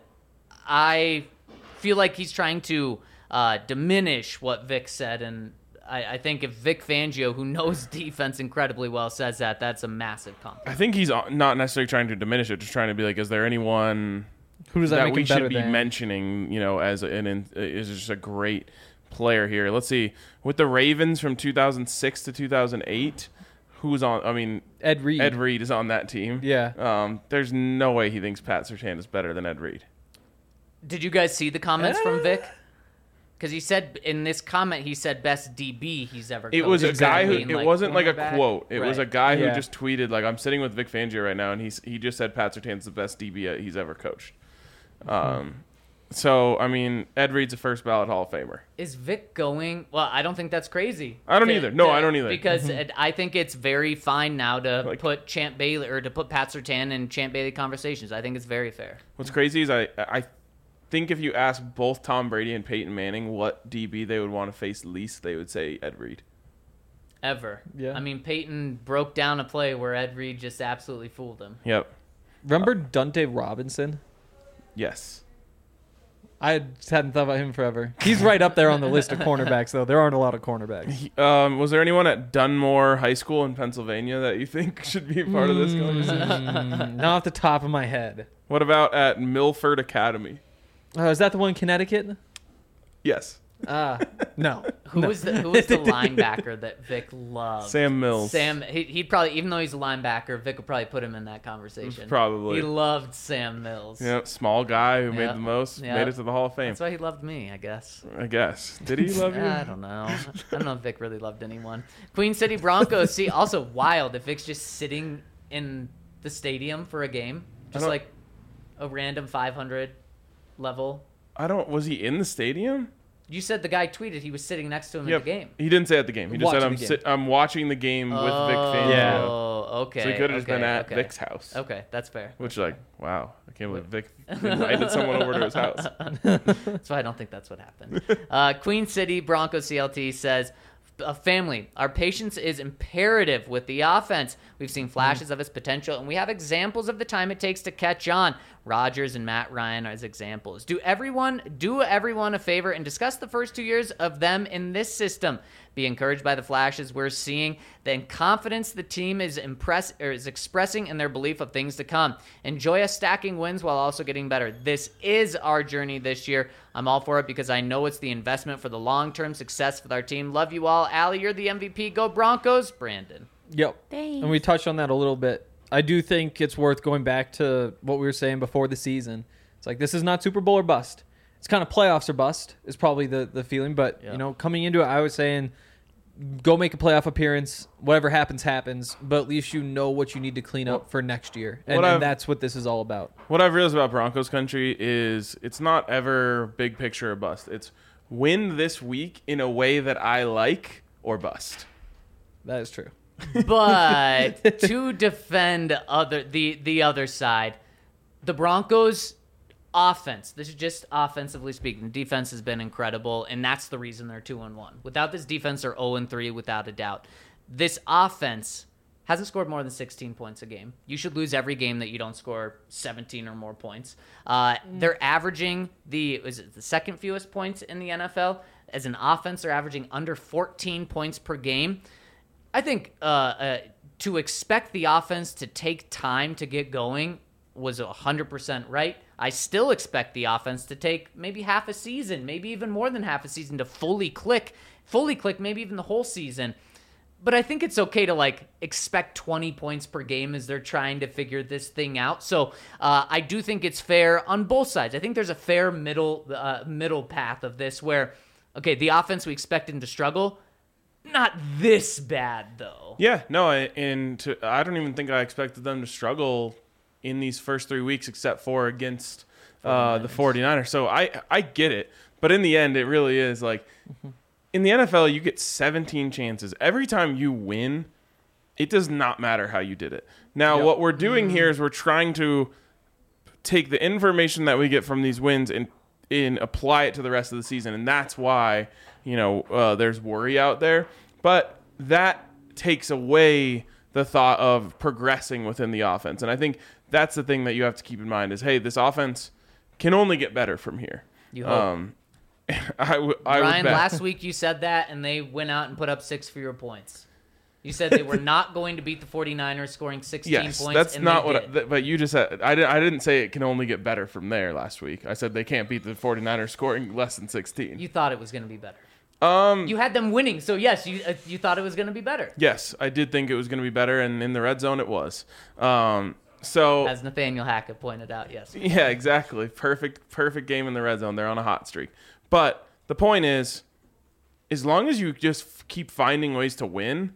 S3: I feel like he's trying to uh, diminish what Vic said. And I, I think if Vic Fangio, who knows defense incredibly well, says that, that's a massive compliment.
S2: I think he's not necessarily trying to diminish it, just trying to be like, is there anyone
S4: Who does that,
S2: that
S4: make
S2: we
S4: him better
S2: should be
S4: than?
S2: mentioning, you know, as an, an is just a great player here? Let's see. With the Ravens from two thousand six to two thousand eight, who's on? I mean,
S4: Ed Reed.
S2: Ed Reed is on that team.
S4: Yeah.
S2: Um, there's no way he thinks Pat Surtain is better than Ed Reed.
S3: Did you guys see the comments
S4: Uh,
S3: from Vic? Because he said in this comment, he said best D B he's ever
S2: It
S3: coached.
S2: was a
S3: Does that
S2: guy who.
S3: mean,
S2: It wasn't like a
S3: cornerback?
S2: quote. It was a
S3: Right.
S2: guy who
S4: Yeah.
S2: just tweeted like, "I'm sitting with Vic Fangio right now," and he's he just said Pat Surtain's the best D B he's ever coached. Um, so I mean, Ed Reed's a first ballot Hall of Famer.
S3: Is Vic going? Well, I don't think that's crazy.
S2: I don't
S3: To-
S2: either. No,
S3: to-
S2: I don't either.
S3: Because it, I think it's very fine now to
S2: Like-
S3: put Champ Bailey or to put Pat Surtain in Champ Bailey conversations. I think it's very fair.
S2: What's crazy is I I think if you ask both Tom Brady and Peyton Manning what D B they would want to face least, they would say Ed Reed.
S3: Ever.
S4: Yeah.
S3: I mean, Peyton broke down a play where Ed Reed just absolutely fooled him.
S2: Yep.
S4: Remember Dante Robinson?
S2: Yes.
S4: I just hadn't thought about him forever. He's right up there on the list of cornerbacks, though. There aren't a lot of cornerbacks.
S2: He- Um, was there anyone at Dunmore High School in Pennsylvania that you think should be a part of this conversation?
S4: Mm, not off the top of my head.
S2: What about at Milford Academy?
S4: Oh, is that the one in Connecticut?
S2: Yes.
S4: Ah, no.
S3: Who was the Who was the linebacker that Vic loved?
S2: Sam Mills.
S3: Sam. He, he'd probably, even though he's a linebacker, Vic would probably put him in that conversation.
S2: Probably.
S3: He loved Sam Mills.
S2: Yep. Small guy who made
S3: Yep.
S2: the most,
S3: Yep.
S2: made it to the Hall of Fame.
S3: That's why he loved me, I guess.
S2: I guess. Did he love you?
S3: I don't know. I don't know if Vic really loved anyone. Queen City Broncos. See, also wild if Vic's just sitting in the stadium for a game, just
S2: don't-
S3: like a random five hundred level.
S2: I don't. Was he in the stadium?
S3: You said the guy tweeted he was sitting next to him
S2: Yep.
S3: at the game.
S2: He didn't say at the game. He just said,
S4: Watching
S2: "I'm
S4: the game.
S2: sit, I'm watching the game with Vic Fangio."
S4: Yeah.
S3: Oh, okay.
S2: So he could have just
S3: okay,
S2: been at
S3: okay.
S2: Vic's house.
S3: Okay, that's fair.
S2: Which, like, wow, I can't believe Vic invited someone over to his house.
S3: That's why I don't think that's what happened. Uh, Queen City Broncos C L T says, a family, our patience is imperative with the offense. We've seen flashes of its potential, and we have examples of the time it takes to catch on. Rodgers and Matt Ryan as examples. Do everyone do everyone a favor and discuss the first two years of them in this system. Be encouraged by the flashes we're seeing, the confidence the team is impress or is expressing in their belief of things to come. Enjoy us stacking wins while also getting better. This is our journey this year. I'm all for it because I know it's the investment for the long-term success with our team. Love you all. Allie, you're the M V P. Go Broncos. Brandon.
S4: Yep.
S5: Thanks.
S4: And we touched on that a little bit. I do think it's worth going back to what we were saying before the season. It's like, this is not Super Bowl or bust. It's kind of playoffs or bust is probably the, the feeling. But,
S3: Yeah.
S4: you know, coming into it, I was saying, go make a playoff appearance. Whatever happens, happens. But at least you know what you need to clean up for next year. And,
S2: What I've-
S4: and that's what this is all about.
S2: What I've realized about Broncos country is it's not ever big picture or bust. It's win this week in a way that I like or bust.
S4: That is true.
S3: But to defend other the the other side, the Broncos offense. This is just offensively speaking. Defense has been incredible, and that's the reason they're two and one. Without this defense, they're zero and three without a doubt. This offense hasn't scored more than sixteen points a game. You should lose every game that you don't score seventeen or more points. Uh, they're averaging the is it the second fewest points in the N F L. As an offense, they're averaging under fourteen points per game. I think uh, uh, to expect the offense to take time to get going was one hundred percent right. I still expect the offense to take maybe half a season, maybe even more than half a season to fully click, fully click, maybe even the whole season. But I think it's okay to like expect twenty points per game as they're trying to figure this thing out. So uh, I do think it's fair on both sides. I think there's a fair middle uh, middle path of this where, okay, the offense we expect them to struggle. Not this bad, though.
S2: Yeah, no, I, and to, I don't even think I expected them to struggle in these first three weeks except for against uh, the 49ers. So I, I get it. But in the end, it really is like in the N F L, you get seventeen chances. Every time you win, it does not matter how you did it. Now,
S4: Yep.
S2: what we're doing here is we're trying to take the information that we get from these wins and and apply it to the rest of the season, and that's why you know uh, there's worry out there. But that takes away the thought of progressing within the offense, and I think that's the thing that you have to keep in mind is, hey, this offense can only get better from here.
S3: You hope.
S2: Um, I, w- I
S3: Ryan,
S2: would bet.
S3: last week you said that, and they went out and put up six fewer points. You said they were not going to beat the 49ers, scoring sixteen
S2: Yes,
S3: points.
S2: that's
S3: and
S2: not
S3: they
S2: what. I,
S3: did.
S2: th- but you just said I didn't. I didn't say it can only get better from there. Last week, I said they can't beat the 49ers scoring less than sixteen.
S3: You thought it was going to be better.
S2: Um.
S3: You had them winning, so yes, you uh, you thought it was going to be better.
S2: Yes, I did think it was going to be better, and in the red zone, it was. Um. So.
S3: As Nathaniel Hackett pointed out, yes.
S2: Yeah, exactly. Perfect. Perfect game in the red zone. They're on a hot streak. But the point is, as long as you just f- keep finding ways to win,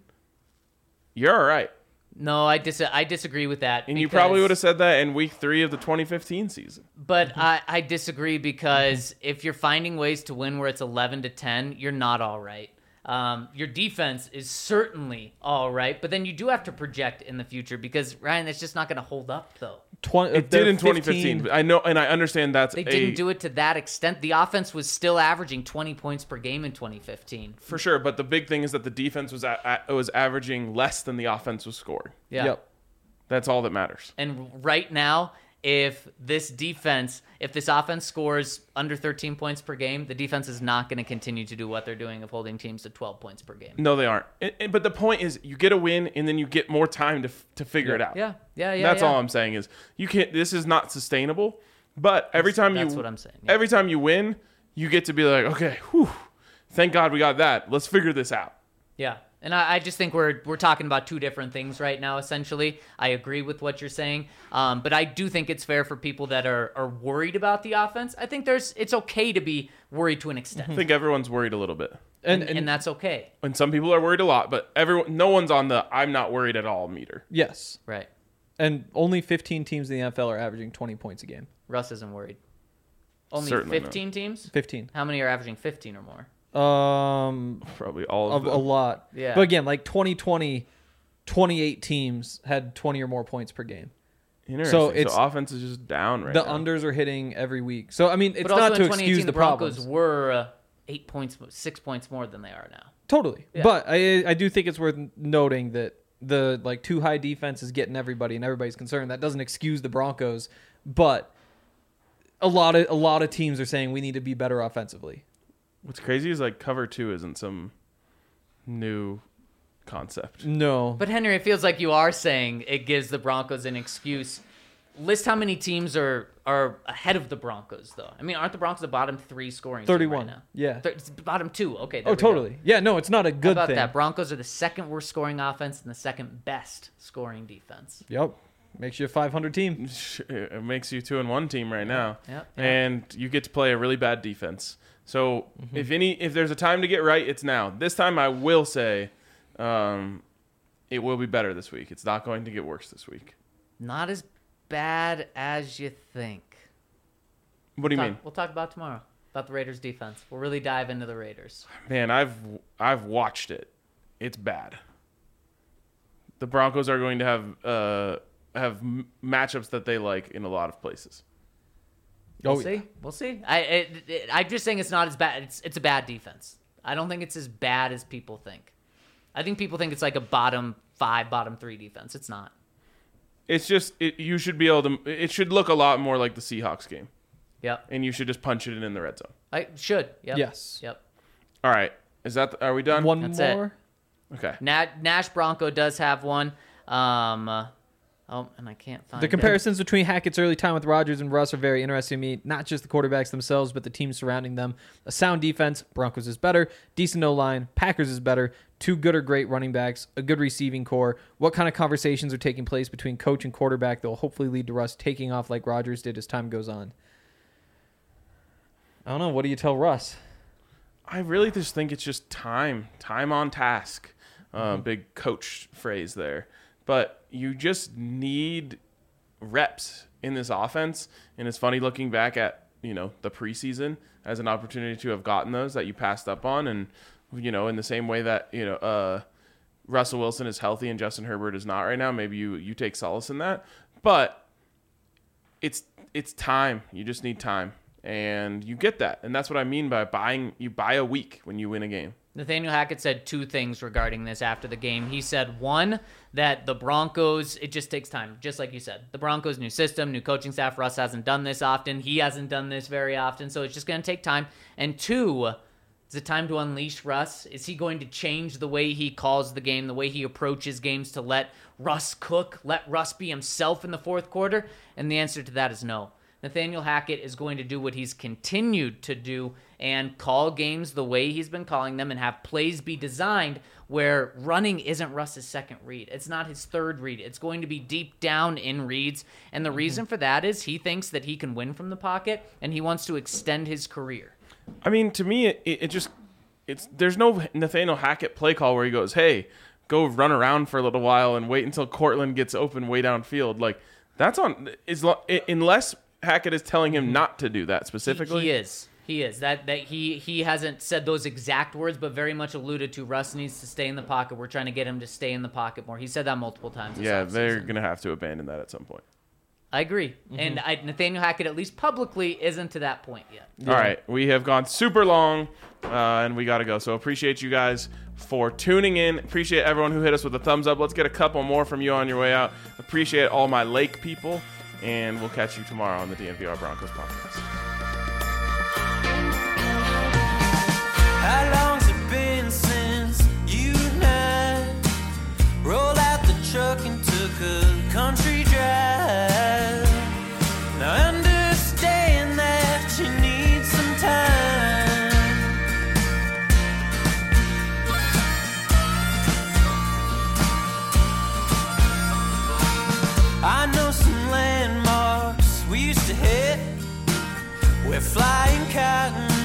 S2: you're all right.
S3: No, I dis- I disagree with that.
S2: And you
S3: because-
S2: probably would have said that in week three of the twenty fifteen season.
S3: But I, I disagree because if you're finding ways to win where it's eleven to ten, you're not all right. Um, your defense is certainly all right, but then you do have to project in the future because, Ryan, that's just not going to hold up, though.
S4: twenty,
S2: It did in twenty fifteen. But I know, and I understand that's
S3: They
S2: a,
S3: didn't do it to that extent. The offense was still averaging twenty points per game in twenty fifteen.
S2: for sure. But the big thing is that the defense was a, a, was averaging less than the offense was scoring.
S3: Yeah.
S4: Yep.
S2: That's all that matters.
S3: And right now, if this defense, if this offense scores under thirteen points per game, the defense is not going to continue to do what they're doing of holding teams to twelve points per game.
S2: No, they aren't. And, and- but the point is, you get a win, and then you get more time to f- to figure it out.
S3: Yeah, yeah, yeah.
S2: That's
S3: yeah.
S2: all I'm saying is you can't. This is not sustainable. But every time
S3: That's
S2: you,
S3: what I'm saying, yeah.
S2: Every time you win, you get to be like, okay, whew, thank God we got that. Let's figure this out.
S3: Yeah, and I, I just think we're we're talking about two different things right now. Essentially, I agree with what you're saying, um, but I do think it's fair for people that are, are worried about the offense. I think there's it's okay to be worried to an extent,
S2: I think everyone's worried a little bit,
S4: And,
S3: and,
S4: and,
S3: and that's okay,
S2: and some people are worried a lot. But everyone, no one's on the I'm not worried at all meter.
S4: yes,
S3: right?
S4: and only fifteen teams in the N F L are averaging twenty points a game.
S3: Russ isn't worried. Only
S2: Certainly
S3: fifteen teams.
S4: fifteen.
S3: How many are averaging fifteen or more?
S4: Um,
S2: Probably all
S4: a,
S2: of them.
S4: a lot.
S3: Yeah.
S4: But again, like twenty twenty, twenty-eight teams had twenty or more points per game.
S2: Interesting.
S4: So
S2: So,
S4: it's-
S2: offense is just down right
S4: the
S2: now.
S4: unders are hitting every week. So I mean, it's
S3: but also
S4: not
S3: in
S4: to
S3: twenty
S4: excuse
S3: eighteen,
S4: the,
S3: the Broncos
S4: problems.
S3: were uh, eight points, six points more than they are now.
S4: Totally.
S3: Yeah.
S4: But I I do think it's worth noting that the like too high defense is getting everybody and everybody's concerned. That doesn't excuse the Broncos, but a lot of a lot of teams are saying we need to be better offensively.
S2: What's crazy is like cover two isn't some new concept.
S4: No.
S3: But Henry, it feels like you are saying it gives the Broncos an excuse. List how many teams are are ahead of the Broncos, though. I mean, aren't the Broncos the bottom three scoring team
S4: thirty-one.
S3: right now?
S4: Yeah.
S3: Thir- it's bottom two. Okay. there
S4: Oh,
S3: we go.
S4: totally. Yeah, no, it's not a
S3: How
S4: good
S3: about
S4: thing.
S3: that? Broncos are the second worst scoring offense and the second best scoring defense.
S4: Yep. Makes you a five hundred team.
S2: It makes you two and one team right now,
S3: Yeah, yeah.
S2: and you get to play a really bad defense. So
S4: Mm-hmm.
S2: if any, if there's a time to get right, it's now. This time, I will say, um, it will be better this week. It's not going to get worse this week.
S3: Not as bad as you think.
S2: What do you
S3: Talk-
S2: mean,
S3: We'll talk about tomorrow about the Raiders defense. We'll really dive into the Raiders.
S2: man? I've I've watched it. It's bad. The Broncos are going to have uh, have m- matchups that they like in a lot of places.
S3: We'll
S4: Oh,
S3: see.
S4: yeah.
S3: We'll see. I it, it, I'm just saying it's not as bad. It's it's a bad defense. I don't think it's as bad as people think. I think people think it's like a bottom five, bottom three defense. It's not.
S2: It's just it, you should be able to. It should look a lot more like the Seahawks game,
S3: Yep.
S2: and you should just punch it in the red zone.
S3: I should. Yep.
S4: Yes.
S3: Yep.
S2: All right, is that? The, are we done?
S4: One
S3: That's it.
S4: more.
S2: Okay.
S3: Na- Nash Bronco does have one. Um, uh, oh, and I can't find
S4: The
S3: it.
S4: comparisons between Hackett's early time with Rodgers and Russ are very interesting to me. Not just the quarterbacks themselves, but the team surrounding them. A sound defense, Broncos is better. Decent O-line, Packers is better. Two good or great running backs, a good receiving core. What kind of conversations are taking place between coach and quarterback that will hopefully lead to Russ taking off like Rodgers did as time goes on? I don't know. What do you tell Russ?
S2: I really just think it's just time, time on task. Uh,
S3: Mm-hmm.
S2: Big coach phrase there, but you just need reps in this offense. And it's funny looking back at you know the preseason as an opportunity to have gotten those that you passed up on, and you know in the same way that you know uh, Russell Wilson is healthy and Justin Herbert is not right now. Maybe you you take solace in that, but it's it's time. You just need time. And you get that. And that's what I mean by buying. You buy a week when you win a game.
S3: Nathaniel Hackett said two things regarding this after the game. He said, one, that the Broncos, it just takes time, just like you said. The Broncos, new system, new coaching staff. Russ hasn't done this often. He hasn't done this very often, so it's just going to take time. And two, is it time to unleash Russ? Is he going to change the way he calls the game, the way he approaches games to let Russ cook, let Russ be himself in the fourth quarter? And the answer to that is no. Nathaniel Hackett is going to do what he's continued to do and call games the way he's been calling them and have plays be designed where running isn't Russ's second read. It's not his third read. It's going to be deep down in reads. And the reason for that is he thinks that he can win from the pocket and he wants to extend his career.
S2: I mean, to me, it, it just it's there's no Nathaniel Hackett play call where he goes, hey, go run around for a little while and wait until Cortland gets open way downfield. Like, that's on is unless Hackett is telling him not to do that specifically.
S3: He, he is. He is. That that he he hasn't said those exact words, but very much alluded to Russ needs to stay in the pocket. We're trying to get him to stay in the pocket more. He said that multiple times.
S2: Yeah, they're going to have to abandon that at some point.
S3: I agree. Mm-hmm. And I, Nathaniel Hackett, at least publicly, isn't to that point yet.
S2: Yeah. All right. We have gone super long, uh, and we got to go. So appreciate you guys for tuning in. Appreciate everyone who hit us with a thumbs up. Let's get a couple more from you on your way out. Appreciate all my Lake people. And we'll catch you tomorrow on the D N V R Broncos podcast.
S1: How long's it been since you and I rolled out the truck and took a country drive? Now I understand that you need some time. I know some landmarks we used to hit. We're flying cotton